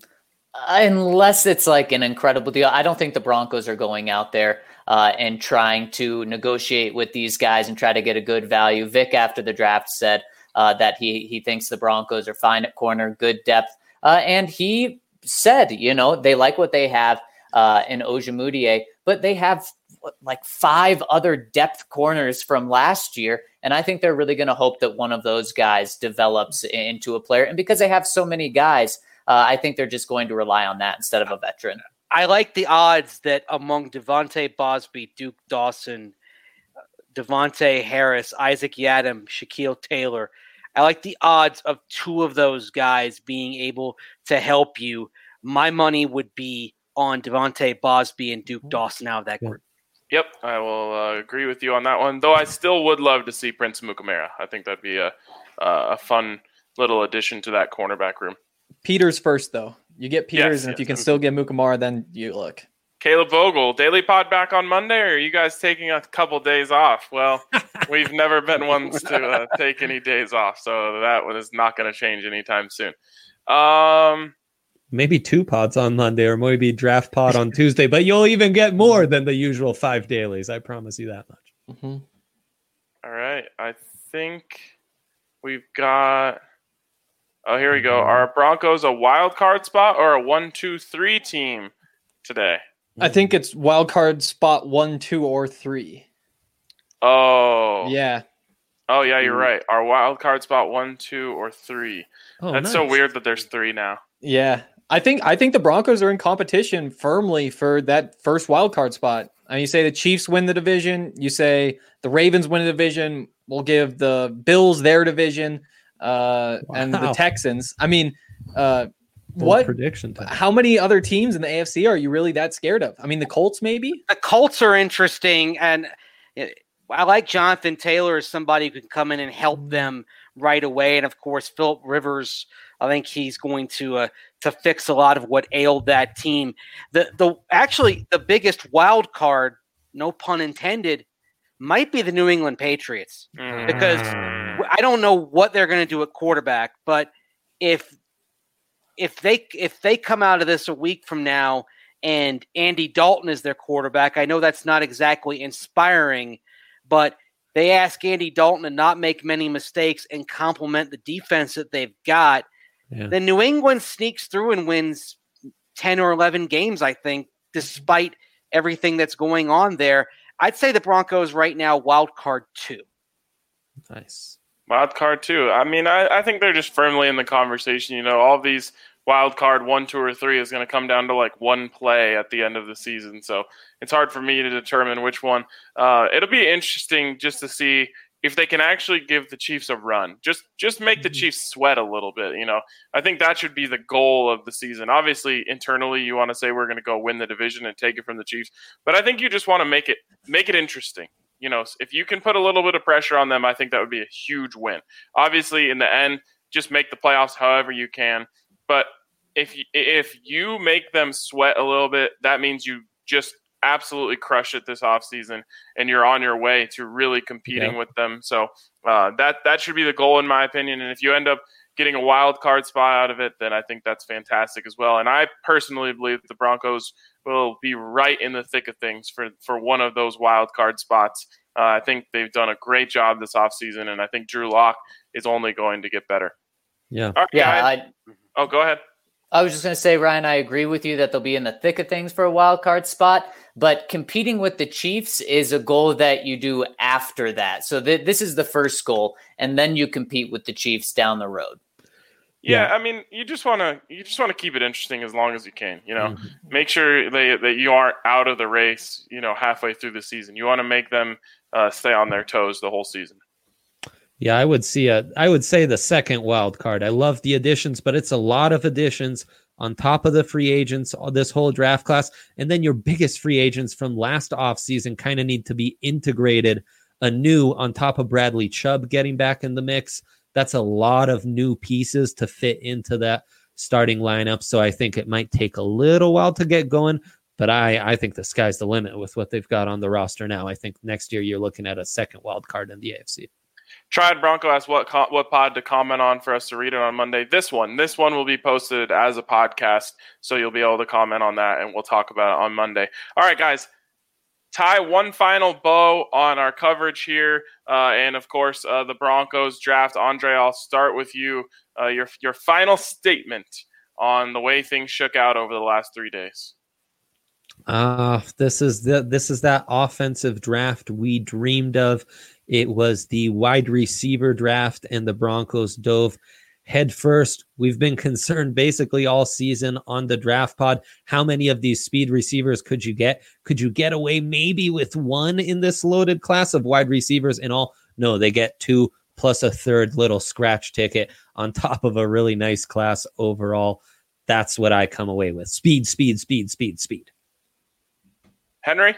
Unless it's like an incredible deal. I don't think the Broncos are going out there uh, and trying to negotiate with these guys and try to get a good value. Vic, after the draft, said uh, that he he thinks the Broncos are fine at corner, good depth. Uh, and he said, you know, they like what they have uh, in Ojemudia, but they have what, like five other depth corners from last year. And I think they're really going to hope that one of those guys develops into a player. And because they have so many guys, Uh, I think they're just going to rely on that instead of a veteran. I like the odds that among Devontae Bosby, Duke Dawson, Devontae Harris, Isaac Yadam, Shaquille Taylor, I like the odds of two of those guys being able to help you. My money would be on Devontae Bosby and Duke Dawson out of that group. Yep, I will uh, agree with you on that one. Though I still would love to see Prince Amukamara. I think that'd be a uh, a fun little addition to that cornerback room. Peters first, though. You get Peters, Yes, and if yes. you can still get Mukamara, then you look. Caleb Vogel, Daily Pod back on Monday, or are you guys taking a couple days off? Well, we've never been ones to uh, take any days off, so that one is not going to change anytime soon. Um, Maybe two pods on Monday or maybe draft pod on Tuesday, but you'll even get more than the usual five dailies. I promise you that much. Mm-hmm. all right, I think we've got Oh, here we go. Are Broncos a wild card spot or a one, two, three team today? I think it's wild card spot one, two, or three. Oh. Yeah. Oh, yeah, you're right. Our wild card spot one, two, or three. Oh, That's nice. so weird that there's three now. Yeah. I think I think the Broncos are in competition firmly for that first wild card spot. I mean, you say the Chiefs win the division. You say the Ravens win the division. We'll give the Bills their division uh, wow. and the Texans. I mean, uh, what prediction time. How many other teams in the A F C are you really that scared of? I mean, the Colts maybe? The Colts are interesting, and I like Jonathan Taylor as somebody who can come in and help them right away. And, of course, Phillip Rivers, I think he's going to uh, to fix a lot of what ailed that team. The the Actually, the biggest wild card, no pun intended, might be the New England Patriots. Mm. Because I don't know what they're going to do at quarterback, but if if they if they come out of this a week from now and Andy Dalton is their quarterback, I know that's not exactly inspiring, but they ask Andy Dalton to not make many mistakes and complement the defense that they've got. Yeah. Then New England sneaks through and wins ten or eleven games, I think, despite everything that's going on there. I'd say the Broncos right now, wild card two. Nice. Wild card two. I mean, I, I think they're just firmly in the conversation. You know, all these wild card one, two, or three is going to come down to like one play at the end of the season. So it's hard for me to determine which one. Uh, it'll be interesting just to see if they can actually give the Chiefs a run. Just just make the Chiefs sweat a little bit. You know, I think that should be the goal of the season. Obviously, internally, you want to say we're going to go win the division and take it from the Chiefs, but I think you just want to make it make it interesting. You know, if you can put a little bit of pressure on them, I think that would be a huge win. Obviously, in the end, just make the playoffs however you can. But if you, if you make them sweat a little bit, that means you just absolutely crush it this offseason, and you're on your way to really competing yeah. with them. So uh, that that should be the goal, in my opinion. And if you end up getting a wild card spot out of it, then I think that's fantastic as well. And I personally believe that the Broncos will be right in the thick of things for, for one of those wild card spots. Uh, I think they've done a great job this offseason, and I think Drew Lock is only going to get better. Yeah. All right, yeah. I, oh, go ahead. I was just going to say, Ryan, I agree with you that they'll be in the thick of things for a wild card spot, but competing with the Chiefs is a goal that you do after that. So th- this is the first goal, and then you compete with the Chiefs down the road. Yeah, I mean, you just want to you just want to keep it interesting as long as you can. You know, mm-hmm. make sure they, that you aren't out of the race. You know, halfway through the season, you want to make them uh, stay on their toes the whole season. Yeah, I would see a. I would say the second wild card. I love the additions, but it's a lot of additions on top of the free agents, this whole draft class, and then your biggest free agents from last offseason kind of need to be integrated anew on top of Bradley Chubb getting back in the mix. That's a lot of new pieces to fit into that starting lineup. So I think it might take a little while to get going, but I, I think the sky's the limit with what they've got on the roster now. I think next year you're looking at a second wild card in the A F C. Triad Bronco asked what co- what pod to comment on for us to read it on Monday. This one. This one will be posted as a podcast, so you'll be able to comment on that, and we'll talk about it on Monday. All right, guys. Tie one final bow on our coverage here, uh, and of course uh, the Broncos draft. Andre, I'll start with you. Uh, your your final statement on the way things shook out over the last three days. Uh, this is the this is that offensive draft we dreamed of. It was the wide receiver draft, and the Broncos dove head first. We've been concerned basically all season on the draft pod. How many of these speed receivers could you get? Could you get away maybe with one in this loaded class of wide receivers and all? No, they get two plus a third little scratch ticket on top of a really nice class overall. That's what I come away with. Speed, speed, speed, speed, speed. Henry?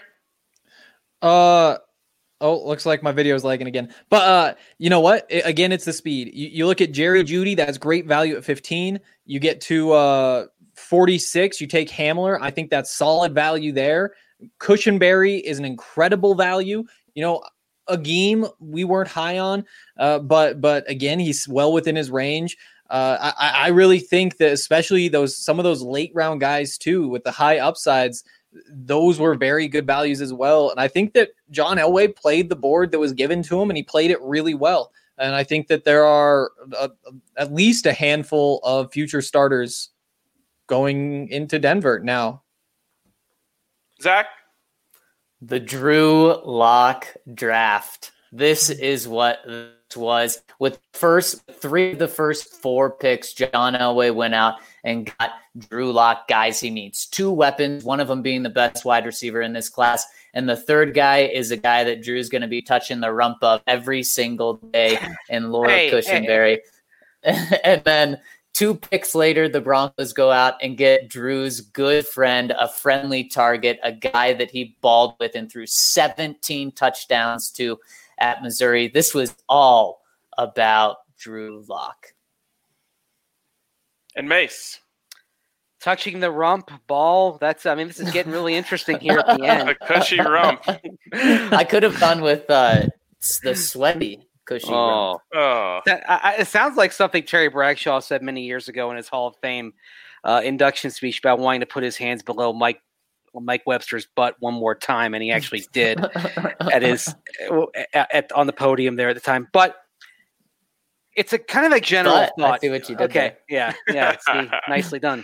Uh, Oh, looks like my video is lagging again. But uh, you know what? It, again, it's the speed. You, you look at Jerry Jeudy, that's great value at fifteen. You get to uh, forty-six, you take Hamler. I think that's solid value there. Cushenberry is an incredible value. You know, Agim, we weren't high on, uh, but but again, he's well within his range. Uh, I, I really think that especially those some of those late round guys too, with the high upsides, those were very good values as well. And I think that John Elway played the board that was given to him, and he played it really well. And I think that there are a, at least a handful of future starters going into Denver now. Zach? The Drew Lock draft. This is what this was. With first three of the first four picks, John Elway went out and got Drew Lock guys he needs. Two weapons, one of them being the best wide receiver in this class. And the third guy is a guy that Drew's going to be touching the rump of every single day in Laura Hey, Cushenberry. Hey. And then two picks later, the Broncos go out and get Drew's good friend, a friendly target, a guy that he balled with and threw seventeen touchdowns to at Missouri. This was all about Drew Lock. And Mace. Touching the rump ball. That's, I mean, this is getting really interesting here at the end. The cushy rump. I could have gone with uh, the sweaty cushy rump. Oh. That, I, it sounds like something Terry Bradshaw said many years ago in his Hall of Fame uh, induction speech about wanting to put his hands below Mike Mike Webster's butt one more time, and he actually did at his at, at on the podium there at the time. But it's a kind of a general But, thought. I see what you did Okay, there. yeah, yeah, see, nicely done.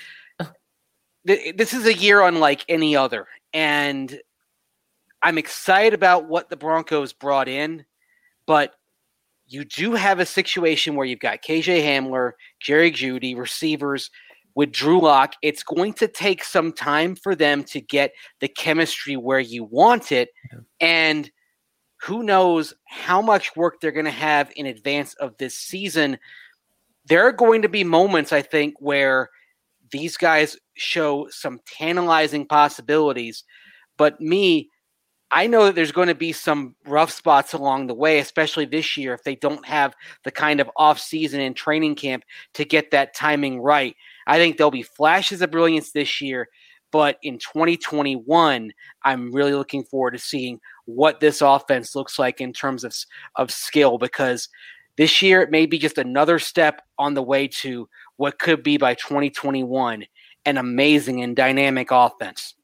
This is a year unlike any other, and I'm excited about what the Broncos brought in, but you do have a situation where you've got K J Hamler, Jerry Jeudy, receivers with Drew Lock. It's going to take some time for them to get the chemistry where you want it, yeah. and who knows how much work they're going to have in advance of this season. There are going to be moments, I think, where these guys show some tantalizing possibilities, but me, I know that there's going to be some rough spots along the way, especially this year if they don't have the kind of off-season and training camp to get that timing right. I think there'll be flashes of brilliance this year, but in twenty twenty-one, I'm really looking forward to seeing what this offense looks like in terms of, of skill, because this year it may be just another step on the way to what could be by twenty twenty-one an amazing and dynamic offense.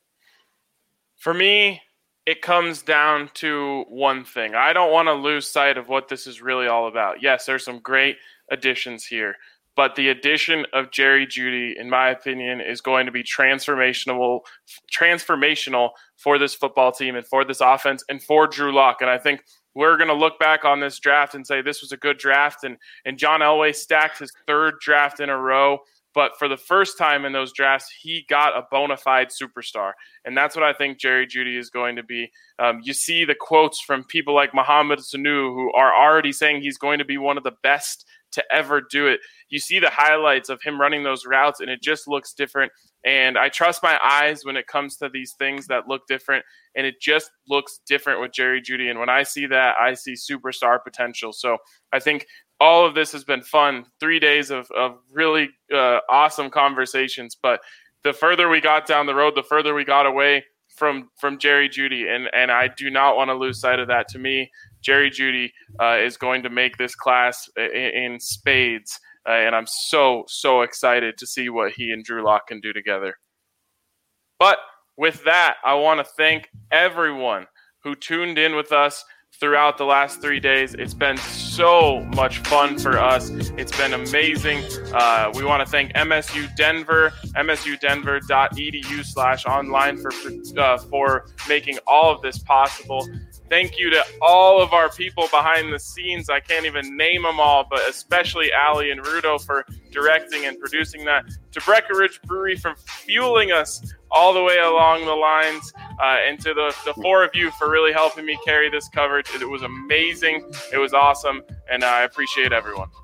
For me, it comes down to one thing. I don't want to lose sight of what this is really all about. Yes, there's some great additions here, but the addition of Jerry Jeudy, in my opinion, is going to be transformational, transformational for this football team and for this offense and for Drew Lock. And I think we're going to look back on this draft and say this was a good draft. And, and John Elway stacked his third draft in a row. But for the first time in those drafts, he got a bona fide superstar. And that's what I think Jerry Jeudy is going to be. Um, you see the quotes from people like Mohamed Sanu, who are already saying he's going to be one of the best to ever do it. You see the highlights of him running those routes, and it just looks different. And I trust my eyes when it comes to these things that look different, and it just looks different with Jerry Jeudy. And when I see that, I see superstar potential. So I think all of this has been fun. Three days of, of really uh, awesome conversations. But the further we got down the road, the further we got away from from Jerry Jeudy. And, and I do not want to lose sight of that. To me, Jerry Jeudy uh, is going to make this class in, in spades. Uh, and I'm so, so excited to see what he and Drew Lock can do together. But with that, I want to thank everyone who tuned in with us throughout the last three days. It's been so much fun for us. It's been amazing. Uh, we want to thank M S U Denver, msudenver.edu slash online for, uh, for making all of this possible. Thank you to all of our people behind the scenes. I can't even name them all, but especially Allie and Rudo for directing and producing that. To Breckenridge Brewery for fueling us all the way along the lines, uh, and to the, the four of you for really helping me carry this coverage. It was amazing. It was awesome, and I appreciate everyone.